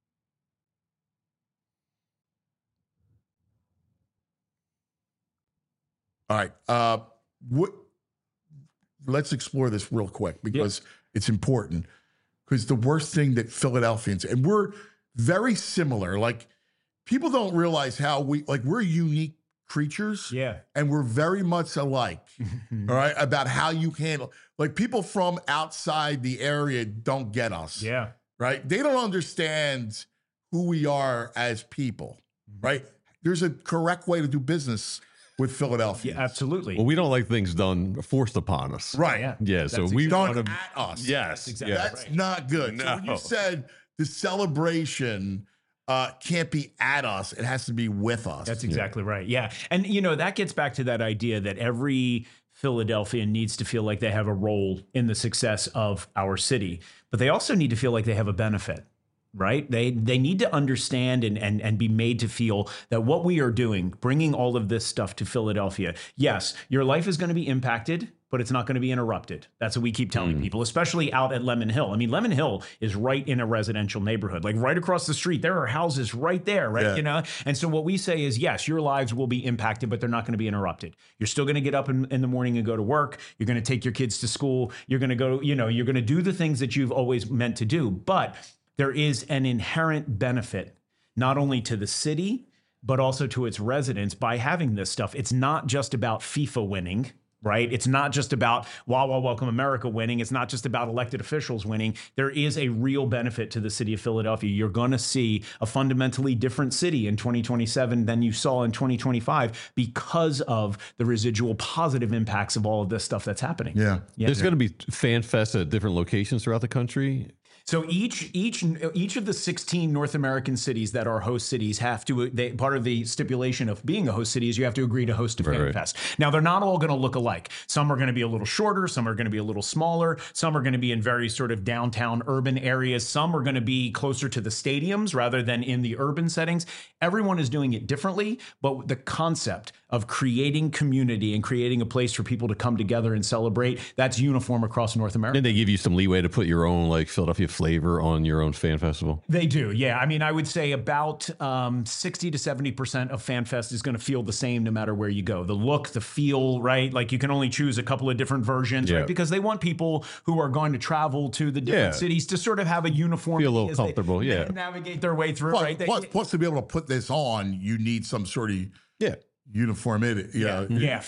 All right. Let's explore this real quick because it's important. Because the worst thing that Philadelphians, and we're very similar, like people don't realize how we're unique creatures. Yeah. And we're very much alike. All right. About how you handle, like people from outside the area don't get us. Yeah. Right. They don't understand who we are as people, right? There's a correct way to do business with Philadelphia. Yeah, absolutely. Well, we don't like things done forced upon us. Right. Yeah. So That's we Done want at to. us. Yes. exactly Yeah. That's not good. So when No. you said the celebration can't be at us, it has to be with us. That's exactly right. Yeah. And, you know, that gets back to that idea that every Philadelphian needs to feel like they have a role in the success of our city, but they also need to feel like they have a benefit. Right? They need to understand and be made to feel that what we are doing, bringing all of this stuff to Philadelphia, yes, your life is going to be impacted, but it's not going to be interrupted. That's what we keep telling people, especially out at Lemon Hill. I mean, Lemon Hill is right in a residential neighborhood, like right across the street. There are houses right there, right? Yeah. You know? And so what we say is, yes, your lives will be impacted, but they're not going to be interrupted. You're still going to get up in the morning and go to work. You're going to take your kids to school. You're going to go, you know, you're going to do the things that you've always meant to do. But there is an inherent benefit, not only to the city, but also to its residents by having this stuff. It's not just about FIFA winning, right? It's not just about Wawa Welcome America winning. It's not just about elected officials winning. There is a real benefit to the city of Philadelphia. You're going to see a fundamentally different city in 2027 than you saw in 2025 because of the residual positive impacts of all of this stuff that's happening. Yeah. There's going to be fan fests at different locations throughout the country. So each of the 16 North American cities that are host cities have to, part of the stipulation of being a host city is you have to agree to host a fan fest. Now, they're not all going to look alike. Some are going to be a little shorter. Some are going to be a little smaller. Some are going to be in very sort of downtown urban areas. Some are going to be closer to the stadiums rather than in the urban settings. Everyone is doing it differently, but the concept of creating community and creating a place for people to come together and celebrate, that's uniform across North America. And they give you some leeway to put your own like Philadelphia flavor on your own fan festival. They do, yeah. I mean, I would say about 60 to 70% of FanFest is going to feel the same no matter where you go. The look, the feel, right? Like you can only choose a couple of different versions, right? Because they want people who are going to travel to the different cities to sort of have a uniform, feel a little comfortable, navigate their way through, Plus, right? plus, to be able to put this on, you need some sort of uniformity. Yeah,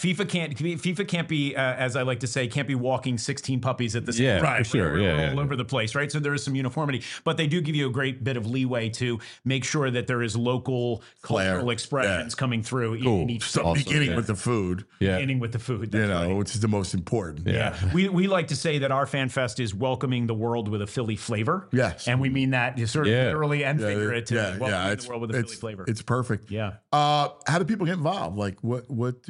FIFA can't be, as I like to say, can't be walking 16 puppies at the same time. Right, sure, all over the place, right? So there is some uniformity, but they do give you a great bit of leeway to make sure that there is local cultural expressions coming through in each So beginning with the food. Beginning with the food, you know, which is the most important. Yeah. We like to say that our Fan Fest is welcoming the world with a Philly flavor. Yes. And we mean that sort of literally and figuratively. Welcoming It's the world with a Philly flavor. It's perfect. Yeah. How do people get involved? Like what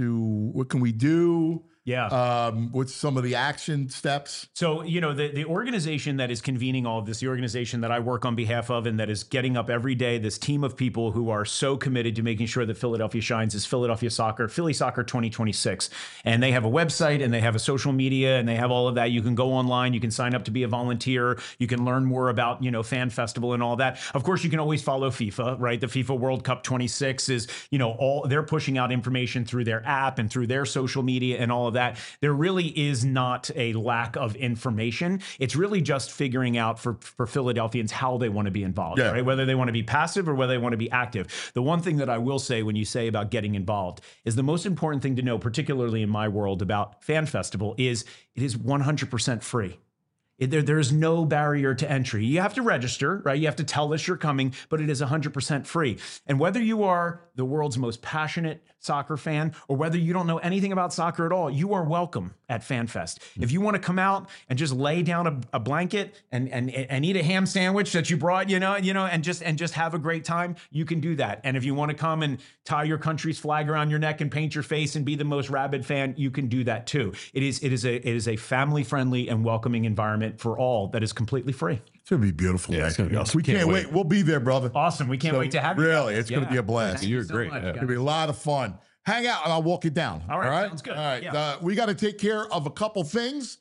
can we do? Yeah. What's some of the action steps? So, you know, the organization that is convening all of this, the organization that I work on behalf of and that is getting up every day, this team of people who are so committed to making sure that Philadelphia shines is Philadelphia Soccer, Philly Soccer 2026. And they have a website and they have a social media and they have all of that. You can go online, you can sign up to be a volunteer, you can learn more about, you know, Fan Festival and all that. Of course, you can always follow FIFA, right? The FIFA World Cup 26 is, you know, they're pushing out information through their app and through their social media and all of that. There really is not a lack of information. It's really just figuring out for Philadelphians how they want to be involved, right? Whether they want to be passive or whether they want to be active. The one thing that I will say when you say about getting involved is the most important thing to know, particularly in my world about Fan Festival, is it is 100% free. There's no barrier to entry. You have to register, right? You have to tell us you're coming, but it is 100% free. And whether you are the world's most passionate soccer fan or whether you don't know anything about soccer at all, you are welcome at FanFest. If you want to come out and just lay down a blanket and eat a ham sandwich that you brought, and just have a great time, you can do that. And if you want to come and tie your country's flag around your neck and paint your face and be the most rabid fan, you can do that too. It is a family-friendly and welcoming environment for all that is completely free. It's going to be beautiful. Yeah, it's going to be awesome. We can't wait. We'll be there, brother. Awesome. We can't wait to have you. Really, it's going to be a blast. You're great. much, Yeah. It's going to be a lot of fun. Hang out and I'll walk it down. All right, sounds good. All right. Yeah. We got to take care of a couple things.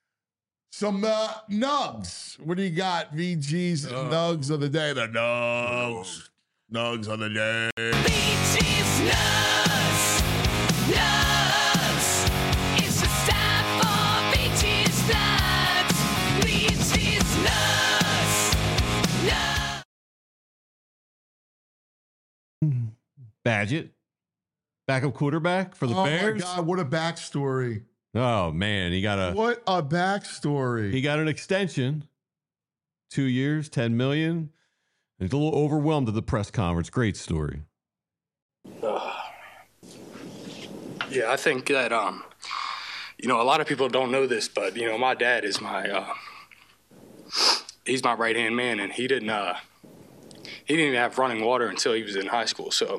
Some nugs. What do you got? VG's nugs of the day. The nugs. Nugs of the day. VG's nugs. Nugs. It's the time for VG's nugs. VG's nugs. Nugs. Badgett, backup quarterback for the Bears. Oh my God, what a backstory. Oh man, What a backstory. He got an extension, 2 years, $10 million. He's a little overwhelmed at the press conference. Great story. Yeah, I think that, a lot of people don't know this, but, my dad is he's my right-hand man, and he didn't even have running water until he was in high school. So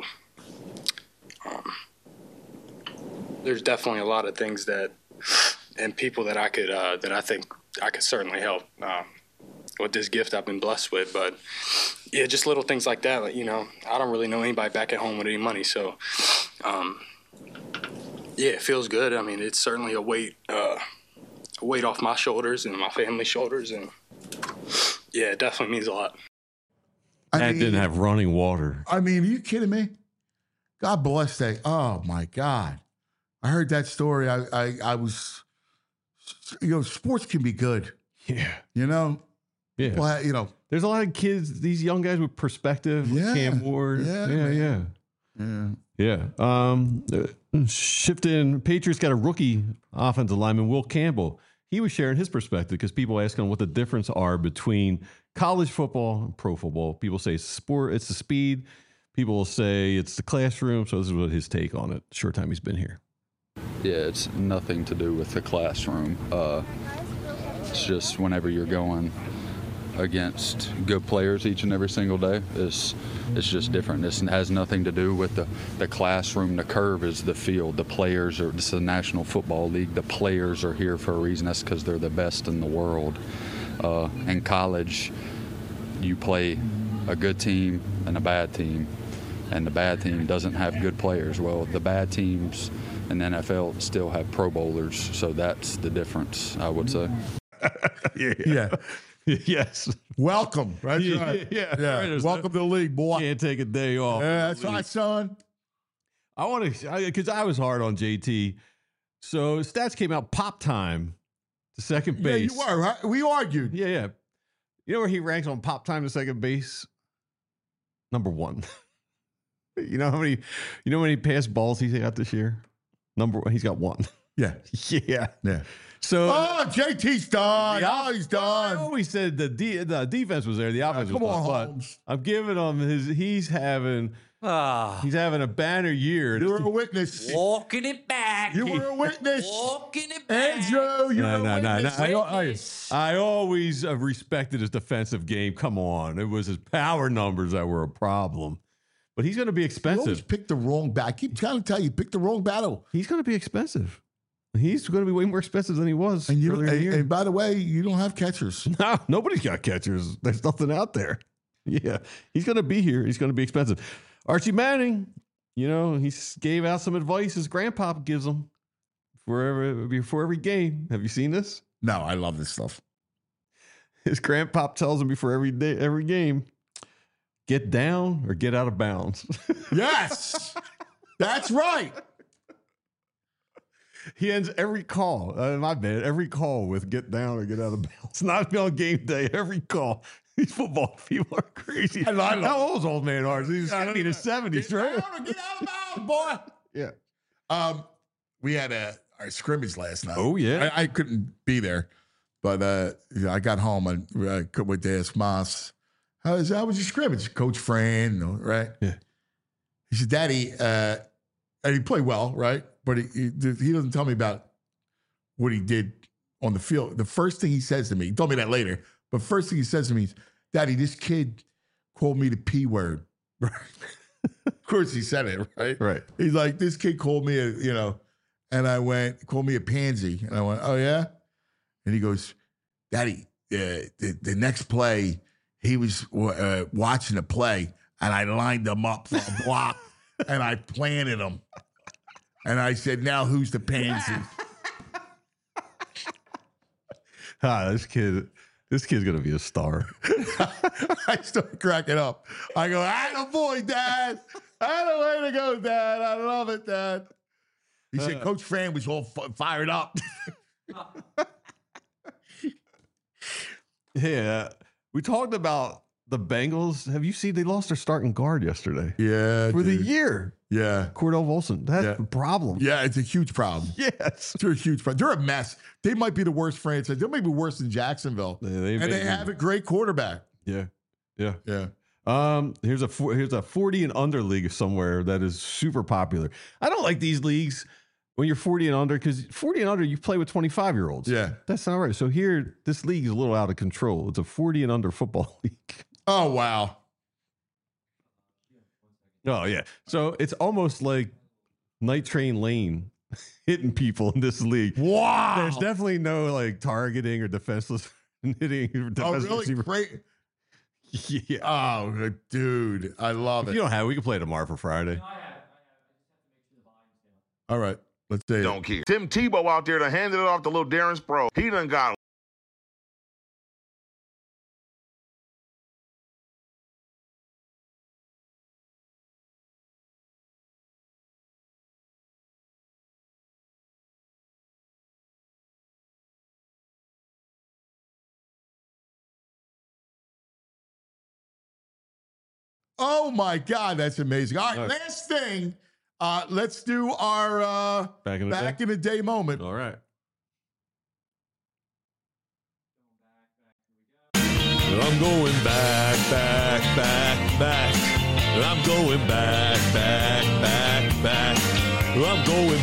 there's definitely a lot of things and people that I think I could certainly help with this gift I've been blessed with. But yeah, just little things like that. Like, I don't really know anybody back at home with any money. So yeah, it feels good. I mean, it's certainly a weight off my shoulders and my family's shoulders. And yeah, it definitely means a lot. Dad didn't have running water. I mean, are you kidding me? God bless that. Oh my God. I heard that story. I was, sports can be good. Yeah. Yeah. Well, there's a lot of kids, these young guys with perspective. Yeah. Cam Ward. Yeah. Shifting, Patriots got a rookie offensive lineman, Will Campbell. He was sharing his perspective because people ask him what the difference are between college football and pro football. People say sport, it's the speed. People will say it's the classroom. So this is what his take on it. Short time he's been here. Yeah, it's nothing to do with the classroom. It's just whenever you're going against good players each and every single day, it's just different. It has nothing to do with the classroom. The curve is the field. The players are, it's the National Football League. The players are here for a reason. That's because they're the best in the world. In college, you play a good team and a bad team, and the bad team doesn't have good players. Well, the bad teams in the NFL still have Pro Bowlers, so that's the difference, I would say. Yeah. Yes. Welcome. That's right. Yeah. Right. Welcome to the league, boy. Can't take a day off. Yeah, that's right, son. I want to, because I was hard on JT. So stats came out, pop time to second base. Yeah, you were, right? We argued. Yeah. You know where he ranks on pop time to second base? Number 1. You know how many pass balls he got this year? Number 1. He's got 1. Yeah. Yeah. So JT's done. He's done. I always said the defense was there, the offense was done. Holmes. I'm giving him he's having a banner year. You were a witness. Walking it back. You were a witness. Walking it back. Andrew, you were a witness. I always respected his defensive game. Come on. It was his power numbers that were a problem. But he's going to be expensive. You always picked the wrong battle. I keep trying to tell you, pick the wrong battle. He's going to be expensive. He's going to be way more expensive than he was. And by the way, you don't have catchers. No, nobody's got catchers. There's nothing out there. Yeah, he's going to be here. He's going to be expensive. Archie Manning, he gave out some advice his grandpa gives him before every game. Have you seen this? No, I love this stuff. His grandpa tells him before every game, get down or get out of bounds. Yes, that's right. He ends every call, every call with get down or get out of bounds. Not on game day, every call. These football people are crazy. How old is old man Arch? He's in his 70s, right? Get out of bounds, boy. Yeah. We had our scrimmage last night. Oh, yeah. I couldn't be there, but I got home and I went to ask Moss, how was your scrimmage? Coach Fran, right? Yeah. He said, Daddy, and he played well, right? But he doesn't tell me about what he did on the field. The first thing he says to me, he told me that later, but first thing he says to me is, Daddy, this kid called me the P word. Right? Of course he said it, right? Right. He's like, this kid called me and called me a pansy. And I went, oh, yeah? And he goes, Daddy, the next play, he was watching the play, and I lined him up for a block, and I planted him. And I said, now who's the pansy? This kid's going to be a star. I started cracking up. I go, attaboy, Dad. Atta way to go, Dad. I love it, Dad. He said, Coach Fran was all fired up. Yeah. We talked about the Bengals. Have you seen they lost their starting guard yesterday? Yeah. For the year. Yeah. Cordell Volson. That's a problem. Yeah, it's a huge problem. Yes. They're a huge problem. They're a mess. They might be the worst franchise. They might be worse than Jacksonville. Yeah, they have a great quarterback. Yeah. Here's a 40 and under league somewhere that is super popular. I don't like these leagues when you're 40 and under, because 40 and under, you play with 25-year-olds. Yeah. That's not right. So here, this league is a little out of control. It's a 40 and under football league. Oh, wow. Oh, yeah. So it's almost like Night Train Lane hitting people in this league. Wow. There's definitely no like targeting or defenseless hitting. Oh, really? Great. Yeah. Oh, dude. I love If it. you don't have it, we can play tomorrow for Friday. All right. Let's see. Don't care. Tim Tebow out there to handed it off to little Darren Sproles. He done got Oh, my God. That's amazing. All right. All right. Last thing. Let's do our Back in the day moment. All right. I'm going back. I'm going back. I'm going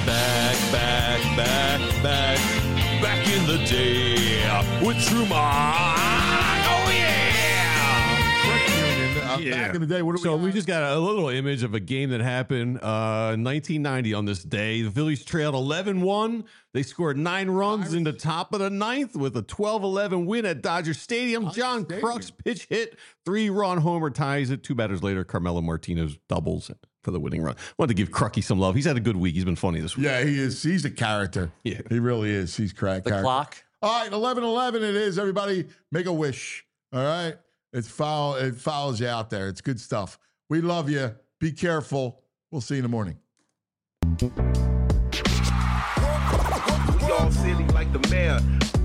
back. Back in the day with Truman. Oh, yeah. Back in the day, what do So we just got a little image of a game that happened in 1990 on this day. The Phillies trailed 11-1. They scored 9 runs in the top of the 9th with a 12-11 win at Dodger Stadium. John Kruk's pitch hit, 3-run homer ties it. 2 batters later, Carmelo Martinez doubles for the winning run. Wanted to give Krucky some love. He's had a good week. He's been funny this week. Yeah, he is. He's a character. Yeah. He really is. He's cracked. The clock. All right, 11:11 it is. Everybody make a wish. All right? It's foul. It fouls you out there. It's good stuff. We love you. Be careful. We'll see you in the morning. Y'all silly like the mayor.